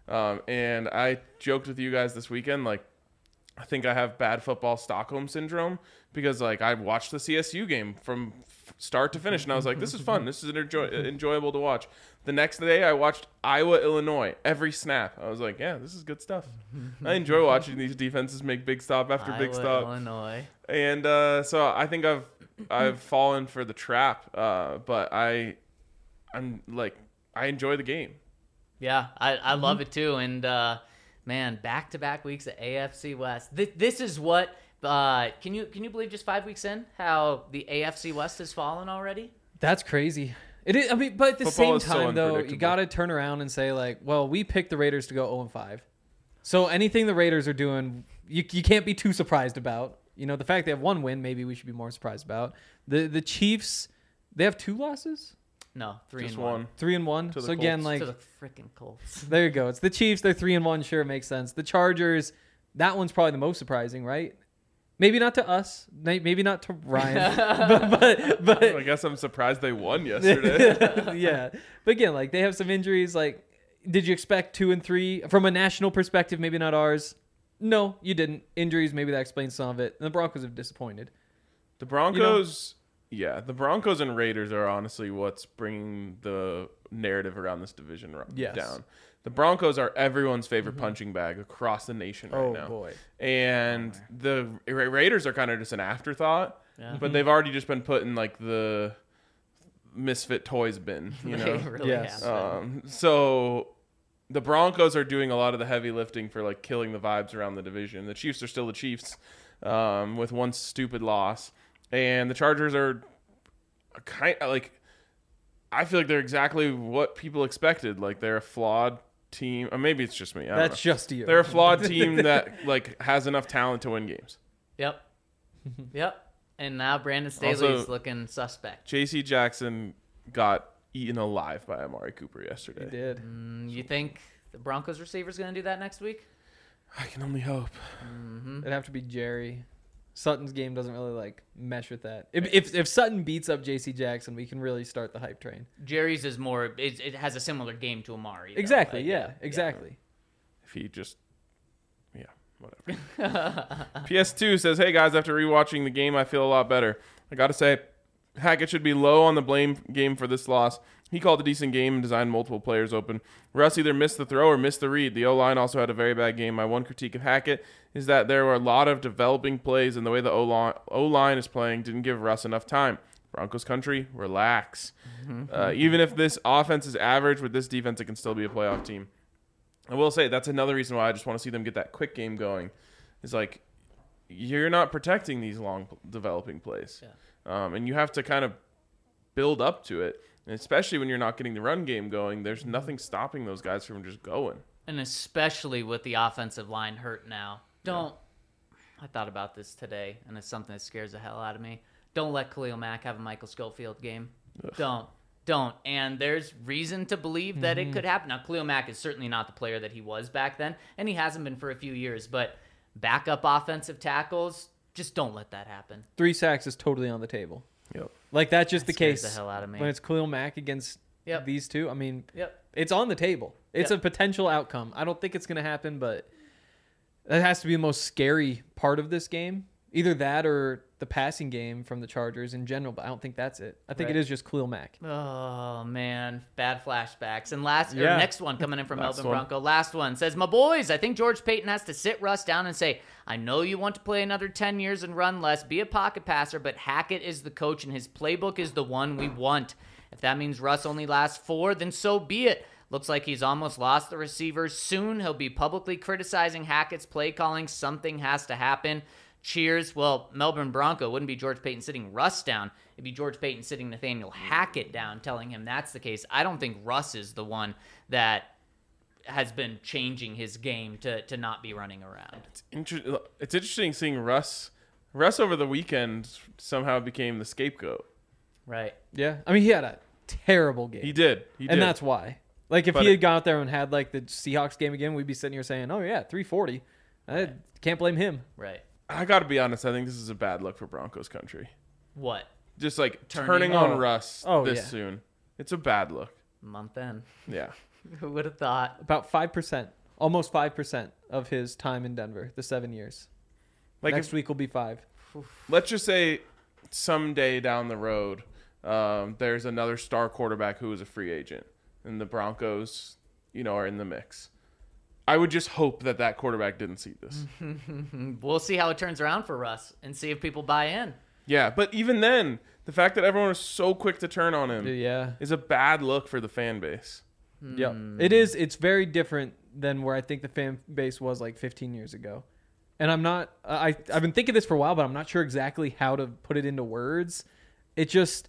[SPEAKER 2] And I joked with you guys this weekend, like, I think I have bad football Stockholm syndrome because, like, I watched the CSU game from start to finish, and I was like, this is fun. This is enjoyable to watch. The next day, I watched Iowa, Illinois, every snap. I was like, yeah, this is good stuff. I enjoy watching these defenses make big stop after big
[SPEAKER 3] Iowa,
[SPEAKER 2] stop.
[SPEAKER 3] Illinois.
[SPEAKER 2] And so I think I've fallen for the trap, but I'm like, I enjoy the game.
[SPEAKER 3] Yeah, I love it too. And man, back-to-back weeks at AFC West. This is what can you believe just 5 weeks in how the AFC West has fallen already?
[SPEAKER 4] That's crazy. It is. I mean, but at the
[SPEAKER 2] Football
[SPEAKER 4] same
[SPEAKER 2] is so
[SPEAKER 4] time, though, you
[SPEAKER 2] unpredictable.
[SPEAKER 4] got to turn around and say, like, well, we picked the Raiders to go 0-5. So anything the Raiders are doing, you can't be too surprised about. You know, the fact they have one win, maybe we should be more surprised about. The Chiefs, they have 2 losses?
[SPEAKER 3] No, 3
[SPEAKER 2] Just
[SPEAKER 3] and 1.
[SPEAKER 4] 3-1.
[SPEAKER 2] To the
[SPEAKER 4] So again,
[SPEAKER 2] Colts.
[SPEAKER 4] like,
[SPEAKER 3] To the freaking Colts.
[SPEAKER 4] there you go. It's the Chiefs. They're 3-1. Sure, it makes sense. The Chargers, that one's probably the most surprising, right? Maybe not to us. Maybe not to Ryan. but
[SPEAKER 2] I guess I'm surprised they won yesterday.
[SPEAKER 4] yeah. But again, like, they have some injuries. Like, did you expect 2 and 3 from a national perspective? Maybe not ours. No, you didn't. Injuries, maybe that explains some of it. And the Broncos have disappointed.
[SPEAKER 2] The Broncos, the Broncos and Raiders are honestly what's bringing the narrative around this division
[SPEAKER 4] Yes.
[SPEAKER 2] down. The Broncos are everyone's favorite punching bag across the nation right now.
[SPEAKER 4] Oh, boy.
[SPEAKER 2] And the Raiders are kind of just an afterthought,
[SPEAKER 3] Yeah.
[SPEAKER 2] but they've already just been put in like the misfit toys bin, you know?
[SPEAKER 3] They really
[SPEAKER 4] Yes.
[SPEAKER 3] have.
[SPEAKER 2] So the Broncos are doing a lot of the heavy lifting for like killing the vibes around the division. The Chiefs are still the Chiefs with one stupid loss. And the Chargers are kind of like, I feel like they're exactly what people expected. Like, they're a flawed team. Or maybe it's just me. I don't
[SPEAKER 4] That's
[SPEAKER 2] know.
[SPEAKER 4] just you.
[SPEAKER 2] They're a flawed team that like has enough talent to win games.
[SPEAKER 3] Yep. Yep. And now Brandon Staley's
[SPEAKER 2] Also-
[SPEAKER 3] looking suspect.
[SPEAKER 2] J.C. Jackson got eaten alive by Amari Cooper
[SPEAKER 4] He
[SPEAKER 2] yesterday.
[SPEAKER 4] did.
[SPEAKER 3] You think the Broncos receiver's going to do that next week?
[SPEAKER 2] I can only hope.
[SPEAKER 4] It'd have to be Jerry. Sutton's game doesn't really, like, mesh with that. If Sutton beats up J.C. Jackson, we can really start the hype train.
[SPEAKER 3] Jerry's is more. It has a similar game to Amari. though.
[SPEAKER 4] Exactly.
[SPEAKER 3] Like,
[SPEAKER 4] Yeah. Exactly.
[SPEAKER 2] If he just, whatever. PS2 says, hey guys, after rewatching the game, I feel a lot better. I gotta say, Hackett should be low on the blame game for this loss. He called a decent game and designed multiple players open. Russ either missed the throw or missed the read. The O-line also had a very bad game. My one critique of Hackett is that there were a lot of developing plays, and the way the O-line is playing didn't give Russ enough time. Broncos country, relax. Even if this offense is average, with this defense, it can still be a playoff team. I will say that's another reason why I just want to see them get that quick game going. Is like, you're not protecting these long developing plays. And you have to kind of build up to it. And especially when you're not getting the run game going, there's nothing stopping those guys from just going.
[SPEAKER 3] And especially with the offensive line hurt now. I thought about this today, and it's something that scares the hell out of me. Don't let Khalil Mack have a Michael Schofield game. Don't. And there's reason to believe that it could happen. Now, Khalil Mack is certainly not the player that he was back then, and he hasn't been for a few years. But backup offensive tackles, just don't let that happen.
[SPEAKER 4] 3 sacks is totally on the table.
[SPEAKER 2] Yep.
[SPEAKER 4] Like that's just the
[SPEAKER 3] scares
[SPEAKER 4] case
[SPEAKER 3] the hell out of me.
[SPEAKER 4] when it's Khalil Mack against
[SPEAKER 3] Yep.
[SPEAKER 4] these two. I mean,
[SPEAKER 3] Yep.
[SPEAKER 4] it's on the table. It's
[SPEAKER 3] Yep.
[SPEAKER 4] a potential outcome. I don't think it's going to happen, but that has to be the most scary part of this game. Either that or the passing game from the Chargers in general, but I don't think that's it. I think
[SPEAKER 3] Right.
[SPEAKER 4] it is just Khalil Mack.
[SPEAKER 3] Oh man, bad flashbacks. And
[SPEAKER 4] Yeah.
[SPEAKER 3] next one coming in from
[SPEAKER 2] Last
[SPEAKER 3] Melvin
[SPEAKER 2] one.
[SPEAKER 3] Bronco. Last one says, "My boys, I think George Payton has to sit Russ down and say, I know you want to play another 10 years and run less, be a pocket passer, but Hackett is the coach and his playbook is the one we want. If that means Russ only lasts 4, then so be it. Looks like he's almost lost the receivers. Soon he'll be publicly criticizing Hackett's play calling. Something has to happen. Cheers." Well, Melbourne Bronco wouldn't be George Payton sitting Russ down. It'd be George Payton sitting Nathaniel Hackett down, telling him that's the case. I don't think Russ is the one that has been changing his game to not be running around.
[SPEAKER 2] It's interesting seeing Russ. Russ over the weekend somehow became the scapegoat.
[SPEAKER 3] Right.
[SPEAKER 4] Yeah. I mean, he had a terrible game.
[SPEAKER 2] He did. He did.
[SPEAKER 4] And that's why. Like, if
[SPEAKER 2] But
[SPEAKER 4] he had gone out there and had, like, the Seahawks game again, we'd be sitting here saying, oh, yeah, 340. I can't blame him.
[SPEAKER 3] Right.
[SPEAKER 2] I got to be honest. I think this is a bad look for Broncos country.
[SPEAKER 3] What?
[SPEAKER 2] Just like
[SPEAKER 3] Turning-
[SPEAKER 2] turning on Russ this
[SPEAKER 4] yeah.
[SPEAKER 2] soon. It's a bad look.
[SPEAKER 3] Month in.
[SPEAKER 2] Yeah.
[SPEAKER 3] Who would have thought?
[SPEAKER 4] About 5%, almost 5% of his time in Denver, the 7 years.
[SPEAKER 2] Like
[SPEAKER 4] Next week will be 5.
[SPEAKER 2] let's just say someday down the road, there's another star quarterback who is a free agent, and the Broncos, are in the mix. I would just hope that quarterback didn't see this.
[SPEAKER 3] We'll see how it turns around for Russ and see if people buy in.
[SPEAKER 2] Yeah, but even then, the fact that everyone was so quick to turn on him
[SPEAKER 4] Yeah.
[SPEAKER 2] is a bad look for the fan base.
[SPEAKER 4] Yep. It is. It's very different than where I think the fan base was like 15 years ago. And I'm not, I've been thinking this for a while, but I'm not sure exactly how to put it into words. It just,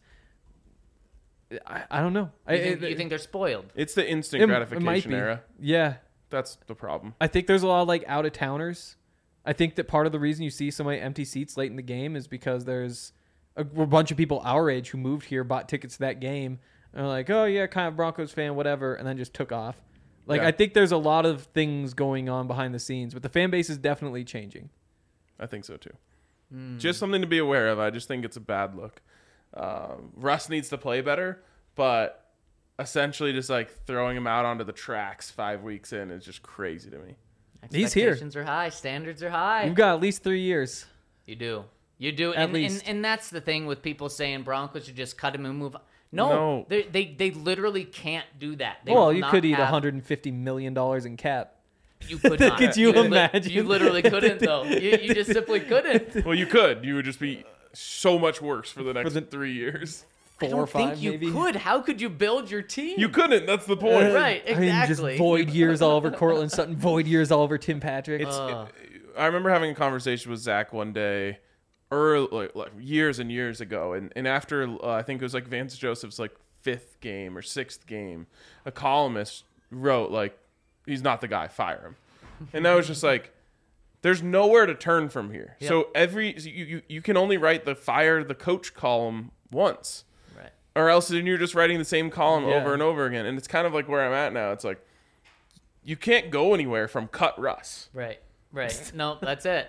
[SPEAKER 4] I don't know.
[SPEAKER 3] You think they're spoiled?
[SPEAKER 2] It's the instant
[SPEAKER 4] it
[SPEAKER 2] gratification
[SPEAKER 4] might be.
[SPEAKER 2] era.
[SPEAKER 4] Yeah.
[SPEAKER 2] That's the problem.
[SPEAKER 4] I think there's a lot of like out of towners. I think that part of the reason you see so many empty seats late in the game is because there's a bunch of people our age who moved here, bought tickets to that game, and are like, oh yeah, kind of Broncos fan, whatever, and then just took off. Like,
[SPEAKER 2] Yeah.
[SPEAKER 4] I think there's a lot of things going on behind the scenes, but the fan base is definitely changing.
[SPEAKER 2] I think so too. Just something to be aware of. I just think it's a bad look. Russ needs to play better, but essentially just like throwing him out onto the tracks 5 weeks in is just crazy to me.
[SPEAKER 4] He's here.
[SPEAKER 3] Expectations are high. Standards are high.
[SPEAKER 4] You've got at least 3 years.
[SPEAKER 3] You do. You do.
[SPEAKER 4] At
[SPEAKER 3] And,
[SPEAKER 4] least.
[SPEAKER 3] and that's the thing with people saying Broncos should just cut him and move on. No,
[SPEAKER 2] No.
[SPEAKER 3] They literally can't do that. They
[SPEAKER 4] Well,
[SPEAKER 3] will
[SPEAKER 4] you
[SPEAKER 3] not
[SPEAKER 4] could eat
[SPEAKER 3] have-
[SPEAKER 4] $150 million in cap.
[SPEAKER 3] You could not.
[SPEAKER 4] Could you
[SPEAKER 3] li-
[SPEAKER 4] imagine?
[SPEAKER 3] You literally couldn't, though. You just simply couldn't.
[SPEAKER 2] Well, you could. You would just be so much worse for the next
[SPEAKER 4] the-
[SPEAKER 2] 3 years.
[SPEAKER 3] I
[SPEAKER 4] 4
[SPEAKER 3] don't
[SPEAKER 4] or 5
[SPEAKER 3] think you
[SPEAKER 4] maybe.
[SPEAKER 3] could. How could you build your team?
[SPEAKER 2] You couldn't. That's the point.
[SPEAKER 3] Right,
[SPEAKER 4] I mean, just
[SPEAKER 3] exactly.
[SPEAKER 4] void years all over Cortland Sutton, void years all over Tim Patrick.
[SPEAKER 2] I remember having a conversation with Zach one day, early, like years and years ago, and after I think it was like Vance Joseph's like 5th game or 6th game, a columnist wrote like, "He's not the guy. Fire him." And I was just like, "There's nowhere to turn from here."
[SPEAKER 3] Yep.
[SPEAKER 2] So you can only write the fire the coach column once.
[SPEAKER 3] Right.
[SPEAKER 2] Or else then you're just writing the same column
[SPEAKER 4] Yeah.
[SPEAKER 2] over and over again. And it's kind of like where I'm at now. It's like, you can't go anywhere from cut Russ.
[SPEAKER 3] Right. Right. No, that's it.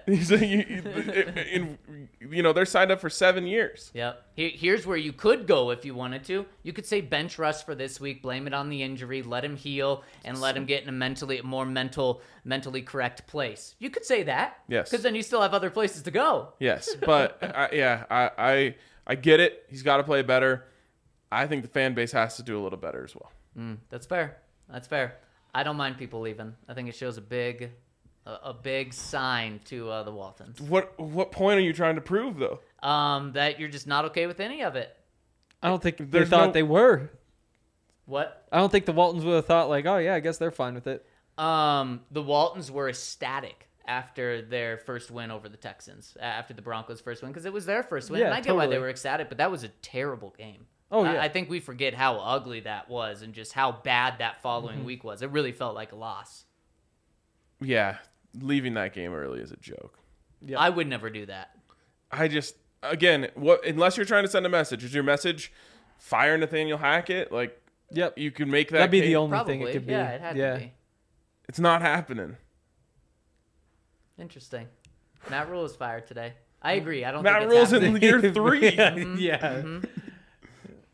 [SPEAKER 2] They're signed up for 7 years.
[SPEAKER 3] Yep. Here's where you could go if you wanted to. You could say bench Russ for this week, blame it on the injury, let him heal, and let him get in a more mentally correct place. You could say that.
[SPEAKER 2] Yes.
[SPEAKER 3] Because then you still have other places to go.
[SPEAKER 2] Yes, but I get it. He's got to play better. I think the fan base has to do a little better as well.
[SPEAKER 3] That's fair. That's fair. I don't mind people leaving. I think it shows a big sign to the Waltons.
[SPEAKER 2] What point are you trying to prove though?
[SPEAKER 3] That you're just not okay with any of it.
[SPEAKER 4] I don't think they
[SPEAKER 2] There's
[SPEAKER 4] thought
[SPEAKER 2] no-
[SPEAKER 4] they were.
[SPEAKER 3] What?
[SPEAKER 4] I don't think the Waltons would have thought like, oh yeah, I guess they're fine with it.
[SPEAKER 3] The Waltons were ecstatic after their first win over the Texans, after the Broncos' first win, because it was their first win.
[SPEAKER 4] Yeah,
[SPEAKER 3] and I get why they
[SPEAKER 4] totally.
[SPEAKER 3] were ecstatic, but that was a terrible game.
[SPEAKER 4] Oh, yeah.
[SPEAKER 3] I think we forget how ugly that was and just how bad that following
[SPEAKER 4] Mm-hmm.
[SPEAKER 3] week was. It really felt like a loss.
[SPEAKER 2] Yeah, leaving that game early is a joke.
[SPEAKER 4] Yep.
[SPEAKER 3] I would never do that.
[SPEAKER 2] I just unless you're trying to send a message, is your message fire Nathaniel Hackett? Like,
[SPEAKER 4] Yep.
[SPEAKER 2] you can make that.
[SPEAKER 4] That'd be the
[SPEAKER 2] case.
[SPEAKER 4] only
[SPEAKER 3] Probably.
[SPEAKER 4] thing it could be.
[SPEAKER 3] Yeah, it had to be.
[SPEAKER 2] It's not happening.
[SPEAKER 3] Interesting. Matt Rule is fired today. I agree. I don't
[SPEAKER 2] Matt
[SPEAKER 3] think
[SPEAKER 2] Rule's
[SPEAKER 3] it's
[SPEAKER 2] in
[SPEAKER 3] happening.
[SPEAKER 2] year 3.
[SPEAKER 4] Yeah.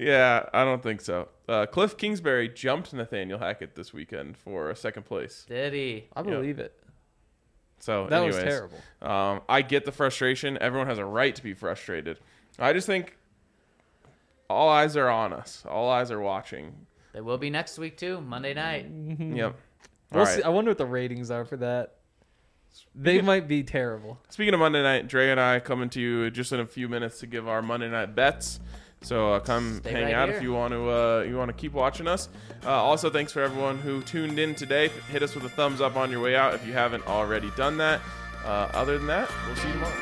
[SPEAKER 2] Yeah, I don't think so. Cliff Kingsbury jumped Nathaniel Hackett this weekend for second place.
[SPEAKER 3] Did he?
[SPEAKER 4] I believe it.
[SPEAKER 2] So
[SPEAKER 4] That
[SPEAKER 2] anyways,
[SPEAKER 4] was terrible.
[SPEAKER 2] I get the frustration. Everyone has a right to be frustrated. I just think all eyes are on us. All eyes are watching.
[SPEAKER 3] They will be next week too, Monday night.
[SPEAKER 2] Yep.
[SPEAKER 4] We'll
[SPEAKER 2] All
[SPEAKER 4] see.
[SPEAKER 2] right.
[SPEAKER 4] I wonder what the ratings are for that. They might be terrible.
[SPEAKER 2] Speaking of Monday night, Dre and I coming to you just in a few minutes to give our Monday night bets. So come
[SPEAKER 3] Stay
[SPEAKER 2] hang
[SPEAKER 3] right
[SPEAKER 2] out
[SPEAKER 3] here.
[SPEAKER 2] if you want to keep watching us. Also, thanks for everyone who tuned in today. Hit us with a thumbs up on your way out if you haven't already done that. Other than that, we'll see you tomorrow.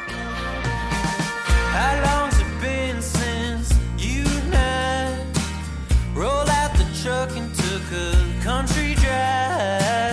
[SPEAKER 1] How long's it been since you and I rolled out the truck and took a country drive?